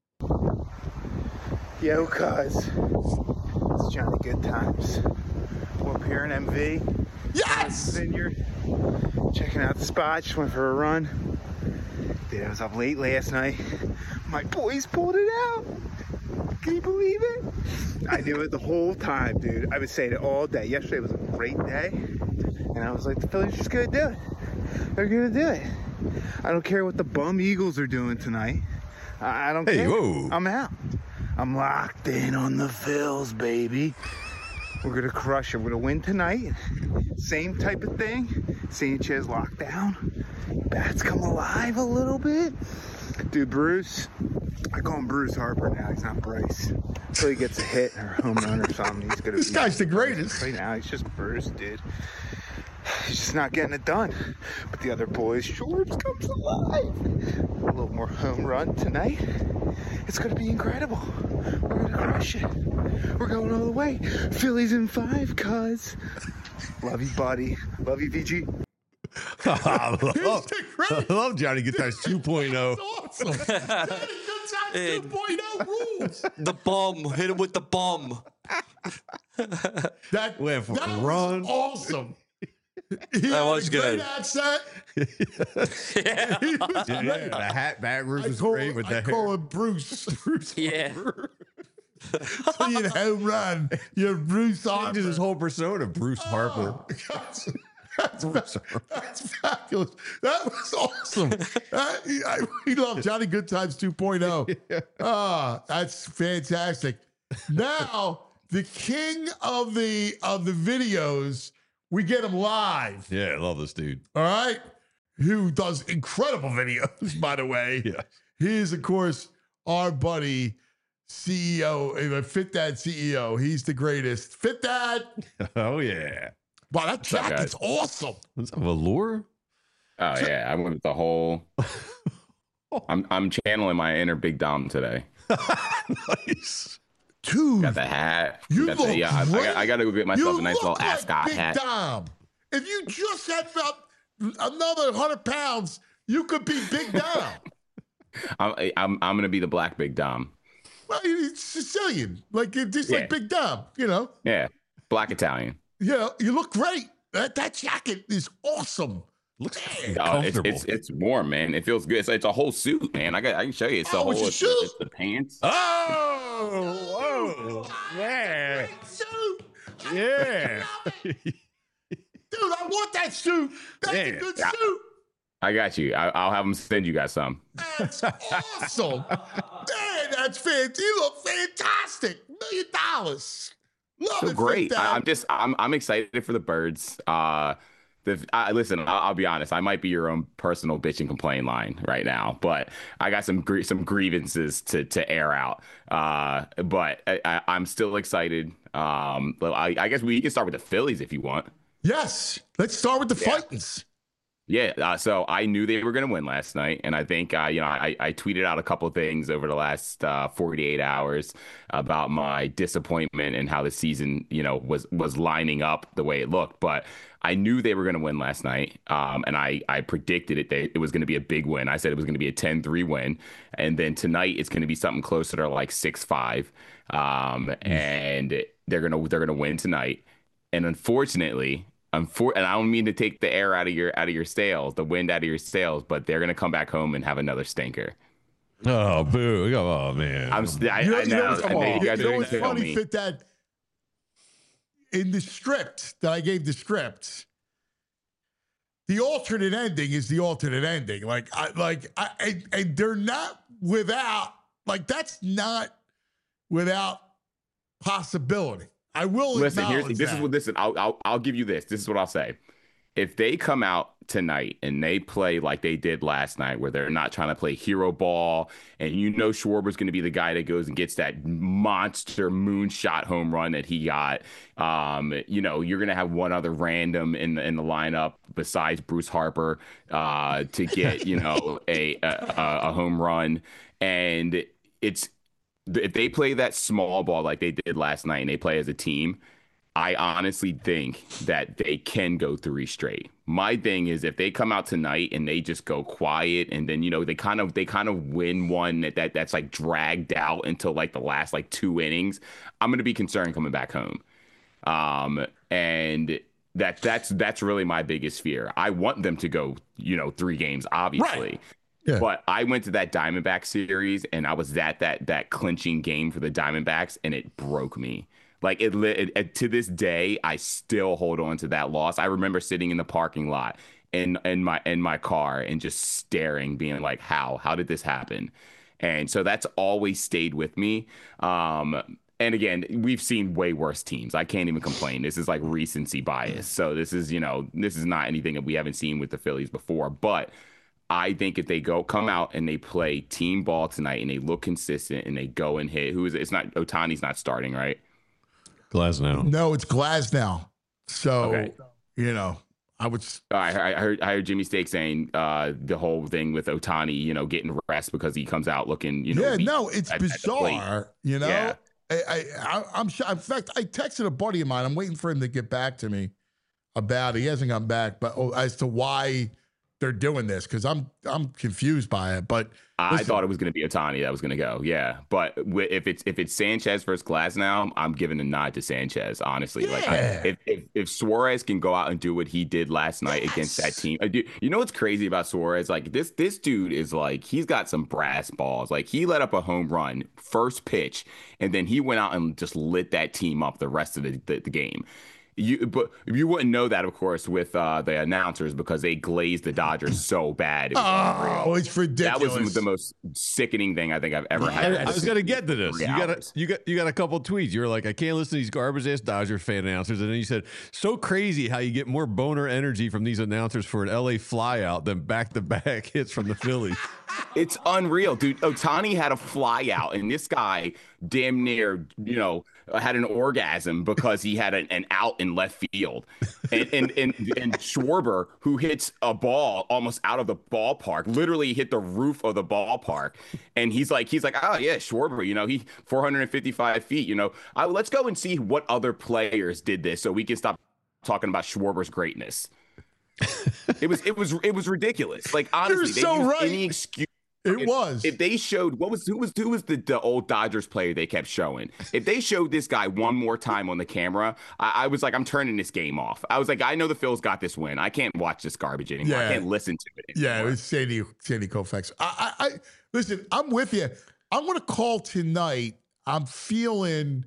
Yo, cuz. It's Johnny Good Times. We're up here in M V. Yes. Vineyard. Checking out the spot. Just went for a run. Dude, I was up late last night. My boys pulled it out. Can you believe it? I knew it the whole time, dude. I was saying it all day. Yesterday was a great day. And I was like, the Phillies are just going to do it. They're going to do it. I don't care what the bum Eagles are doing tonight. I I don't Hey, care. whoa. I'm out. I'm locked in on the Phils, baby. We're going to crush it. We're going to win tonight. Same type of thing. Sanchez locked down. Bats come alive a little bit. Dude, Bruce, I call him Bruce Harper now. He's not Bryce. Until he gets a hit or a home run or something, he's going to This be... guy's the greatest. Right now, he's just Bruce, dude. He's just not getting it done. But the other boys, Shorbs comes alive. A little more home run tonight. It's going to be incredible. We're going to crush it. We're going all the way. Phillies in five, cuz. Love you, buddy. Love you, V G. I He's love, the I greatest. love Johnny Good Times two point oh. That's awesome. Johnny Good Times Hey. two point oh rules. The bum. Hit him with the bum. That, Went for that a was run. awesome. He That had was a great good. accent. Yeah. He was Yeah, great. yeah, the hat backwards I was call, great with I the call hair. him Bruce. Bruce Yeah. So you home run. You're Bruce Changes Harper. his whole persona, Bruce Harper. Oh, that's, that's, fa- that's fabulous. That was awesome. That- I, we love Johnny Good Times two point oh. Ah, that's fantastic. Now, the king of the of the videos, we get him live. Yeah, I love this dude. All right. Who does incredible videos, by the way. Yeah. He is, of course, our buddy, C E O, uh, Fit Dad C E O. He's the greatest. Fit Dad. Oh, yeah. Wow, that up, jacket's guys? awesome. What's that, velour? Oh yeah, I went with the whole. I'm I'm channeling my inner Big Dom today. Nice. Dude, Got the hat. you got look the, yeah, I, I, great. got, I got to go get myself you a nice look little like ascot Big hat. Dom. If you just had about another hundred pounds, you could be Big Dom. I'm, I'm I'm gonna be the black Big Dom. Well, he's Sicilian, like just Yeah. like Big Dom, you know. Yeah, black Italian. You know, you look great. That that jacket is awesome. Looks Oh, it's, comfortable. it's it's warm, man. It feels good. It's, it's a whole suit, man. I got I can show you. It's a Oh, whole. it's a It's, suit? it's the pants. Oh, whoa. Yeah. Suit. Yeah. Dude, I want that suit. That's a Yeah. good Yeah. suit. I got you. I, I'll have them send you guys some. That's awesome. Man, that's fantastic. You look fantastic. Million dollars. Love So it. great. Fit Dad. I, I'm just I'm I'm excited for the birds. Uh, the I, listen. I'll, I'll be honest. I might be your own personal bitch and complain line right now, but I got some gr- some grievances to to air out. Uh, but I, I, I'm still excited. Um, but I, I guess we can start with the Phillies if you want. Yes. Let's start with the Yeah. fightings. Yeah, uh, so I knew they were going to win last night, and I think uh, you know I, I tweeted out a couple things over the last uh, forty-eight hours about my disappointment and how the season you know was was lining up the way it looked. But I knew they were going to win last night, um, and I I predicted it that it was going to be a big win. I said it was going to be a ten three win, and then tonight it's going to be something closer to like six five, um, and they're gonna they're gonna win tonight, and unfortunately. Unfor- and I don't mean to take the air out of your out of your sails, the wind out of your sails, but they're gonna come back home and have another stinker. Oh, boo. Oh, man. I'm st- I, You know, I you know know, what's, I know you guys you know are what's gonna kill funny, me. Fit Dad? In the script that I gave the script, the alternate ending is the alternate ending. Like, I like, I, and, and they're not without, like, that's not without possibility. I will Listen, here's acknowledge this that. is what listen. I'll, I'll I'll give you this. This is what I'll say. If they come out tonight and they play like they did last night, where they're not trying to play hero ball, and you know Schwarber's going to be the guy that goes and gets that monster moonshot home run that he got, um, you know, you're going to have one other random in the, in the lineup besides Bruce Harper uh, to get, you know, a, a a home run, and it's. If they play that small ball like they did last night and they play as a team, I honestly think that they can go three straight. My thing is if they come out tonight and they just go quiet and then, you know, they kind of they kind of win one that, that that's like dragged out until like the last like two innings, I'm going to be concerned coming back home. Um, and that that's that's really my biggest fear. I want them to go, you know, three games, obviously. Right. Yeah. But I went to that Diamondback series and I was at that that clinching game for the Diamondbacks and it broke me. Like it, it, it to this day, I still hold on to that loss. I remember sitting in the parking lot in in my in my car and just staring, being like, "How? How did this happen?" And so that's always stayed with me. Um, and again, we've seen way worse teams. I can't even complain. This is like recency bias. So this is you know this is not anything that we haven't seen with the Phillies before, but. I think if they go come out and they play team ball tonight and they look consistent and they go and hit, who is it? It's not Ohtani's not starting, right? Glasnow. No, it's Glasnow. So, Okay. you know, I would. s- I, I heard I heard Jimmy Stake saying uh, the whole thing with Ohtani, you know, getting rest because he comes out looking, you know. yeah, weak no, it's at- at the plate. bizarre. You know, Yeah. I, I, I, I'm sure. In fact, I texted a buddy of mine. I'm waiting for him to get back to me. about it. He hasn't come back, but oh, as to why they're doing this, because I'm I'm confused by it. But I listen, thought it was going to be Ohtani that was going to go. Yeah, but w- if it's if it's Sanchez versus Glasnow, I'm giving a nod to Sanchez. Honestly, Yeah. like I, if, if if Suarez can go out and do what he did last night Yes. against that team, I do, you know what's crazy about Suarez? Like this this dude is like he's got some brass balls. Like he let up a home run first pitch, and then he went out and just lit that team up the rest of the, the, the game. You, but you wouldn't know that, of course, with uh, the announcers because they glazed the Dodgers so bad. It was oh, unreal. it's ridiculous. That was the most sickening thing I think I've ever had. I, I was gonna get to this. Three You got a, hours. you got you got a couple tweets. You were like, I can't listen to these garbage ass Dodger fan announcers, and then you said, so crazy how you get more boner energy from these announcers for an L A flyout than back to back hits from the Phillies. It's unreal, dude. Otani had a fly out, and this guy damn near, you know, had an orgasm because he had an, an out in left field. And, and and and Schwarber, who hits a ball almost out of the ballpark, literally hit the roof of the ballpark. And he's like, he's like, oh yeah, Schwarber, you know, he four hundred fifty-five feet. You know, I, let's go and see what other players did this, so we can stop talking about Schwarber's greatness. It was it was it was ridiculous. Like honestly, they so used right. any excuse. It if, was. If they showed what was who was who was the, the old Dodgers player they kept showing. If they showed this guy one more time on the camera, I, I was like, I'm turning this game off. I was like, I know the Phils got this win. I can't watch this garbage anymore. Yeah. I can't listen to it anymore. Yeah, it was Sandy Sandy Koufax. I, I, I listen. I'm with you. I'm going to call tonight. I'm feeling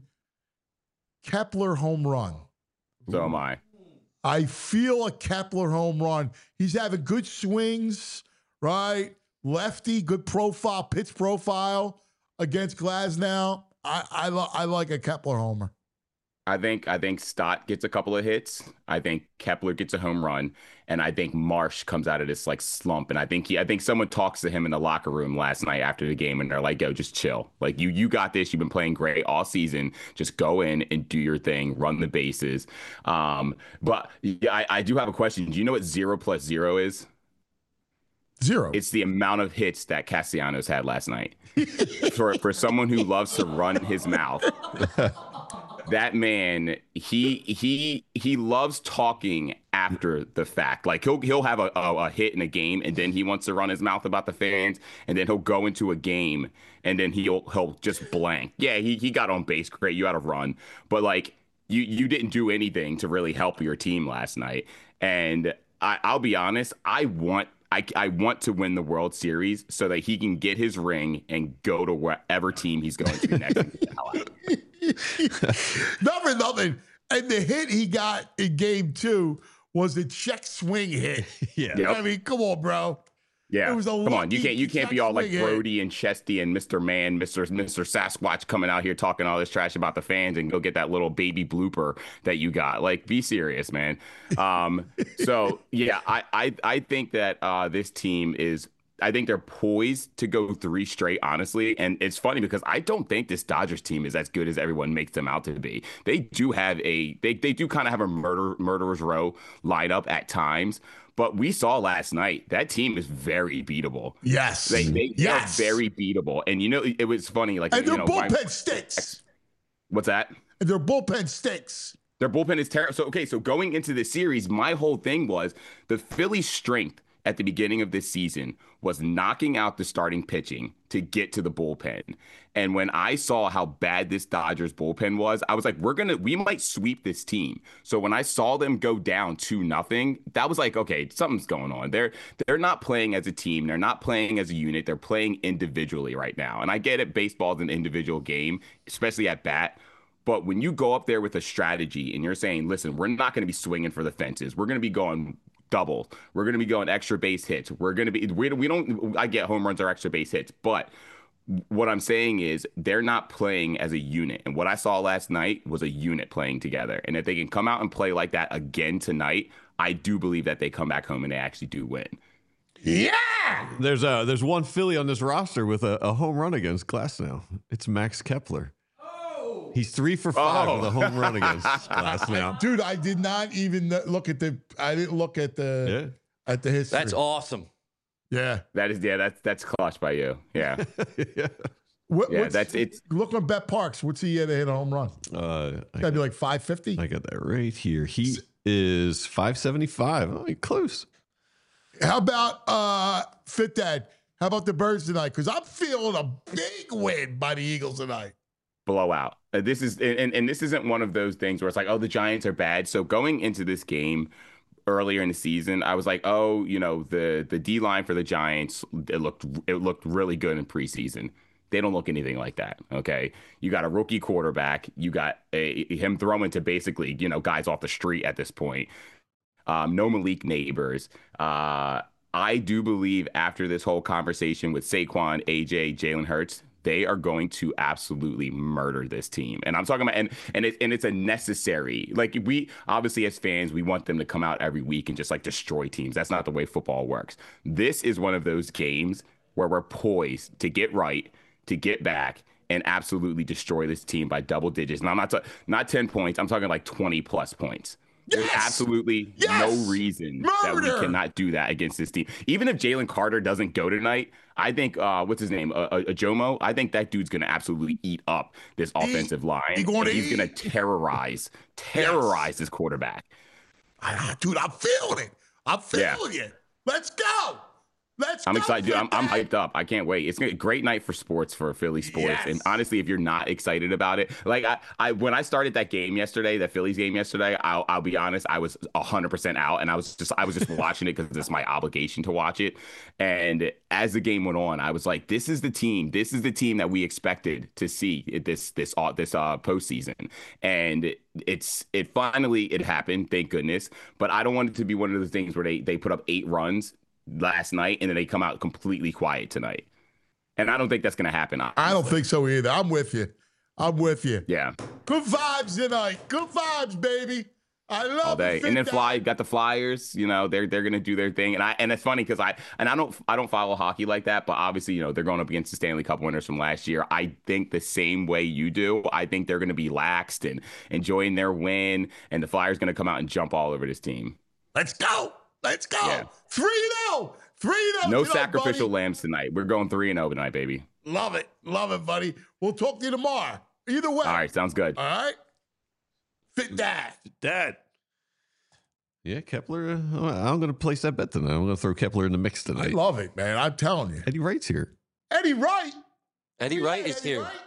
Kepler home run. So am I. I feel a Kepler home run. He's having good swings, right? Lefty, good profile, pitch profile against Glasnow. I I, lo- I like a Kepler homer. I think I think Stott gets a couple of hits. I think Kepler gets a home run, and I think Marsh comes out of this like slump. And I think he, I think someone talks to him in the locker room last night after the game, and they're like, "Yo, just chill. Like you, you got this. You've been playing great all season. Just go in and do your thing. Run the bases." Um, but yeah, I, I do have a question. Do you know what zero plus zero is? Zero. It's the amount of hits that Castellanos had last night. for for someone who loves to run his mouth. That man, he he he loves talking after the fact. Like he'll he'll have a, a, a hit in a game, and then he wants to run his mouth about the fans, and then he'll go into a game, and then he'll he'll just blank. Yeah, he he got on base, great. You had a run, but like you you didn't do anything to really help your team last night. And I, I'll be honest, I want. I, I want to win the World Series so that he can get his ring and go to wherever team he's going to next. And get the hell out. Not for nothing. And the hit he got in game two was a check swing hit. Yeah. Yep. I mean, come on, bro. Yeah. It was a Come on. You lucky can't you can't be all like check swing hit. Brody and Chesty and Mister Man, Mister Mister Sasquatch coming out here talking all this trash about the fans and go get that little baby blooper that you got. Like, be serious, man. Um, so yeah, I, I I think that uh, this team is I think they're poised to go three straight, honestly. And it's funny because I don't think this Dodgers team is as good as everyone makes them out to be. They do have a they they do kind of have a murder murderer's row lineup at times. But we saw last night that team is very beatable. Yes. They, they yes. are very beatable. And, you know, it was funny. Like, And you their know, bullpen my, stinks. What's that? And their bullpen stinks. Their bullpen is terrible. So, okay, so going into this series, my whole thing was the Phillies' strength at the beginning of this season was knocking out the starting pitching to get to the bullpen. And when I saw how bad this Dodgers bullpen was, I was like, we're going to, we might sweep this team. So when I saw them go down two nothing, that was like, okay, something's going on. They're, they're not playing as a team. They're not playing as a unit. They're playing individually right now. And I get it. Baseball is an individual game, especially at bat. But when you go up there with a strategy and you're saying, listen, we're not going to be swinging for the fences. We're going to be going double. We're going to be going extra base hits. We're going to be, we, we don't, I get home runs or extra base hits, but what I'm saying is they're not playing as a unit. And what I saw last night was a unit playing together. And if they can come out and play like that again tonight, I do believe that they come back home and they actually do win. Yeah. There's a there's one Philly on this roster with a, a home run against Glasnow. It's Max Kepler. Oh. He's three for five Oh. with a home run against Glasnow. Dude, I did not even look at the I didn't look at the Yeah. at the history. That's awesome. Yeah. That is, yeah, that's, that's clutch by you. Yeah. yeah. What, Yeah, what's- that's it's Look on Bet Parks. What's he had to hit a home run? Uh, I, Gotta be like five fifty. I got that right here. He is five seventy-five. Oh, you're close. How about uh, Fit Dad? How about the Birds tonight? Because I'm feeling a big win by the Eagles tonight. Blowout. Uh, this is and, and this isn't one of those things where it's like, oh, the Giants are bad. So going into this game earlier in the season, I was like, oh, you know, the the D line for the Giants, it looked it looked really good in preseason. They don't look anything like that. Okay, you got a rookie quarterback. You got a, him throwing to basically, you know, guys off the street at this point. Um, no Malik Neighbors. Uh, I do believe after this whole conversation with Saquon, A J, Jalen Hurts, they are going to absolutely murder this team. And I'm talking about, and and, it, and it's a necessary, like we, obviously as fans, we want them to come out every week and just like destroy teams. That's not the way football works. This is one of those games where we're poised to get right, to get back, and absolutely destroy this team by double digits. And I'm not, ta- not ten points, I'm talking like twenty plus points. There's yes! absolutely yes! no reason Murder! that we cannot do that against this team. Even if Jalen Carter doesn't go tonight, I think, uh, what's his name, uh, uh, Jomo, I think that dude's going to absolutely eat up this offensive line. He going to he's going to terrorize, terrorize yes. this quarterback. I, dude, I'm feeling it. I'm feeling yeah. it. Let's go. Let's I'm go excited, dude. I'm, I'm hyped up. I can't wait. It's a great night for sports, for Philly sports. Yes. And honestly, if you're not excited about it, like I, I when I started that game yesterday, that Phillies game yesterday, I'll, I'll be honest, I was one hundred percent out, and I was just I was just watching it because it's my obligation to watch it. And as the game went on, I was like, this is the team. This is the team that we expected to see this this uh, this uh, postseason. And it's it finally it happened, thank goodness. But I don't want it to be one of those things where they they put up eight runs last night and then they come out completely quiet tonight. And I don't think that's going to happen. Honestly. I don't think so either. I'm with you. I'm with you. Yeah. Good vibes tonight. Good vibes, baby. I love all day. And then Fly got the Flyers, you know, they're they're going to do their thing. And I and it's funny because I and I don't I don't follow hockey like that, but obviously, you know, they're going up against the Stanley Cup winners from last year. I think the same way you do. I think they're going to be laxed and enjoying their win, and the Flyers going to come out and jump all over this team. Let's go. Let's go. Yeah. three and oh. three and oh. No sacrificial buddy. lambs tonight. We're going three and oh tonight, baby. Love it. Love it, buddy. We'll talk to you tomorrow. Either way. All right. Sounds good. All right. Fit Dad. Fit Dad. Yeah, Kepler. Uh, I'm going to place that bet tonight. I'm going to throw Kepler in the mix tonight. I love it, man. I'm telling you. Eddie Wright's here. Eddie Wright. Eddie Wright is Eddie here. Wright?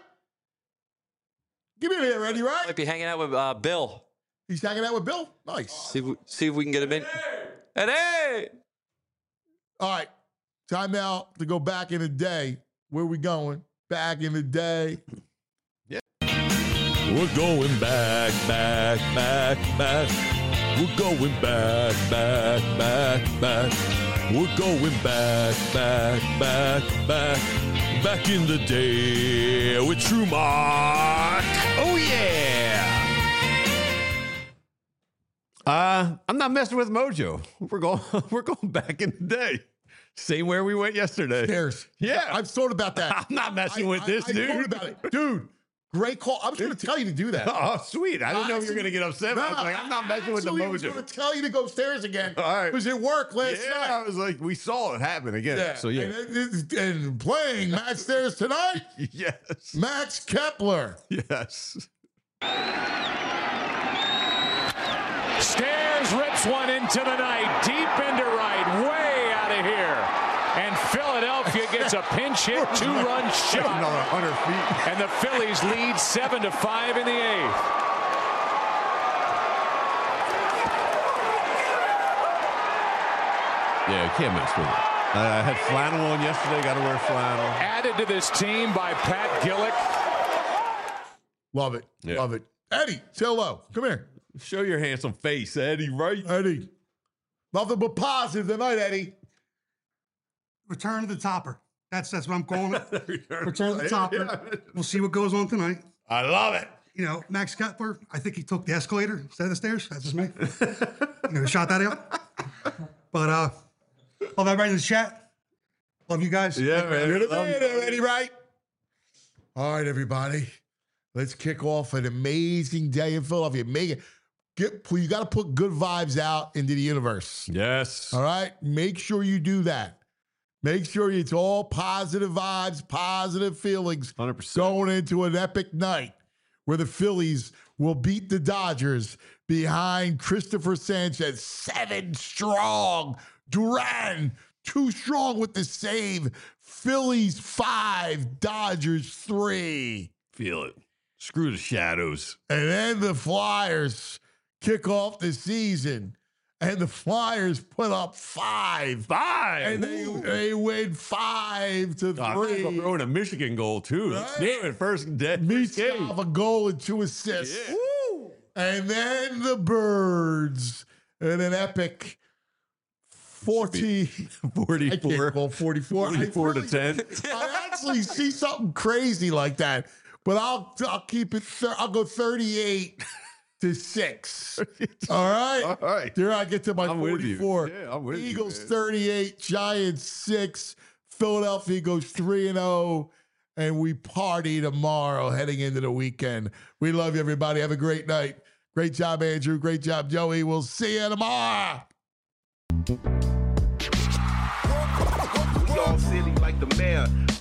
Give me here, Eddie Wright. Might be hanging out with uh, Bill. He's hanging out with Bill? Nice. See if we, see if we can get him in. Eddie! All right. Time out to go back in the day. Where we going? Back in the day. Yeah. We're going back, back, back, back. We're going back, back, back, back. We're going back, back, back, back. Back in the day with True Mark. Oh, yeah. Uh, I'm not messing with Mojo. We're going we're going back in the day. Same where we went yesterday. Stairs. Yeah. I've thought about that. I'm not messing I, with I, this, I, dude. I thought about it. Dude, great call. I was going to tell you to do that. Oh, sweet. I didn't know if you were going to get upset. No, I was like, I'm not messing with the Mojo. I Mojo. was going to tell you to go upstairs again. All right. Because it worked last yeah, night. I was like, we saw it happen again. Yeah. So, yeah. And, and playing Max Stairs tonight? Yes. Max Kepler. Yes. Stairs rips one into the night, deep into right, way out of here. And Philadelphia gets a pinch hit, two-run shot. Another one hundred feet. And the Phillies lead seven to five in the eighth. Yeah, you can't mess with it. I had flannel on yesterday. Got to wear flannel. Added to this team by Pat Gillick. Love it. Yeah. Love it. Eddie, say hello. Come here. Show your handsome face, Eddie, right? Eddie. Nothing but positive tonight, Eddie. Return to the topper. That's that's what I'm calling it. Return to the topper. Yeah. We'll see what goes on tonight. I love it. You know, Max Kepler, I think he took the escalator instead of the stairs. That's just me. You know, shot that out. But uh, love everybody in the chat. Love you guys. Yeah, man. You're the man, Eddie, right? All right, everybody. Let's kick off an amazing day in Philadelphia. Make it. Get, you got to put good vibes out into the universe. Yes. All right? Make sure you do that. Make sure it's all positive vibes, positive feelings one hundred percent going into an epic night where the Phillies will beat the Dodgers behind Christopher Sanchez. Seven strong. Duran, two strong with the save. Phillies five, Dodgers three. Feel it. Screw the Shadows. And then the Flyers kick off the season. And the Flyers put up five. Five. And they, they win five to Oh, three. I'm throwing a Michigan goal, too. Right. Damn it, first, de- first game. Michkov a goal and two assists. Yeah. Woo. And then the Birds in an epic forty, forty-four. I can't call forty-four. forty-four I really, to ten. I actually see something crazy like that, but I'll I'll keep it. Thir- I'll go thirty-eight to six. All right, All right. there I get to my I'm with you. forty-four. Yeah, I'm with you, Eagles man. thirty-eight, Giants six. Philadelphia goes three and zero. And we party tomorrow heading into the weekend. We love you, everybody. Have a great night. Great job, Andrew. Great job, Joey. We'll see you tomorrow. We all silly like the mayor.